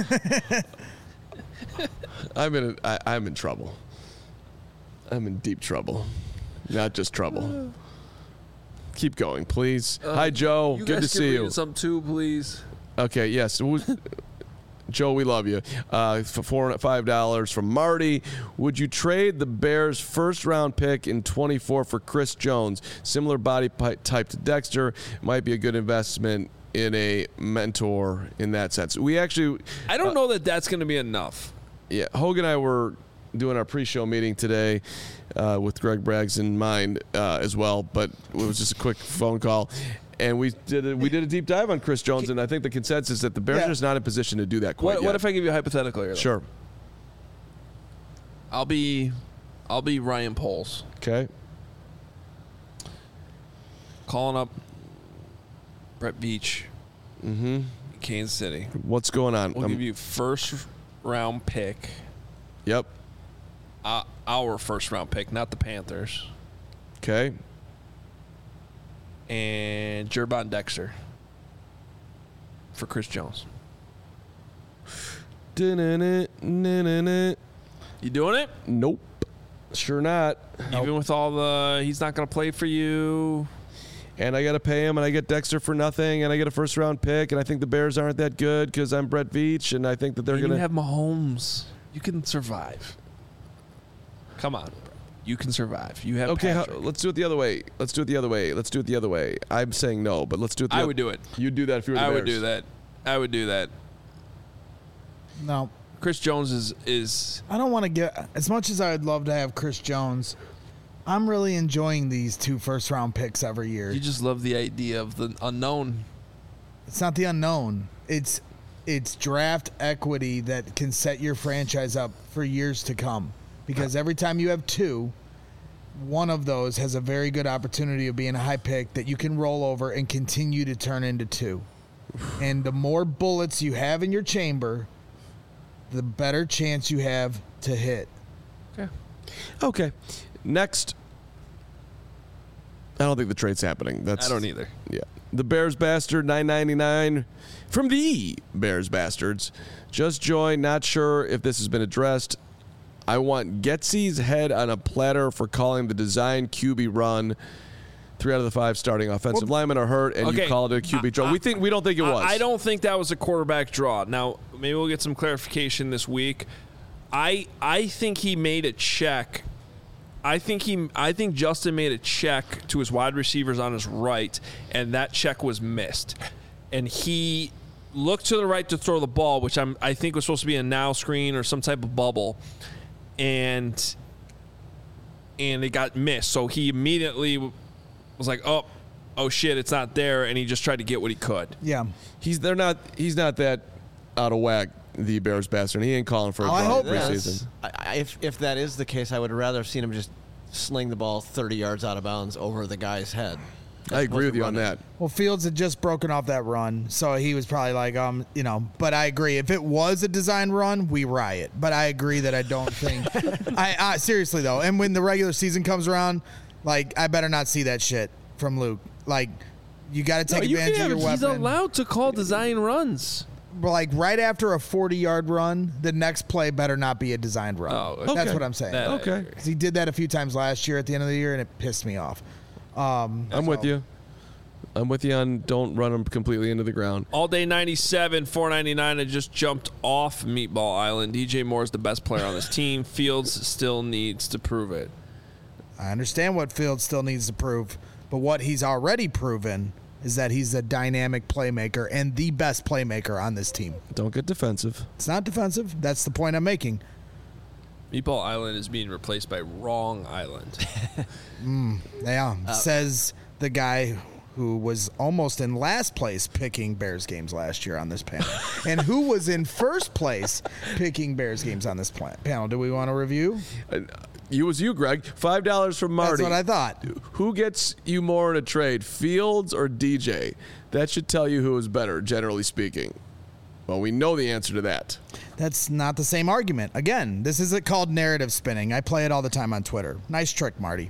Speaker 3: I'm in trouble. I'm in deep trouble. Not just trouble. Keep going, please. Hi, Joe. Good to see you.
Speaker 1: Some too, please.
Speaker 3: Okay, yes. Joe, we love you. For $5 from Marty. Would you trade the Bears' first-round pick in 24 for Chris Jones? Similar body type to Dexter. Might be a good investment in a mentor in that sense. We actually...
Speaker 1: I don't know that that's going to be enough.
Speaker 3: Yeah, Hogan and I were doing our pre-show meeting today with Greg Braggs in mind as well, but it was just a quick phone call. And we did a deep dive on Chris Jones, and I think the consensus is that the Bears are just not in position to do that quite yet.
Speaker 1: What if I give you a hypothetical here?
Speaker 3: Sure.
Speaker 1: I'll be Ryan Poles.
Speaker 3: Okay.
Speaker 1: Calling up Brett Veach.
Speaker 3: Mm-hmm.
Speaker 1: Kansas City.
Speaker 3: What's going on?
Speaker 1: We'll give you first-round pick.
Speaker 3: Yep.
Speaker 1: Our first-round pick, not the Panthers.
Speaker 3: Okay.
Speaker 1: And Jervon Dexter for Chris Jones. You doing it?
Speaker 3: Nope. Sure not.
Speaker 1: Even with all the, he's not going to play for you.
Speaker 3: And I got to pay him, and I get Dexter for nothing, and I get a first-round pick, and I think the Bears aren't that good because I'm Brett Veach, and I think that they're going to...
Speaker 1: You have Mahomes. You can survive. Come on. You can survive. You have Patrick.
Speaker 3: Let's do it the other way. Let's do it the other way. I'm saying no, but let's do it the other way.
Speaker 1: I would do it.
Speaker 3: You'd do that if you were the Bears.
Speaker 1: I would do that.
Speaker 2: No.
Speaker 1: Chris Jones is
Speaker 2: I don't want to get... As much as I would love to have Chris Jones, I'm really enjoying these 2 first-round picks every year.
Speaker 1: You just love the idea of the unknown.
Speaker 2: It's not the unknown. It's draft equity that can set your franchise up for years to come. Because every time you have 2, one of those has a very good opportunity of being a high pick that you can roll over and continue to turn into 2. And the more bullets you have in your chamber, the better chance you have to hit.
Speaker 3: Okay. Next. I don't think the trade's happening.
Speaker 1: I don't either.
Speaker 3: Yeah. The Bears Bastard, $9.99 from the Bears Bastards. Just joined. Not sure if this has been addressed. I want Getsy's head on a platter for calling the design QB run. 3 out of the 5 starting offensive linemen are hurt, and you called it a QB draw. We don't think it was.
Speaker 1: I don't think that was a quarterback draw. Now, maybe we'll get some clarification this week. I think he made a check. I think Justin made a check to his wide receivers on his right, and that check was missed. And he looked to the right to throw the ball, which I think was supposed to be a now screen or some type of bubble. And it got missed. So he immediately was like, oh shit, it's not there, and he just tried to get what he could.
Speaker 2: Yeah.
Speaker 3: He's not that out of whack, the Bears Bastard. He ain't calling for a draw preseason.
Speaker 4: If that is the case, I would rather have seen him just sling the ball 30 yards out of bounds over the guy's head.
Speaker 3: I agree with you on that.
Speaker 2: Well, Fields had just broken off that run, so he was probably like, But I agree. If it was a design run, we riot. But I agree that I don't think. I seriously though, and when the regular season comes around, like I better not see that shit from Luke. Like, you got to take advantage of your weapon.
Speaker 1: He's allowed to call design runs.
Speaker 2: But like right after a 40-yard run, the next play better not be a designed run.
Speaker 1: Oh, okay.
Speaker 2: That's what I'm saying.
Speaker 3: Okay.
Speaker 2: 'Cause he did that a few times last year at the end of the year, and it pissed me off.
Speaker 3: I'm with you. I'm with you on don't run them completely into the ground.
Speaker 1: All day 97, $4.99. I just jumped off Meatball Island. DJ Moore is the best player on this team. Fields still needs to prove it.
Speaker 2: I understand what Fields still needs to prove, but what he's already proven is that he's a dynamic playmaker and the best playmaker on this team.
Speaker 3: Don't get defensive.
Speaker 2: It's not defensive. That's the point I'm making.
Speaker 1: Meatball Island is being replaced by Wrong Island.
Speaker 2: Yeah, says the guy who was almost in last place picking Bears games last year on this panel, and who was in first place picking Bears games on this panel. Do we want to review?
Speaker 3: It was you, Greg. $5 from Marty.
Speaker 2: That's what I thought.
Speaker 3: Who gets you more in a trade, Fields or DJ? That should tell you who is better, generally speaking. Well, we know the answer to that.
Speaker 2: That's not the same argument. Again, this isn't called narrative spinning. I play it all the time on Twitter. Nice trick, Marty.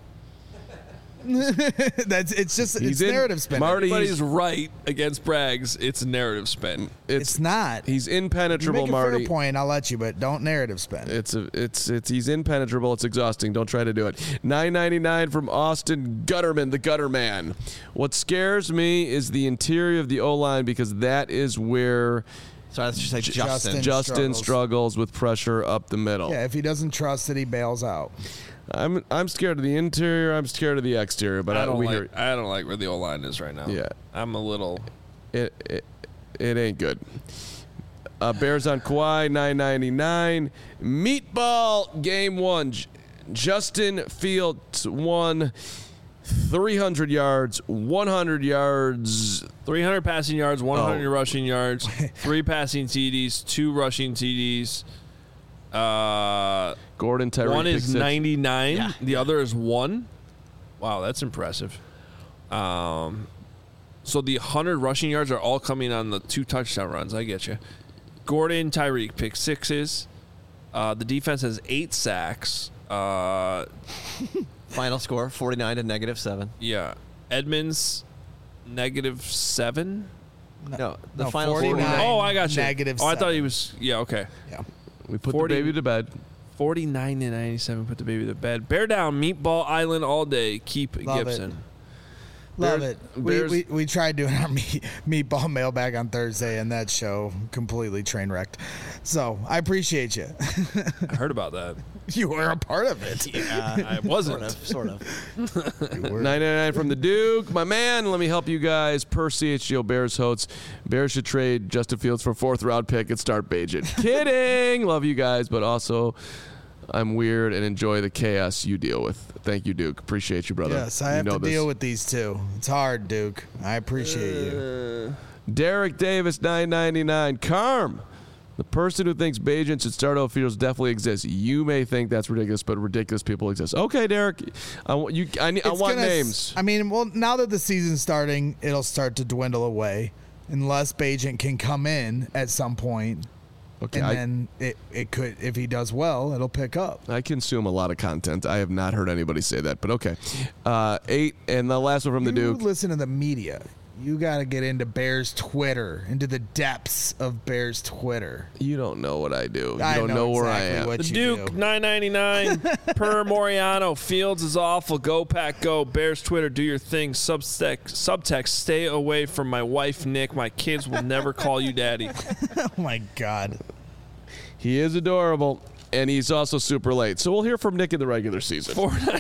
Speaker 2: It's narrative spinning.
Speaker 3: Marty,
Speaker 1: Everybody's right against Braggs. It's a narrative spin.
Speaker 2: It's not.
Speaker 3: He's
Speaker 2: You
Speaker 3: impenetrable,
Speaker 2: make a
Speaker 3: Marty.
Speaker 2: fair point, I'll let you, but don't narrative spin.
Speaker 3: He's impenetrable. It's exhausting. Don't try to do it. $9.99 from Austin Gutterman, the Gutter Man. What scares me is the interior of the O-line because that is where
Speaker 4: Sorry, I should say Justin.
Speaker 3: Justin struggles with pressure up the middle.
Speaker 2: Yeah, if he doesn't trust it, he bails out.
Speaker 3: I'm scared of the interior. I'm scared of the exterior. But
Speaker 1: I don't like where the O line is right now.
Speaker 3: Yeah,
Speaker 1: I'm a little.
Speaker 3: It ain't good. Bears on Kawhi, $9.99. Meatball game 1. Justin Fields won 300 yards, 100 yards.
Speaker 1: 300 passing yards, 100 rushing yards, 3 passing TDs, 2 rushing TDs.
Speaker 3: Gordon, Tyreek.
Speaker 1: One is 99.
Speaker 4: Yeah.
Speaker 1: The other is 1. Wow, that's impressive. So the 100 rushing yards are all coming on the 2 touchdown runs. I get you. Gordon, Tyreek, pick 6s. The defense has 8 sacks.
Speaker 4: Final score, 49 to -7.
Speaker 1: Yeah. Edmonds, -7.
Speaker 4: No, the
Speaker 2: No,
Speaker 4: final
Speaker 2: 49.
Speaker 4: score.
Speaker 1: Oh, I got you.
Speaker 2: -7.
Speaker 1: I thought he was. Yeah, okay.
Speaker 2: Yeah.
Speaker 3: We put
Speaker 1: 40
Speaker 3: the baby to bed.
Speaker 1: 49 to 97. Put the baby to bed. Bear down, Meatball Island all day. Keep
Speaker 2: Love
Speaker 1: Gibson.
Speaker 2: Love
Speaker 3: Bears-
Speaker 2: it.
Speaker 3: Bears-
Speaker 2: We tried doing our meatball mailbag on Thursday, and that show completely train wrecked. So I appreciate you.
Speaker 1: I heard about that.
Speaker 2: You were a part of it.
Speaker 1: I wasn't.
Speaker 4: Sort of.
Speaker 3: $9.99 from the Duke. My man, let me help you guys. Per CHGO Bears hosts. Bears should trade Justin Fields for a 4th-round pick and start Bajan. Kidding. Love you guys, but also I'm weird and enjoy the chaos you deal with. Thank you, Duke. Appreciate you, brother.
Speaker 2: Yes, I have to deal with these two. It's hard, Duke. I appreciate you.
Speaker 3: Derek Davis, $9.99. Carm. The person who thinks Bajan should start over Fields definitely exists. You may think that's ridiculous, but ridiculous people exist. Okay, Derek. I want names.
Speaker 2: I mean, well, now that the season's starting, it'll start to dwindle away unless Bajan can come in at some point.
Speaker 3: Okay,
Speaker 2: And then it could, if he does well, it'll pick up.
Speaker 3: I consume a lot of content. I have not heard anybody say that, but okay. 8, and the last one from the Duke.
Speaker 2: You listen to the media. You got to get into Bears Twitter, into the depths of Bears Twitter.
Speaker 3: You don't know what I do. You
Speaker 2: I
Speaker 3: don't know where I
Speaker 2: exactly
Speaker 3: am.
Speaker 2: what
Speaker 1: The
Speaker 2: you
Speaker 1: Duke,
Speaker 2: do.
Speaker 1: $9.99 per Moriano. Fields is awful. Go, Pack, go. Bears Twitter, do your thing. Subtext, stay away from my wife, Nick. My kids will never call you daddy.
Speaker 2: Oh, my God.
Speaker 3: He is adorable, and he's also super late. So we'll hear from Nick in the regular season.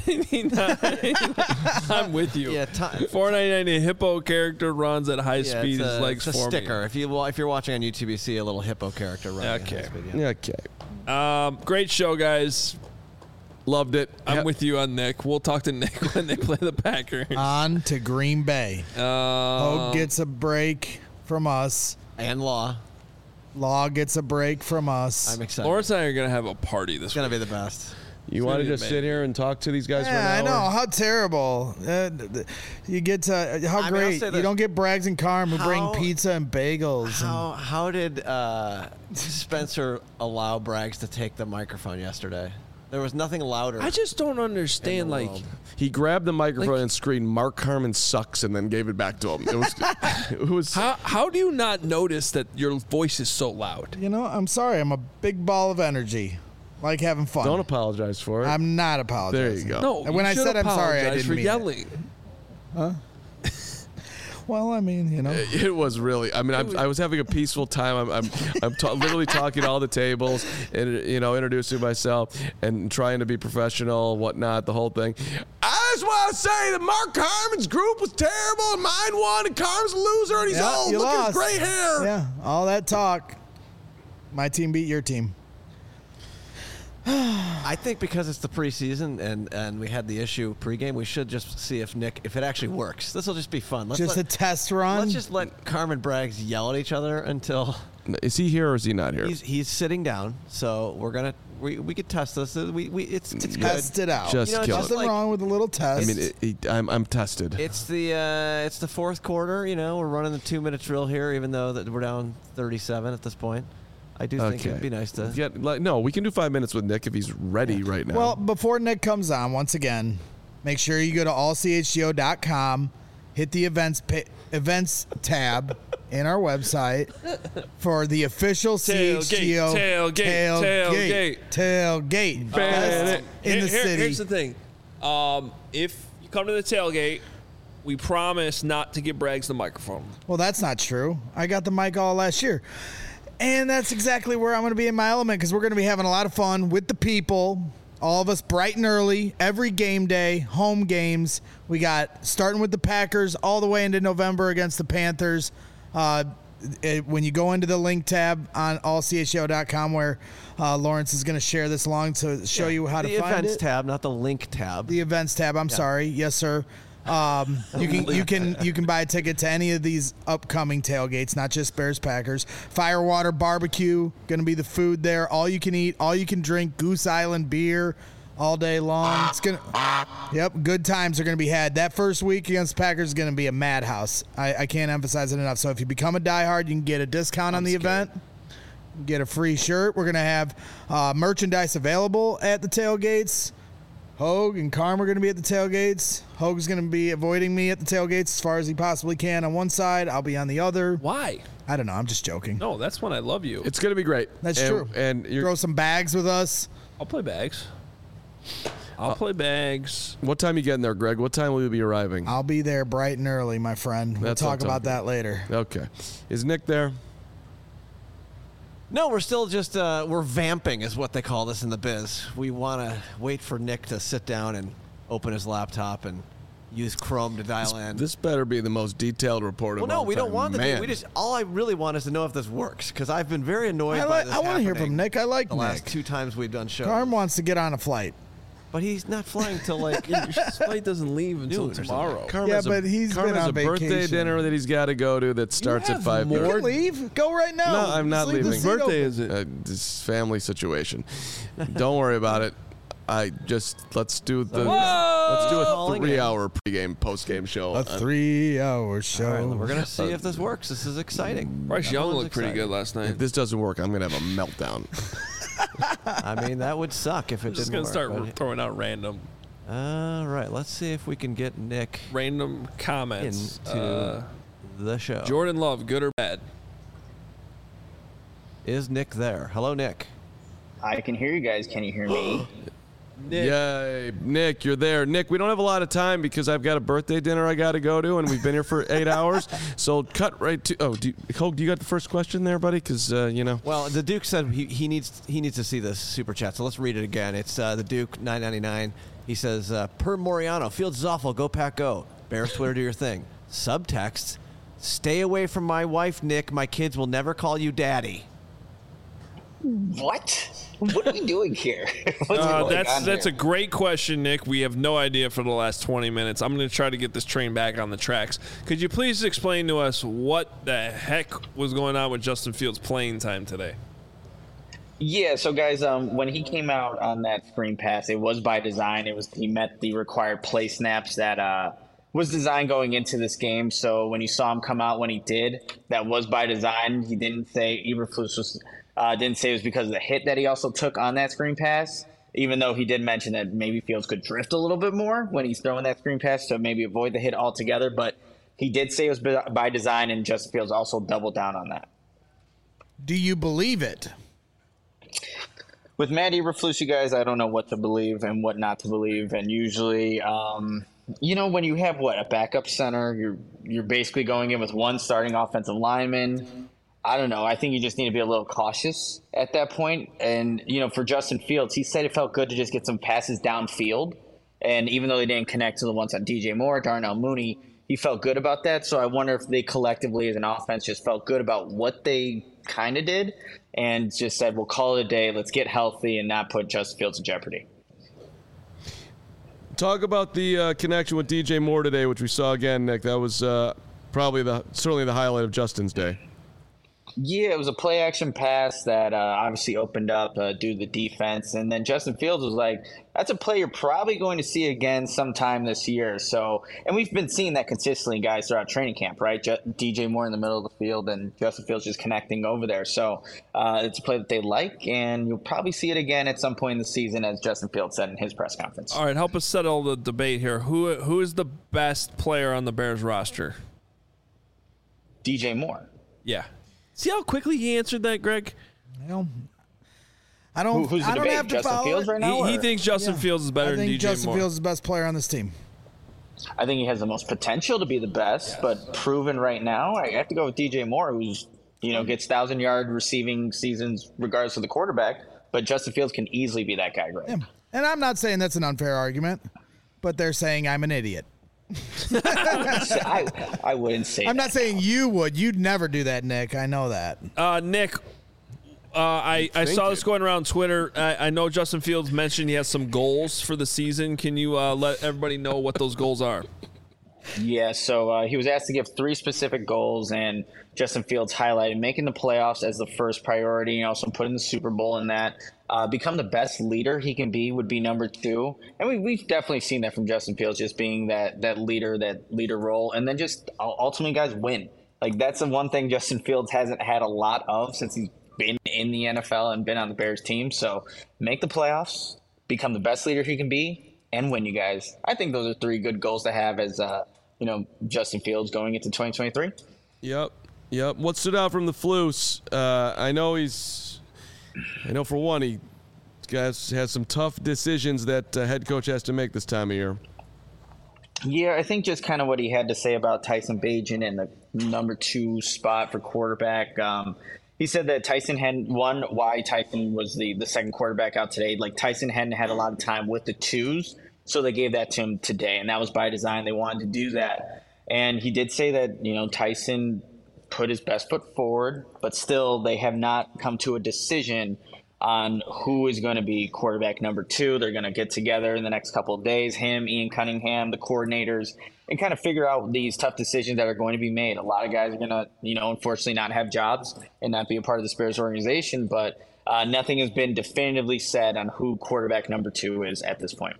Speaker 1: $4.99. I'm with you.
Speaker 4: Yeah,
Speaker 1: $4.99. A hippo character runs at high speed. His legs
Speaker 4: it's a
Speaker 1: forming.
Speaker 4: sticker. If you're watching on YouTube, you see a little hippo character running.
Speaker 1: Okay.
Speaker 4: at high speed, yeah.
Speaker 3: Okay.
Speaker 1: Great show, guys.
Speaker 3: Loved it.
Speaker 1: I'm with you on Nick. We'll talk to Nick when they play the Packers.
Speaker 2: On to Green Bay. Hogue gets a break from us.
Speaker 4: And Law.
Speaker 2: Law gets a break from us.
Speaker 4: I'm excited.
Speaker 1: Lawrence and I are going to have a party this
Speaker 4: It's going
Speaker 1: week.
Speaker 4: to be the best.
Speaker 3: You want to just sit here and talk to these guys for an
Speaker 2: Yeah,
Speaker 3: hour?
Speaker 2: I know. How terrible. You get to, how
Speaker 4: I mean, I'll
Speaker 2: great.
Speaker 4: say
Speaker 2: You
Speaker 4: this.
Speaker 2: don't get Braggs and Carm who bring
Speaker 4: How-
Speaker 2: pizza and bagels.
Speaker 4: How did Spencer allow Braggs to take the microphone yesterday? There was nothing louder.
Speaker 1: I just don't understand,
Speaker 4: in the
Speaker 1: like,
Speaker 4: world.
Speaker 3: He grabbed the microphone
Speaker 1: Like-
Speaker 3: and screamed, "Mark Carman sucks," and then gave it back to him. It was
Speaker 1: how do you not notice that your voice is so loud?
Speaker 2: You know, I'm sorry. I'm a big ball of energy. Like having fun.
Speaker 3: Don't apologize for it.
Speaker 2: I'm not
Speaker 3: There
Speaker 2: apologizing.
Speaker 3: you go.
Speaker 1: No,
Speaker 2: And when
Speaker 1: you
Speaker 2: I
Speaker 1: should
Speaker 2: said I'm sorry, I
Speaker 1: apologize
Speaker 2: didn't
Speaker 1: for
Speaker 2: mean it.
Speaker 1: yelling.
Speaker 2: Well, I mean, you know.
Speaker 3: It was really. I mean, I was having a peaceful time. I'm literally talking to all the tables and introducing myself and trying to be professional, whatnot, the whole thing. just want to say that Mark Carmen's group was terrible and mine won and Carmen's a loser and he's old.
Speaker 2: you
Speaker 3: Look at his
Speaker 2: lost.
Speaker 3: gray hair.
Speaker 2: Yeah, all that talk. My team beat your team.
Speaker 4: I think because it's the preseason and we had the issue pregame, we should just see if it actually works. This will just be fun.
Speaker 2: A test run.
Speaker 4: Let's just let Carmen Braggs yell at each other until.
Speaker 3: Is he here or is he not here?
Speaker 4: He's sitting down, so we could test this. It's good.
Speaker 2: Test it out.
Speaker 3: Just kill
Speaker 2: Nothing
Speaker 3: it.
Speaker 2: wrong with a little test.
Speaker 3: I mean, I'm tested.
Speaker 4: It's the fourth quarter. We're running the 2-minute drill here, even though that we're down 37 at this point. I do think it'd be nice to.
Speaker 3: No, we can do 5 minutes with Nick if he's ready right now.
Speaker 2: Well, before Nick comes on, once again, make sure you go to allchgo.com, hit the events tab in our website for the official CHGO tailgate best in the city.
Speaker 1: Here's the thing. If you come to the tailgate, we promise not to give Braggs the microphone.
Speaker 2: Well, that's not true. I got the mic all last year. And that's exactly where I'm going to be in my element because we're going to be having a lot of fun with the people. All of us bright and early, every game day, home games. We got starting with the Packers all the way into November against the Panthers. When you go into the link tab on allchgo.com where Lawrence is going to share this along to show you how to find it.
Speaker 4: The events tab, not the link tab.
Speaker 2: The events tab. I'm sorry. Yes, sir. You can buy a ticket to any of these upcoming tailgates, not just Bears Packers. Firewater Barbecue, going to be the food there. All you can eat, all you can drink. Goose Island beer all day long. It's good times are going to be had. That first week against Packers is going to be a madhouse. I can't emphasize it enough. So if you become a diehard, you can get a discount on the event. Get a free shirt. We're going to have merchandise available at the tailgates. Hogue and Carm are going to be at the tailgates. Hogue's going to be avoiding me at the tailgates as far as he possibly can on one side. I'll be on the other.
Speaker 1: Why?
Speaker 2: I don't know. I'm just joking.
Speaker 1: No, that's when I love you.
Speaker 3: It's going to be great.
Speaker 2: That's true.
Speaker 3: And
Speaker 2: throw some bags with us.
Speaker 1: I'll play bags. I'll play bags.
Speaker 3: What time you getting there, Greg? What time will you be arriving?
Speaker 2: I'll be there bright and early, my friend. We'll talk about that later.
Speaker 3: Okay. Is Nick there?
Speaker 4: No, we're still just we're vamping is what they call this in the biz. We want to wait for Nick to sit down and open his laptop and use Chrome to dial in.
Speaker 3: This better be the most detailed report.
Speaker 4: Well, no, we don't want the. We just all I really want is to know if this works because I've been very annoyed by this.
Speaker 2: I want to hear from Nick. I like
Speaker 4: the
Speaker 2: Nick.
Speaker 4: last 2 times we've done shows.
Speaker 2: Carm wants to get on a flight.
Speaker 4: But he's not flying till like
Speaker 1: his flight doesn't leave until tomorrow.
Speaker 2: But he's been on
Speaker 3: a birthday dinner that he's got to go to that starts at 5:30.
Speaker 2: You can leave. Go right now.
Speaker 3: No, I'm not leaving.
Speaker 1: Whose birthday is it?
Speaker 3: This family situation. Don't worry about it. Let's do a 3-hour pregame postgame show.
Speaker 2: A 3-hour show.
Speaker 4: All right, we're gonna see if this works. This is exciting.
Speaker 1: Bryce Young looked pretty good last night.
Speaker 3: If this doesn't work, I'm gonna have a meltdown.
Speaker 4: I mean, that would suck if it didn't work.
Speaker 1: Just gonna start throwing out random.
Speaker 4: All right, let's see if we can get Nick
Speaker 1: random comments
Speaker 4: into the show.
Speaker 1: Jordan Love, good or bad?
Speaker 4: Is Nick there? Hello, Nick.
Speaker 7: I can hear you guys. Can you hear me?
Speaker 1: Nick.
Speaker 3: Yay, Nick, you're there. Nick, we don't have a lot of time because I've got a birthday dinner I got to go to, and we've been here for 8 hours. So cut right to. Oh, do you got the first question there, buddy? Because
Speaker 4: Well, the Duke said he needs to see this super chat. So let's read it again. It's the Duke 999. He says, per Moriano, Fields is awful. Go Pack, go. Bears Twitter, do your thing. Subtext: stay away from my wife, Nick. My kids will never call you daddy.
Speaker 7: What? What are we doing here?
Speaker 1: That's a great question, Nick. We have no idea for the last 20 minutes. I'm going to try to get this train back on the tracks. Could you please explain to us what the heck was going on with Justin Fields' playing time today?
Speaker 7: Yeah, so guys, when he came out on that screen pass, it was by design. He met the required play snaps that was designed going into this game. So when you saw him come out when he did, that was by design. He didn't say Eberflus didn't say it was because of the hit that he also took on that screen pass, even though he did mention that maybe Fields could drift a little bit more when he's throwing that screen pass to maybe avoid the hit altogether. But he did say it was by design, and Justin Fields also doubled down on that.
Speaker 2: Do you believe it?
Speaker 7: With Matt Eberflus, you guys, I don't know what to believe and what not to believe. And usually, when you have a backup center, you're basically going in with one starting offensive lineman. I don't know. I think you just need to be a little cautious at that point. And, for Justin Fields, he said it felt good to just get some passes downfield. And even though they didn't connect to the ones on DJ Moore, Darnell Mooney, he felt good about that. So I wonder if they collectively as an offense just felt good about what they kind of did and just said, we'll call it a day. Let's get healthy and not put Justin Fields in jeopardy.
Speaker 3: Talk about the connection with DJ Moore today, which we saw again, Nick. That was probably certainly the highlight of Justin's day.
Speaker 7: Yeah, it was a play action pass that obviously opened up due to the defense. And then Justin Fields was like, that's a play you're probably going to see again sometime this year. So, and we've been seeing that consistently, guys, throughout training camp, right? DJ Moore in the middle of the field and Justin Fields just connecting over there. So it's a play that they like, and you'll probably see it again at some point in the season, as Justin Fields said in his press conference.
Speaker 1: All right, help us settle the debate here. Who is the best player on the Bears roster?
Speaker 7: DJ Moore.
Speaker 1: Yeah. See how quickly he answered that, Greg?
Speaker 2: Well, I don't.
Speaker 7: Who's the
Speaker 2: I don't
Speaker 7: debate?
Speaker 2: have to
Speaker 7: Justin
Speaker 2: follow
Speaker 7: Fields
Speaker 2: it.
Speaker 7: right now?
Speaker 1: He thinks Justin Fields is better
Speaker 2: I
Speaker 1: than
Speaker 2: think
Speaker 1: DJ
Speaker 2: Justin
Speaker 1: Moore.
Speaker 2: Fields is the best player on this team.
Speaker 7: I think he has the most potential to be the best, but proven right now, I have to go with DJ Moore, who's gets 1,000-yard receiving seasons regardless of the quarterback. But Justin Fields can easily be that guy, Greg.
Speaker 2: Yeah. And I'm not saying that's an unfair argument, but they're saying I'm an idiot.
Speaker 7: I wouldn't say.
Speaker 2: I'm not saying you would. You'd never do that, Nick. I know that.
Speaker 1: Nick, I saw this going around Twitter. I know Justin Fields mentioned he has some goals for the season. Can you let everybody know what those goals are?
Speaker 7: Yeah, so he was asked to give 3 specific goals, and Justin Fields highlighted making the playoffs as the first priority, and also putting the Super Bowl in that. Become the best leader he can be would be number 2. And we've definitely seen that from Justin Fields, just being that leader role. And then just ultimately, guys, win. Like, that's the one thing Justin Fields hasn't had a lot of since he's been in the NFL and been on the Bears team. So make the playoffs, become the best leader he can be, and win, you guys. I think those are 3 good goals to have as Justin Fields going into 2023.
Speaker 3: Yep. What stood out from the Flus? I know for one, he has some tough decisions that head coach has to make this time of year.
Speaker 7: Yeah, I think just kind of what he had to say about Tyson Bagent in the number 2 spot for quarterback. He said that Tyson hadn't won why Tyson was the second quarterback out today. Like, Tyson hadn't had a lot of time with the 2s, so they gave that to him today, and that was by design. They wanted to do that. And he did say that, Tyson put his best foot forward, but still they have not come to a decision on who is going to be quarterback number 2. They're going to get together in the next couple of days, him, Ian Cunningham, the coordinators, and kind of figure out these tough decisions that are going to be made. A lot of guys are going to, unfortunately not have jobs and not be a part of the Bears organization, but nothing has been definitively said on who quarterback number 2 is at this point.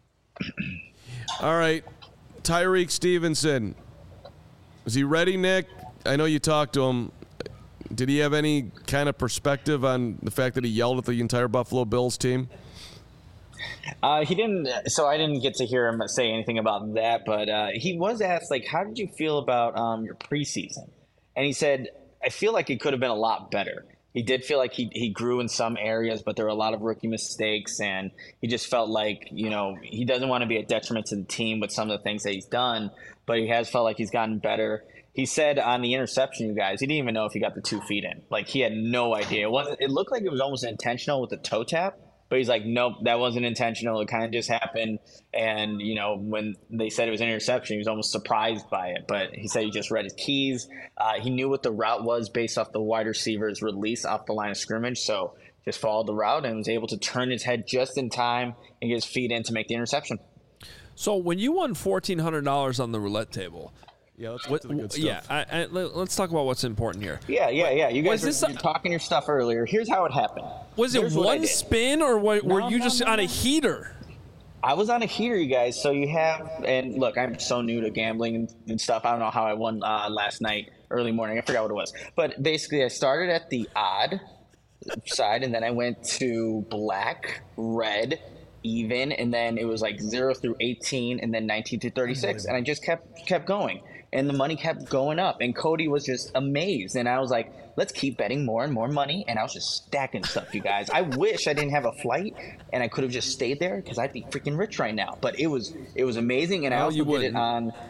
Speaker 3: All right, Tyreek Stevenson. Is he ready, Nick? I know you talked to him. Did he have any kind of perspective on the fact that he yelled at the entire Buffalo Bills team?
Speaker 7: He didn't. So I didn't get to hear him say anything about that. But he was asked, like, how did you feel about your preseason? And he said, I feel like it could have been a lot better. He did feel like he grew in some areas, but there were a lot of rookie mistakes, and he just felt like, he doesn't want to be a detriment to the team with some of the things that he's done, but he has felt like he's gotten better. He said on the interception, you guys, he didn't even know if he got the 2 feet in. Like, he had no idea. It looked like it was almost intentional with the toe tap, but he's like, nope, that wasn't intentional. It kind of just happened. And, when they said it was an interception, he was almost surprised by it. But he said he just read his keys. He knew what the route was based off the wide receiver's release off the line of scrimmage. So just followed the route and was able to turn his head just in time and get his feet in to make the interception.
Speaker 1: So when you won $1,400 on the roulette table –
Speaker 3: yeah, let's get to the good stuff.
Speaker 1: Yeah, let's talk about what's important here.
Speaker 7: Yeah. You guys were talking your stuff earlier. Here's how it happened.
Speaker 1: Was it one spin, or were you just on a heater?
Speaker 7: I was on a heater, you guys. So you have, and look, I'm so new to gambling and stuff. I don't know how I won last night, early morning. I forgot what it was. But basically, I started at the odd side, and then I went to black, red, even, and then it was like 0 through 18, and then 19 through 36. And I just kept going. And the money kept going up, and Cody was just amazed. And I was like, let's keep betting more and more money. And I was just stacking stuff, you guys. I wish I didn't have a flight and I could have just stayed there, because I'd be freaking rich right now. But it was amazing. And I also did it on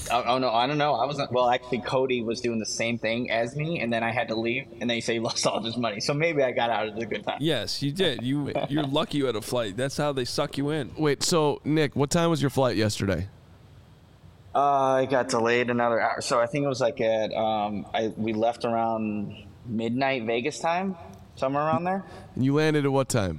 Speaker 7: Oh no, I don't know. I wasn't. Well, actually, Cody was doing the same thing as me, and then I had to leave, and then he said he lost all his money. So maybe I got out at a good time.
Speaker 1: Yes, you did. You're lucky you had a flight. That's how they suck you in.
Speaker 3: Wait, so Nick, what time was your flight yesterday?
Speaker 7: I got delayed another hour, so I think it was like at we left around midnight Vegas time, somewhere around there.
Speaker 3: And you landed at what time?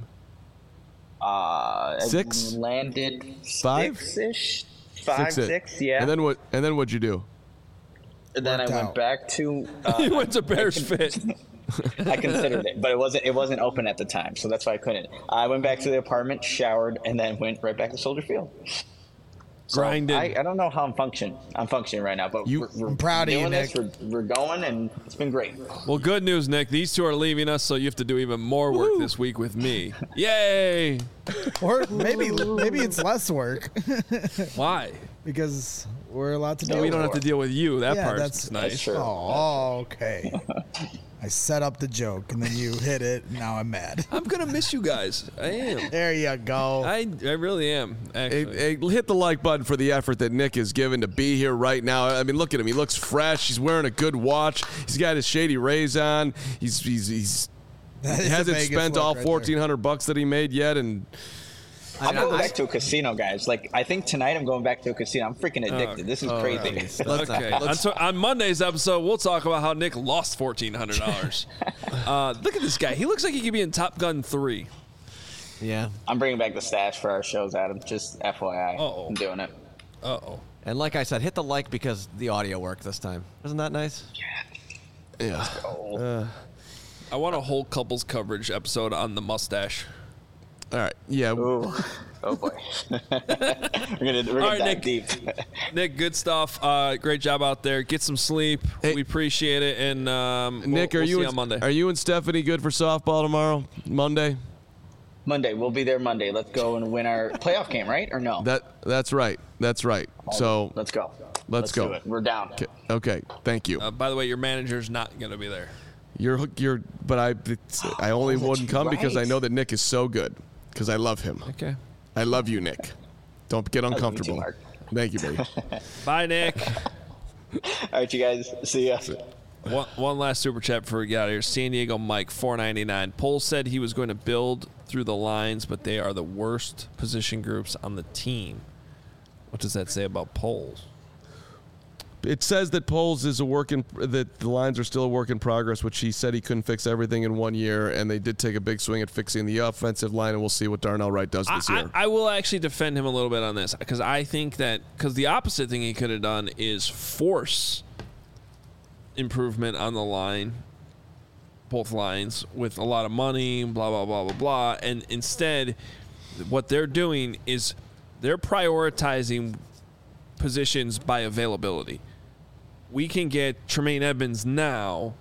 Speaker 7: 6? Landed
Speaker 3: 5?
Speaker 7: 6-ish. 5, 6, yeah.
Speaker 3: And then what? And then what'd you do?
Speaker 7: And then I went back to.
Speaker 1: He went to Bears Fit.
Speaker 7: I considered it, but it wasn't open at the time, so that's why I couldn't. I went back to the apartment, showered, and then went right back to Soldier Field. So
Speaker 1: Grinding.
Speaker 7: I don't know how I'm functioning. I'm functioning right now, but we're
Speaker 2: I'm proud of you,
Speaker 7: doing this.
Speaker 2: Nick.
Speaker 7: We're going, and it's been great.
Speaker 1: Well, good news, Nick. These two are leaving us, so you have to do even more work this week with me. Yay!
Speaker 2: Or maybe it's less work
Speaker 1: Why?
Speaker 2: because we're allowed to do.
Speaker 1: We don't have to deal with you. That
Speaker 2: Yeah,
Speaker 1: part's
Speaker 2: that's
Speaker 1: nice.
Speaker 7: true.
Speaker 2: Oh, okay. I set up the joke and then you hit it. And now I'm mad.
Speaker 1: I'm gonna miss you guys. I am.
Speaker 2: There you go.
Speaker 1: I really am. Actually.
Speaker 3: Hey, hit the like button for the effort that Nick has given to be here right now. I mean, look at him. He looks fresh. He's wearing a good watch. He's got his Shady Rays on. He
Speaker 2: That is a
Speaker 3: hasn't
Speaker 2: Vegas
Speaker 3: spent
Speaker 2: look
Speaker 3: all
Speaker 2: right there.
Speaker 3: $1,400 that he made yet, and
Speaker 7: I'm going back to a casino, guys. Like, I think tonight I'm going back to a casino. I'm freaking addicted. This is crazy.
Speaker 1: Okay. On Monday's episode, we'll talk about how Nick lost $1,400. Look at this guy. He looks like he could be in Top Gun 3.
Speaker 4: Yeah.
Speaker 7: I'm bringing back the stash for our shows, Adam. Just FYI.
Speaker 1: Uh-oh.
Speaker 7: I'm doing it.
Speaker 1: Uh-oh.
Speaker 4: And like I said, hit the like because the audio worked this time. Isn't that nice?
Speaker 3: yeah.
Speaker 1: I want a whole couples coverage episode on the mustache.
Speaker 3: All right. Yeah.
Speaker 7: Ooh. Oh boy. we're gonna
Speaker 1: right,
Speaker 7: dive
Speaker 1: Nick.
Speaker 7: deep.
Speaker 1: Nick, good stuff. Great job out there. Get some sleep.
Speaker 3: Hey.
Speaker 1: We appreciate it. And
Speaker 3: Nick,
Speaker 1: we'll
Speaker 3: are you
Speaker 1: see you
Speaker 3: and,
Speaker 1: on Monday?
Speaker 3: Are you and Stephanie good for softball tomorrow? Monday?
Speaker 7: Monday. We'll be there Monday. Let's go and win our playoff game, right? Or no?
Speaker 3: That's right. That's right. So
Speaker 7: Let's go.
Speaker 3: Let's go.
Speaker 7: do it. We're down.
Speaker 3: okay. Thank you.
Speaker 1: By the way, your manager's not going to be there.
Speaker 3: But I only wouldn't come because I
Speaker 7: right.
Speaker 3: know that Nick is so good because I love him.
Speaker 1: Okay.
Speaker 3: I love you, Nick. Don't get uncomfortable.
Speaker 7: Mark.
Speaker 3: Thank you, baby.
Speaker 1: Bye, Nick.
Speaker 7: All right, you guys. See ya.
Speaker 1: One last super chat before we get out of here. San Diego Mike, $4.99. Poles said he was going to build through the lines, but they are the worst position groups on the team. What does that say about Poles?
Speaker 3: It says that Poles is that the lines are still a work in progress, which he said he couldn't fix everything in 1 year, and they did take a big swing at fixing the offensive line, and we'll see what Darnell Wright does this year.
Speaker 1: I will actually defend him a little bit on this because I think that the opposite thing he could have done is force improvement on the line, both lines, with a lot of money, blah, blah, blah, blah, blah. And instead, what they're doing is they're prioritizing positions by availability. We can get Tremaine Edmonds now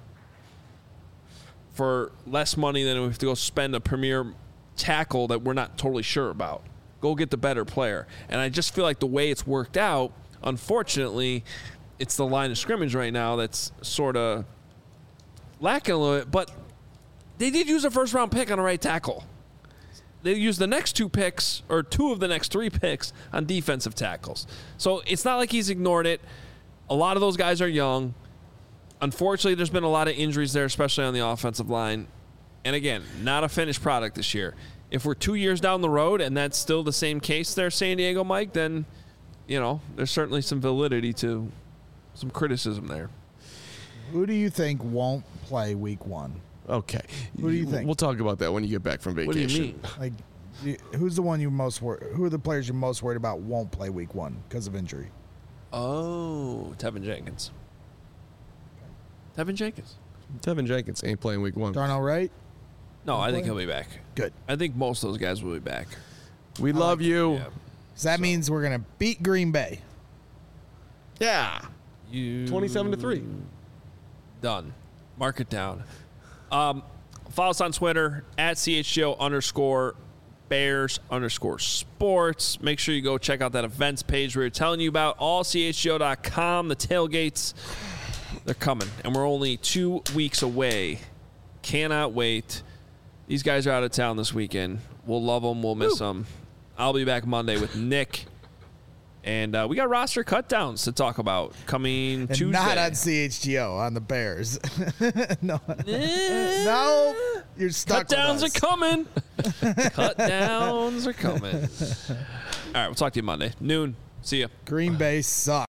Speaker 1: for less money than we have to go spend a premier tackle that we're not totally sure about. Go get the better player. And I just feel like the way it's worked out, unfortunately, it's the line of scrimmage right now that's sort of lacking a little bit. But they did use a first-round pick on a right tackle. They used the next 2 picks, or 2 of the next 3 picks, on defensive tackles. So it's not like he's ignored it. A lot of those guys are young. Unfortunately, there's been a lot of injuries there, especially on the offensive line. And again, not a finished product this year. If we're 2 years down the road and that's still the same case there, San Diego Mike, then, there's certainly some validity to some criticism there.
Speaker 2: Who do you think won't play week 1?
Speaker 3: Okay.
Speaker 2: Who do you think?
Speaker 3: We'll talk about that when you get back from vacation.
Speaker 1: What do you mean?
Speaker 2: Like, who's the one you most who are the players you're most worried about won't play week 1 because of injury?
Speaker 1: Oh, Tevin Jenkins. Tevin Jenkins
Speaker 3: ain't playing week 1.
Speaker 2: Darnell Wright?
Speaker 1: No, I think he'll be back.
Speaker 2: Good.
Speaker 1: I think most of those guys will be back.
Speaker 3: We love you.
Speaker 1: Yeah.
Speaker 2: So that means we're going to beat Green Bay.
Speaker 3: Yeah. 27-3.
Speaker 1: Done. Mark it down. Follow us on Twitter at CHGO_Bears_sports. Make sure you go check out that events page we were telling you about. AllCHGO.com. The tailgates, they're coming. And we're only 2 weeks away. Cannot wait. These guys are out of town this weekend. We'll love them. We'll miss them. I'll be back Monday with Nick And we got roster cutdowns to talk about coming
Speaker 2: And
Speaker 1: Tuesday.
Speaker 2: not on CHGO, on the Bears. No. No. You're stuck
Speaker 1: Cutdowns
Speaker 2: with us.
Speaker 1: are coming. Cutdowns are coming. All right, we'll talk to you Monday. Noon. See ya.
Speaker 2: Green Bay sucks.